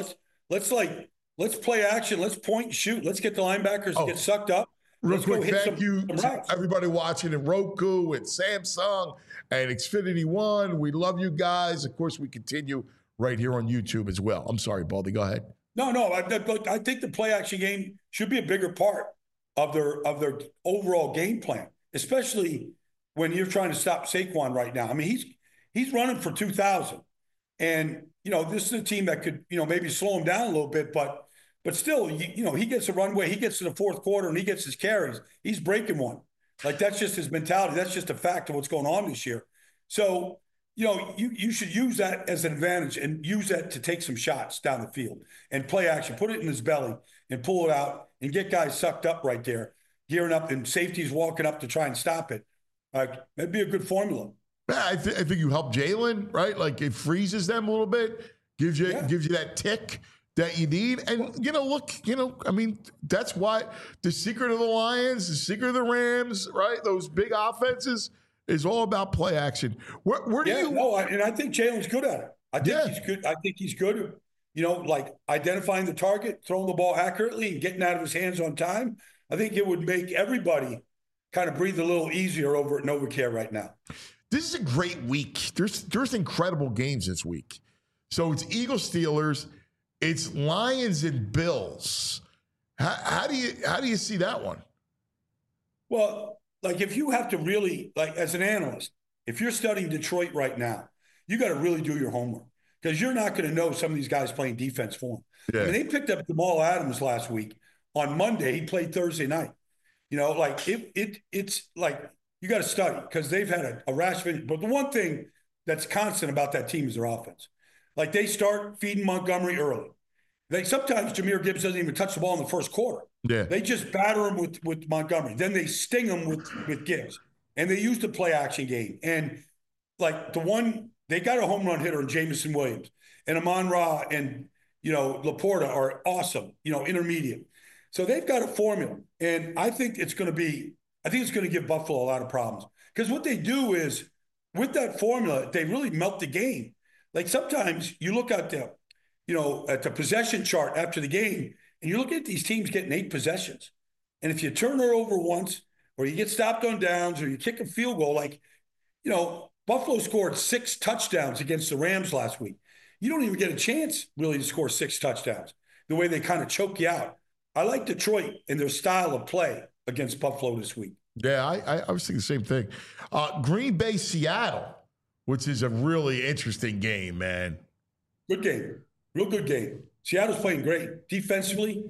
Let's play action. Let's point and shoot. Let's get the linebackers to get sucked up. Real quick, thank you to everybody watching in Roku and Samsung and Xfinity One. We love you guys. Of course, we continue right here on YouTube as well. I'm sorry, Baldy. Go ahead. No. I think the play action game should be a bigger part of their overall game plan, especially when you're trying to stop Saquon right now. I mean, he's running for 2,000. And, this is a team that could, maybe slow him down a little bit, but still, he gets a runway, he gets to the fourth quarter and he gets his carries. He's breaking one. Like, that's just his mentality. That's just a fact of what's going on this year. So, you should use that as an advantage and use that to take some shots down the field and play action, put it in his belly and pull it out and get guys sucked up right there, gearing up, and safeties walking up to try and stop it. That'd be a good formula. Yeah, I think you help Jalen, right? Like, it freezes them a little bit, gives you that tick that you need. And, that's why the secret of the Lions, the secret of the Rams, right? Those big offenses is all about play action. Where do you? No, and I think Jalen's good at it. I think he's good. I think he's good, like identifying the target, throwing the ball accurately, and getting out of his hands on time. I think it would make everybody kind of breathe a little easier over at NovaCare right now. This is a great week. There's incredible games this week. So it's Eagles, Steelers, it's Lions and Bills. How do you see that one? Well, like, if you have to really, like, as an analyst, if you're studying Detroit right now, you got to really do your homework, because you're not going to know some of these guys playing defense for them. Yeah. I mean, they picked up Jamal Adams last week. On Monday, he played Thursday night. It's like, you got to study, because they've had a rash of injuries. But the one thing that's constant about that team is their offense. Like, they start feeding Montgomery early. Sometimes Jahmyr Gibbs doesn't even touch the ball in the first quarter. Yeah. They just batter him with Montgomery. Then they sting him with Gibbs. And they use the play action game. And, like, they got a home run hitter in Jamison Williams. And Amon-Ra and, Laporta are awesome, intermediate. So they've got a formula. And I think it's going to give Buffalo a lot of problems. Because what they do is, with that formula, they really melt the game. Like, sometimes you look at the possession chart after the game, and you look at these teams getting 8 possessions. And if you turn her over once, or you get stopped on downs, or you kick a field goal, like, Buffalo scored 6 touchdowns against the Rams last week. You don't even get a chance, really, to score 6 touchdowns, the way they kind of choke you out. I like Detroit and their style of play against Buffalo this week. Yeah, I was thinking the same thing. Green Bay, Seattle, which is a really interesting game, man. Good game. Real good game. Seattle's playing great. Defensively,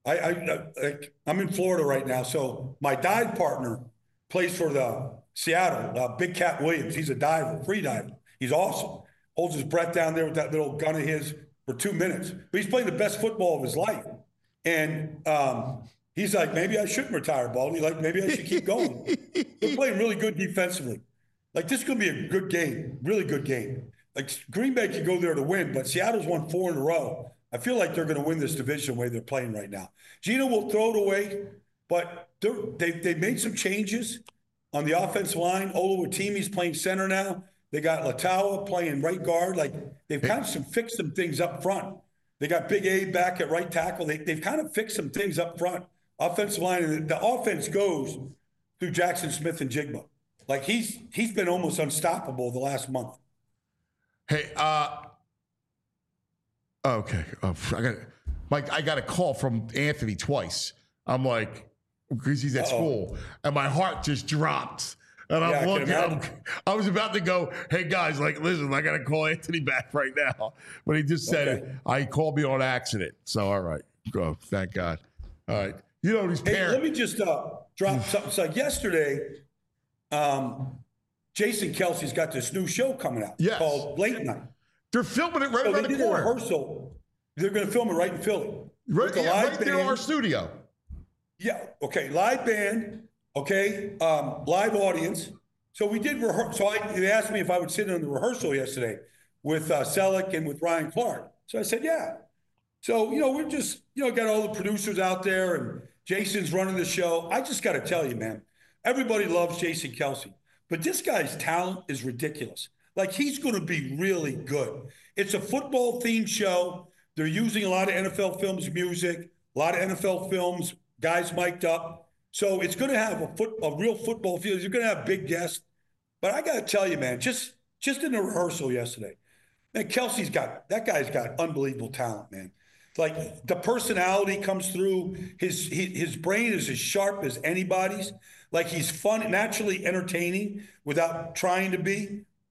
I'm in Florida right now, so my dive partner plays for the Seattle, Big Cat Williams. He's a diver, free diver. He's awesome. Holds his breath down there with that little gun of his for 2 minutes. But he's playing the best football of his life. And he's like, maybe I shouldn't retire, Baldy. Like, maybe I should keep going. They're playing really good defensively. Like, this is going to be a good game, really good game. Like, Green Bay could go there to win, but Seattle's won 4 in a row. I feel like they're going to win this division the way they're playing right now. Gino will throw it away, but they've made some changes on the offensive line. Oluwatimi's playing center now. They got Latawa playing right guard. Like, they've kind of fixed some things up front. They got Big A back at right tackle. They've kind of fixed some things up front. Offensive line, and the offense goes through Jackson Smith and Jigba. Like, he's been almost unstoppable the last month. Hey, okay. I got a call from Anthony twice. I'm like, because he's at school, and my heart just dropped. And I'm looking, I was about to go, hey guys, like, listen, I got to call Anthony back right now. But he just said, he called me on accident. So, all right, go. Thank God. All right. These parents. Let me just drop something. So yesterday, Jason Kelsey's got this new show coming out called Late Night. They're filming it right around the corner. Rehearsal. They're going to film it right in Philly. Right near our studio. Yeah. Okay. Live band. Okay. Live audience. So we did rehearse. So they asked me if I would sit in the rehearsal yesterday with Selleck and with Ryan Clark. So I said, yeah. So, we're just, got all the producers out there, and Jason's running the show. I just got to tell you, man, everybody loves Jason Kelsey, but this guy's talent is ridiculous. Like, he's going to be really good. It's a football themed show. They're using a lot of NFL Films music, a lot of NFL Films, guys mic'd up. So it's going to have a real football feel. You're going to have big guests. But I got to tell you, man, just in the rehearsal yesterday, man, that guy's got unbelievable talent, man. Like, the personality comes through. His brain is as sharp as anybody's. Like, he's fun, naturally entertaining without trying to be.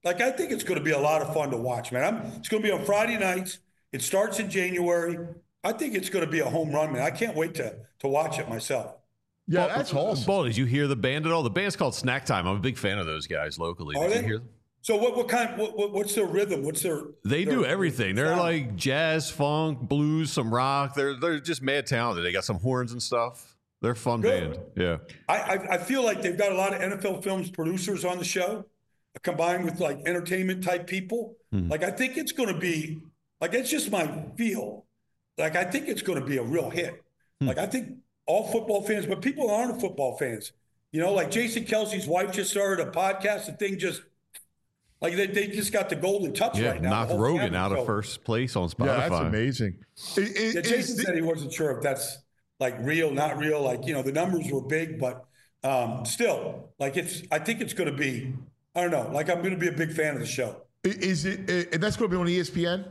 Like, I think it's going to be a lot of fun to watch, man. It's going to be on Friday nights. It starts in January. I think it's going to be a home run, man. I can't wait to watch it myself. Yeah, that's awesome. Ball, did you hear the band at all? The band's called Snack Time. I'm a big fan of those guys locally. Are Did they? you hear them? So what's their rhythm? What's their? They do everything. They're sound? like jazz, funk, blues, some rock. They're just mad talented. They got some horns and stuff. They're a fun band. Yeah. I feel like they've got a lot of NFL Films producers on the show, combined with like entertainment type people. Like, I think it's going to be like, it's just my feel. Like, I think it's going to be a real hit. Like, I think all football fans, but people aren't football fans. You know, like Jason Kelsey's wife just started a podcast. The thing just, like, they just got the golden touch right now. Knocked Rogan out of first place on Spotify. Yeah, that's amazing. Jason said he wasn't sure if that's like real, not real. Like, you know, the numbers were big, but still, like, I think it's going to be, I don't know, like, I'm going to be a big fan of the show. Is it, and that's going to be on ESPN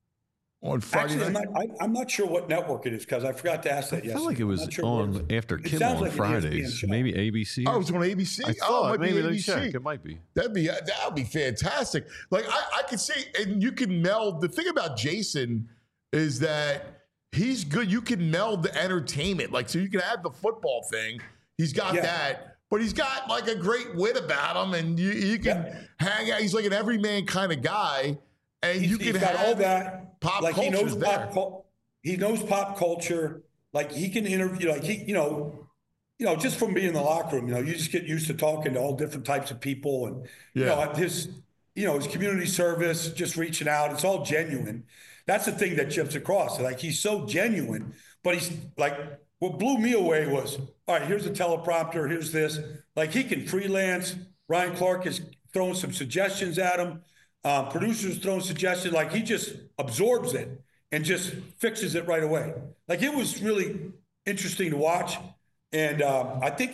on Friday night? I'm not sure what network it is, because I forgot to ask that yesterday. I felt like it was on after Kimmel on like Fridays. Maybe ABC. Oh, it's on ABC? I thought, it might maybe be ABC. Check. It might be. That'd be fantastic. Like, I could see, and you can meld. The thing about Jason is that he's good. You can meld the entertainment. Like, so you can have the football thing. He's got that. But he's got like a great wit about him, and you can hang out. He's like an everyman kind of guy, and you can got have all that pop like culture. He knows pop culture. Like, he can interview. Like, he, you know, just from being in the locker room, you know, you just get used to talking to all different types of people, and you know, his community service, just reaching out. It's all genuine. That's the thing that chips across. Like, he's so genuine, but he's like, what blew me away was, all right, here's a teleprompter, here's this. Like, he can freelance. Ryan Clark is throwing some suggestions at him. Producers throwing suggestions. Like, he just absorbs it and just fixes it right away. Like, it was really interesting to watch. And I think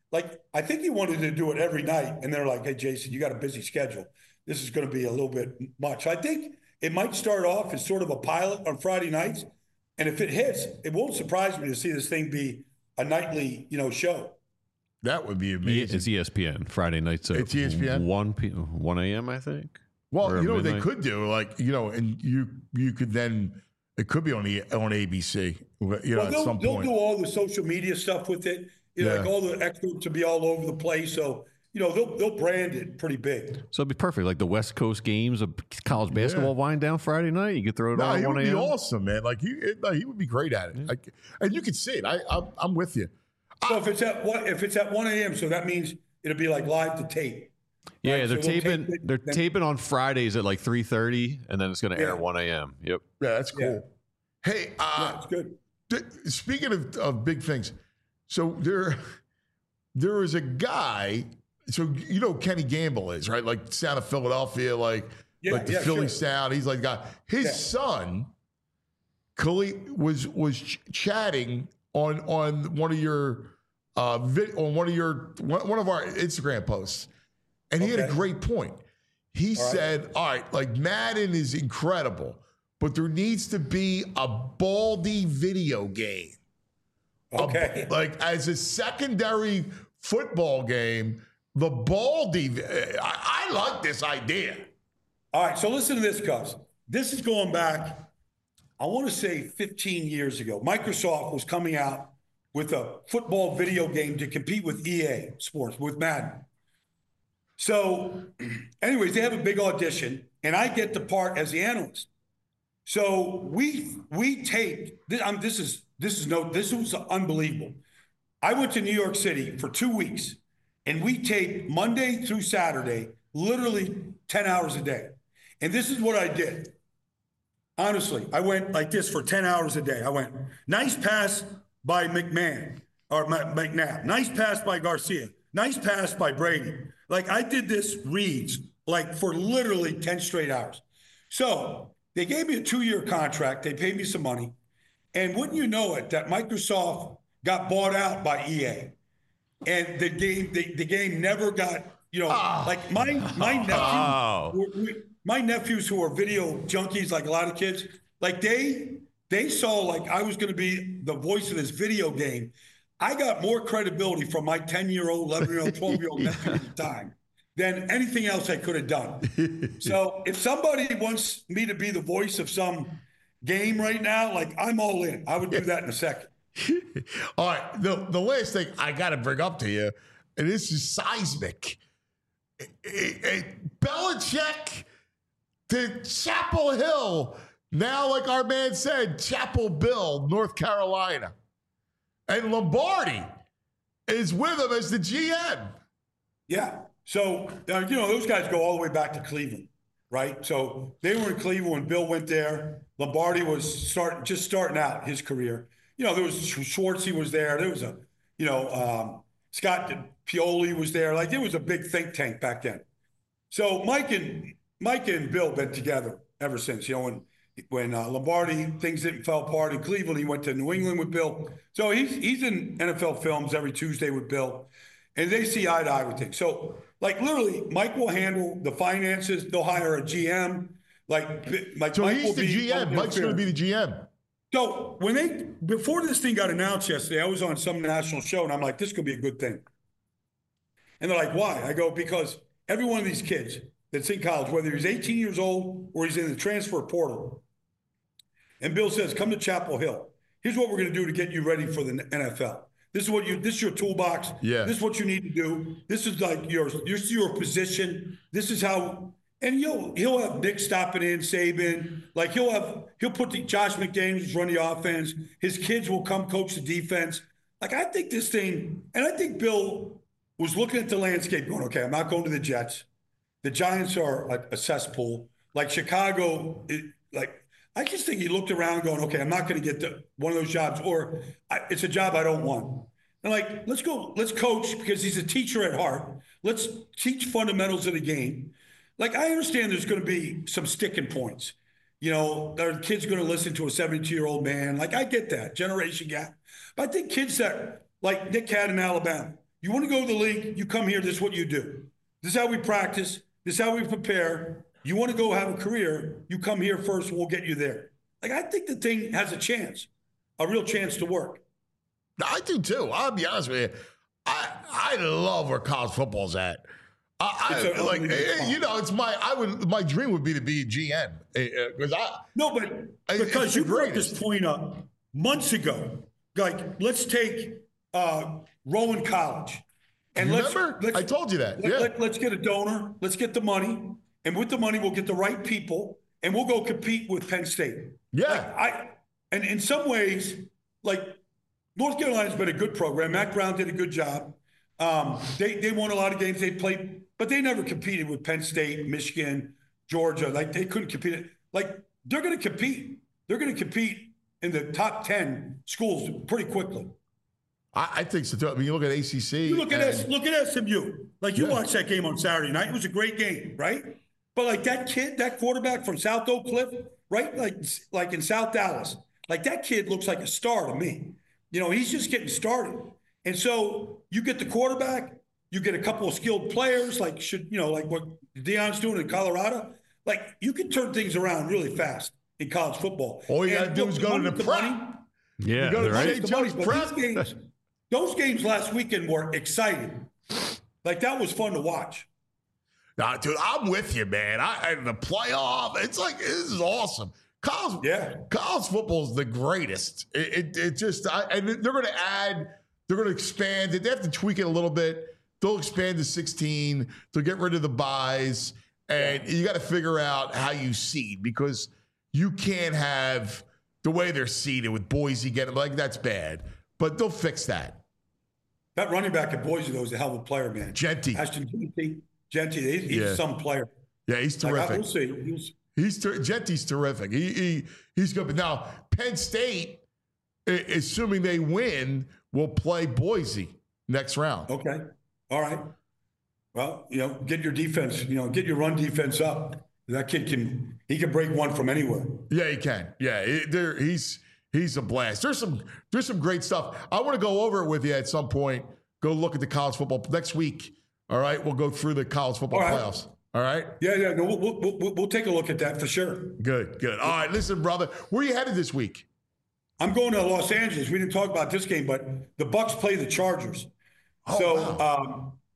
he wanted to do it every night. And they're like, hey, Jason, you got a busy schedule. This is going to be a little bit much. I think it might start off as sort of a pilot on Friday nights. And if it hits, it won't surprise me to see this thing be a nightly, show. That would be amazing. It's ESPN Friday nights. It's ESPN 1 a.m. I think. Well, you know what they could do, like, and you could then, it could be on ABC. At some point they'll do all the social media stuff with it. Like all the experts to be all over the place. So they'll brand it pretty big. So it'd be perfect, like the West Coast games of college basketball wind down Friday night. You could throw it on 1 a.m. He would be awesome, man. Like he would be great at it. Like, and you could see it. I'm with you. So if it's at 1 a.m., so that means it'll be like live to tape. Yeah, right? they're taping. They're taping on Fridays at like 3:30, and then it's going to air at 1 a.m. Yep. Yeah, that's cool. Yeah. Hey, it's good. Speaking of big things, so there is a guy. So Kenny Gamble is, right? Like sound of Philadelphia, like the Philly sound. He's like the guy. His son, Khalid, was chatting on one of our Instagram posts, and he had a great point. He said, "All right, like Madden is incredible, but there needs to be a Baldy video game, like as a secondary football game." The Baldy, I like this idea. All right, so listen to this, Cubs. This is going back, I want to say 15 years ago. Microsoft was coming out with a football video game to compete with EA Sports, with Madden. So anyways, they have a big audition, and I get the part as the analyst. So we taped, this was unbelievable. I went to New York City for 2 weeks. And we taped Monday through Saturday, literally 10 hours a day. And this is what I did. Honestly, I went like this for 10 hours a day. I went, nice pass by McNabb. Nice pass by Garcia. Nice pass by Brady. Like, I did this reads like for literally 10 straight hours. So they gave me a 2-year contract. They paid me some money. And wouldn't you know it, that Microsoft got bought out by EA. And the game never got, like my nephews who are video junkies, like a lot of kids, like they saw like I was going to be the voice of this video game. I got more credibility from my 10-year-old, 11-year-old, 12-year-old nephew at the time than anything else I could have done. So if somebody wants me to be the voice of some game right now, like I'm all in. I would do that in a second. All right. The last thing I got to bring up to you, and this is seismic. Belichick to Chapel Hill. Now, like our man said, Chapel Bill, North Carolina. And Lombardi is with him as the GM. Yeah. So, those guys go all the way back to Cleveland, right? So they were in Cleveland when Bill went there. Lombardi was just starting out his career. There was Schwartzy was there. There was Scott Pioli was there. Like, it was a big think tank back then. So Mike and Bill been together ever since. When Lombardi, things didn't fall apart in Cleveland, he went to New England with Bill. So he's in NFL films every Tuesday with Bill, and they see eye to eye with things. So, like, literally, Mike will handle the finances. They'll hire a GM. So Mike he's the GM. Mike's going to be the GM. So before this thing got announced yesterday, I was on some national show, and I'm like, this could be a good thing. And they're like, why? I go, because every one of these kids that's in college, whether he's 18 years old or he's in the transfer portal, and Bill says, come to Chapel Hill. Here's what we're going to do to get you ready for the NFL. This is your toolbox. Yeah. This is what you need to do. This is like your position. This is how, and he'll have Nick stopping in, Saban. Like he'll put Josh McDaniels run the offense. His kids will come coach the defense. Like, I think this thing, and I think Bill was looking at the landscape going, okay, I'm not going to the Jets. The Giants are a cesspool. Like Chicago, I just think he looked around going, okay, I'm not going to get one of those jobs, or it's a job I don't want. And like, let's coach, because he's a teacher at heart. Let's teach fundamentals of the game. Like, I understand there's going to be some sticking points. Our kids going to listen to a 72-year-old man. Like, I get that, generation gap. But I think kids that, like Nick had in Alabama, you want to go to the league, you come here, this is what you do. This is how we practice. This is how we prepare. You want to go have a career, you come here first, and we'll get you there. Like, I think the thing has a real chance to work. I do too. I'll be honest with you. I love where college football's at. It's my dream would be to be a GM because you brought this point up months ago. Like, let's take Rowan College, and I told you that. Let's get a donor. Let's get the money. And with the money, we'll get the right people, and we'll go compete with Penn State. Yeah. And in some ways, like, North Carolina's been a good program. Matt Brown did a good job. They won a lot of games. They played, but they never competed with Penn State, Michigan, Georgia. Like, they couldn't compete. Like, they're going to compete. They're going to compete in the top 10 schools pretty quickly. I think so too. I mean, you look at ACC. You look at SMU. Like, you watched that game on Saturday night. It was a great game, right? But like that quarterback from South Oak Cliff, right? Like in South Dallas, like that kid looks like a star to me. He's just getting started. And so you get the quarterback, you get a couple of skilled players, like what Deion's doing in Colorado. Like, you can turn things around really fast in college football. All you got to do is go to the prep. Yeah, right. Those games last weekend were exciting. Like, that was fun to watch. Nah, dude, I'm with you, man. The playoff, it's like, this is awesome. College football is the greatest. And they're going to they're going to expand it. They have to tweak it a little bit. They'll expand to 16. They'll get rid of the buys. And you got to figure out how you seed, because you can't have the way they're seeded with Boise getting, like, that's bad. But they'll fix that. That running back at Boise, though, is a hell of a player, man. Genty. Ashton Genty. He's some player. Yeah, he's terrific. We'll see. Genty's terrific. He's good. But now, Penn State, assuming they win, will play Boise next round. Okay. All right. Well, get your defense, get your run defense up. That kid can break one from anywhere. Yeah, he can. Yeah, he's a blast. There's some great stuff. I want to go over it with you at some point. Go look at the college football next week. All right, we'll go through the college football playoffs. All right. Yeah. No, we'll take a look at that for sure. Good. All right, listen, brother. Where are you headed this week? I'm going to Los Angeles. We didn't talk about this game, but the Bucs play the Chargers. Wow.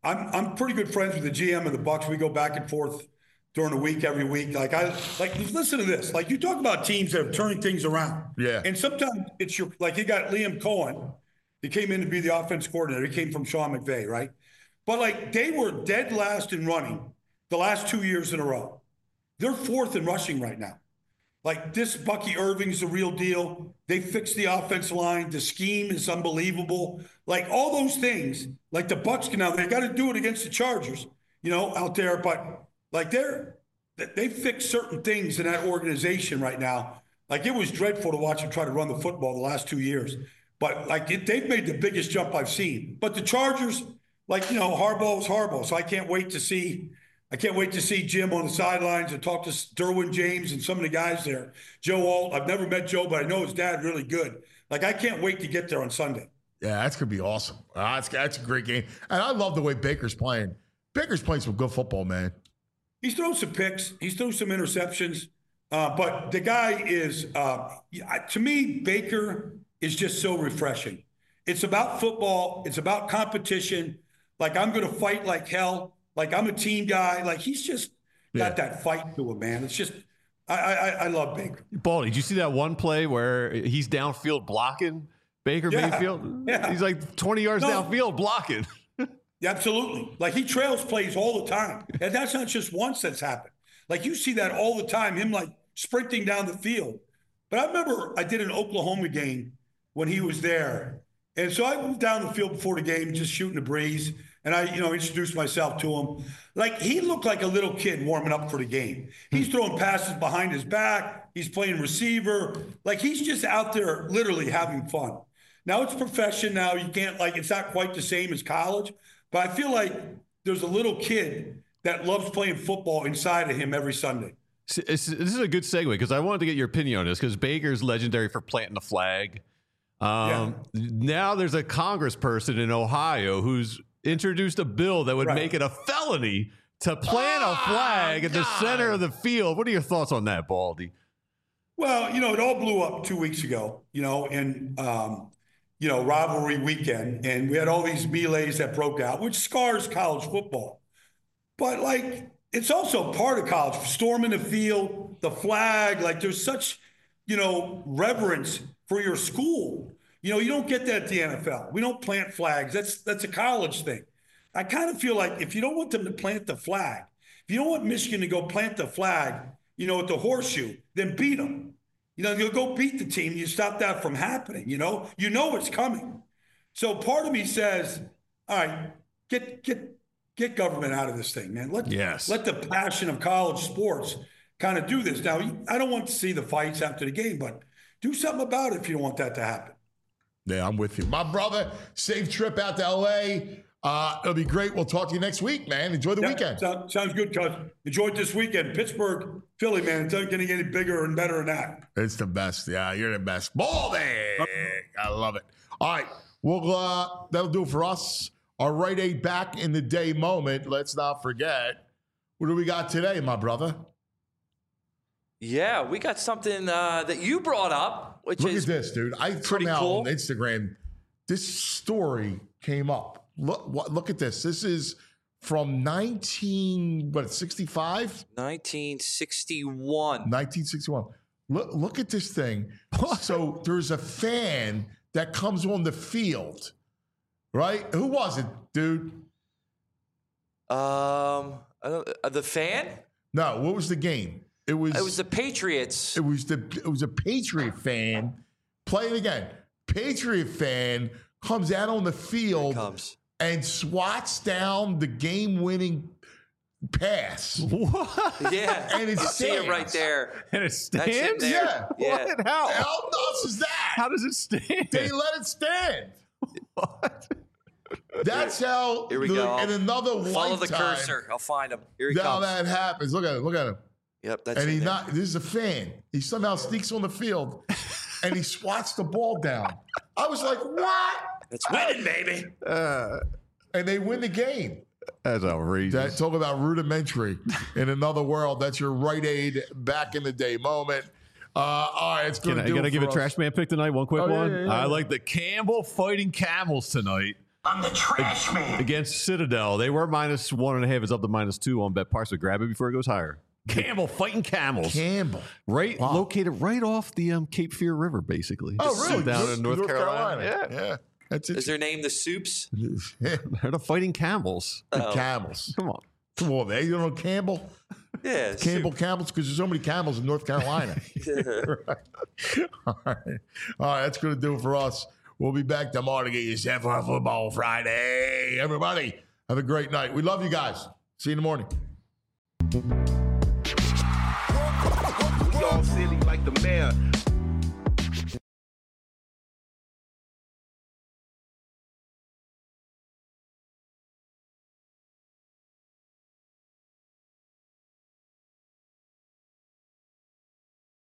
I'm pretty good friends with the GM of the Bucs. We go back and forth during the week, every week. Listen to this. Like, you talk about teams that are turning things around. Yeah. And sometimes it's you got Liam Cohen. He came in to be the offense coordinator. He came from Sean McVay, right? But like, they were dead last in running the last 2 years in a row. They're fourth in rushing right now. Like, this Bucky Irving's the real deal. They fixed the offense line. The scheme is unbelievable. Like, all those things, like the Bucs can now, they got to do it against the Chargers, out there. But like, they fixed certain things in that organization right now. Like, it was dreadful to watch them try to run the football the last 2 years. But like, they've made the biggest jump I've seen. But the Chargers, Harbaugh is Harbaugh. So I can't wait to see Jim on the sidelines and talk to Derwin James and some of the guys there. Joe Alt, I've never met Joe, but I know his dad really good. Like, I can't wait to get there on Sunday. Yeah, that's going to be awesome. That's a great game. And I love the way Baker's playing. Baker's playing some good football, man. He's thrown some picks. He's thrown some interceptions. But the guy is, to me, Baker is just so refreshing. It's about football. It's about competition. Like, I'm going to fight like hell. Like, I'm a team guy. Like, he's just got that fight to him, man. It's just, I love Baker. Baldy, did you see that one play where he's downfield blocking Baker Mayfield? Yeah. He's like 20 yards downfield blocking. Yeah, absolutely. Like, he trails plays all the time. And that's not just once that's happened. Like, you see that all the time, him like sprinting down the field. But I remember I did an Oklahoma game when he was there. And so I moved down the field before the game, just shooting the breeze. And I, introduced myself to him. Like, he looked like a little kid warming up for the game. He's throwing passes behind his back. He's playing receiver. Like, he's just out there literally having fun. Now, it's profession now. You can't, it's not quite the same as college. But I feel like there's a little kid that loves playing football inside of him every Sunday. This is a good segue because I wanted to get your opinion on this because Baker's legendary for planting the flag. Now there's a congressperson in Ohio who's introduced a bill that would make it a felony to plant a flag in the center of the field. What are your thoughts on that, Baldy? Well, it all blew up 2 weeks ago, and rivalry weekend. And we had all these melees that broke out, which scars college football. But, it's also part of college. Storming the field, the flag, there's such, reverence for your school. You don't get that at the NFL. We don't plant flags. That's a college thing. I kind of feel like if you don't want them to plant the flag, if you don't want Michigan to go plant the flag, at the horseshoe, then beat them. You'll go beat the team. You stop that from happening. You know it's coming. So part of me says, all right, get government out of this thing, man. Let the passion of college sports kind of do this. Now, I don't want to see the fights after the game, but do something about it if you don't want that to happen. Yeah, I'm with you. My brother, safe trip out to L.A. It'll be great. We'll talk to you next week, man. Enjoy the weekend. Sounds good, cuz. Enjoy it this weekend. Pittsburgh, Philly, man. It's not going to get any bigger and better than that. It's the best. Yeah, you're the best. Baldy! I love it. All right. Well, that'll do it for us. Our Rite Aid back in the day moment. Let's not forget. What do we got today, my brother? Yeah, we got something that you brought up, which Look is at this, dude. I pretty somehow cool. on Instagram, this story came up. Look at this. This is from 1965? 1961. 1961. Look at this thing. So there's a fan that comes on the field, right? Who was it, dude? The fan? No, what was the game? It was the Patriots. It was a Patriot fan. Play it again. Patriot fan comes out on the field and swats down the game-winning pass. What? Yeah, and it see it right there. And it stands? Yeah. What? How? How nuts is that? How does it stand? They let it stand. What? That's how. Here we go. In another Follow lifetime, the cursor. I'll find him. Here he now comes. that happens. Look at him. Look at him. Yep, that's and it he's there. not. This is a fan. He somehow sneaks on the field, and he swats the ball down. I was like, "What?" That's winning, baby. And they win the game. That's outrageous. Talk about rudimentary in another world. That's your Rite Aid back in the day moment. All right, it's going to do. I got to give a us. trash man pick tonight. One quick one. Yeah. I like the Campbell Fighting Camels tonight. I'm the trash man. Against Citadel, they were -1.5. It's up to -2 on BetParx. So grab it before it goes higher. Campbell fighting camels. Campbell. Right, located right off the Cape Fear River, basically. Oh, really? Down in North Carolina. Yeah. That's it. Is their name the Soups? Yeah. They're the fighting camels. The camels. Come on. Come on, man. You don't know Campbell? Yeah. Camels, because there's so many camels in North Carolina. Right. All right, that's going to do it for us. We'll be back tomorrow to get you set for Football Friday. Everybody, have a great night. We love you guys. See you in the morning. We all silly like the mayor.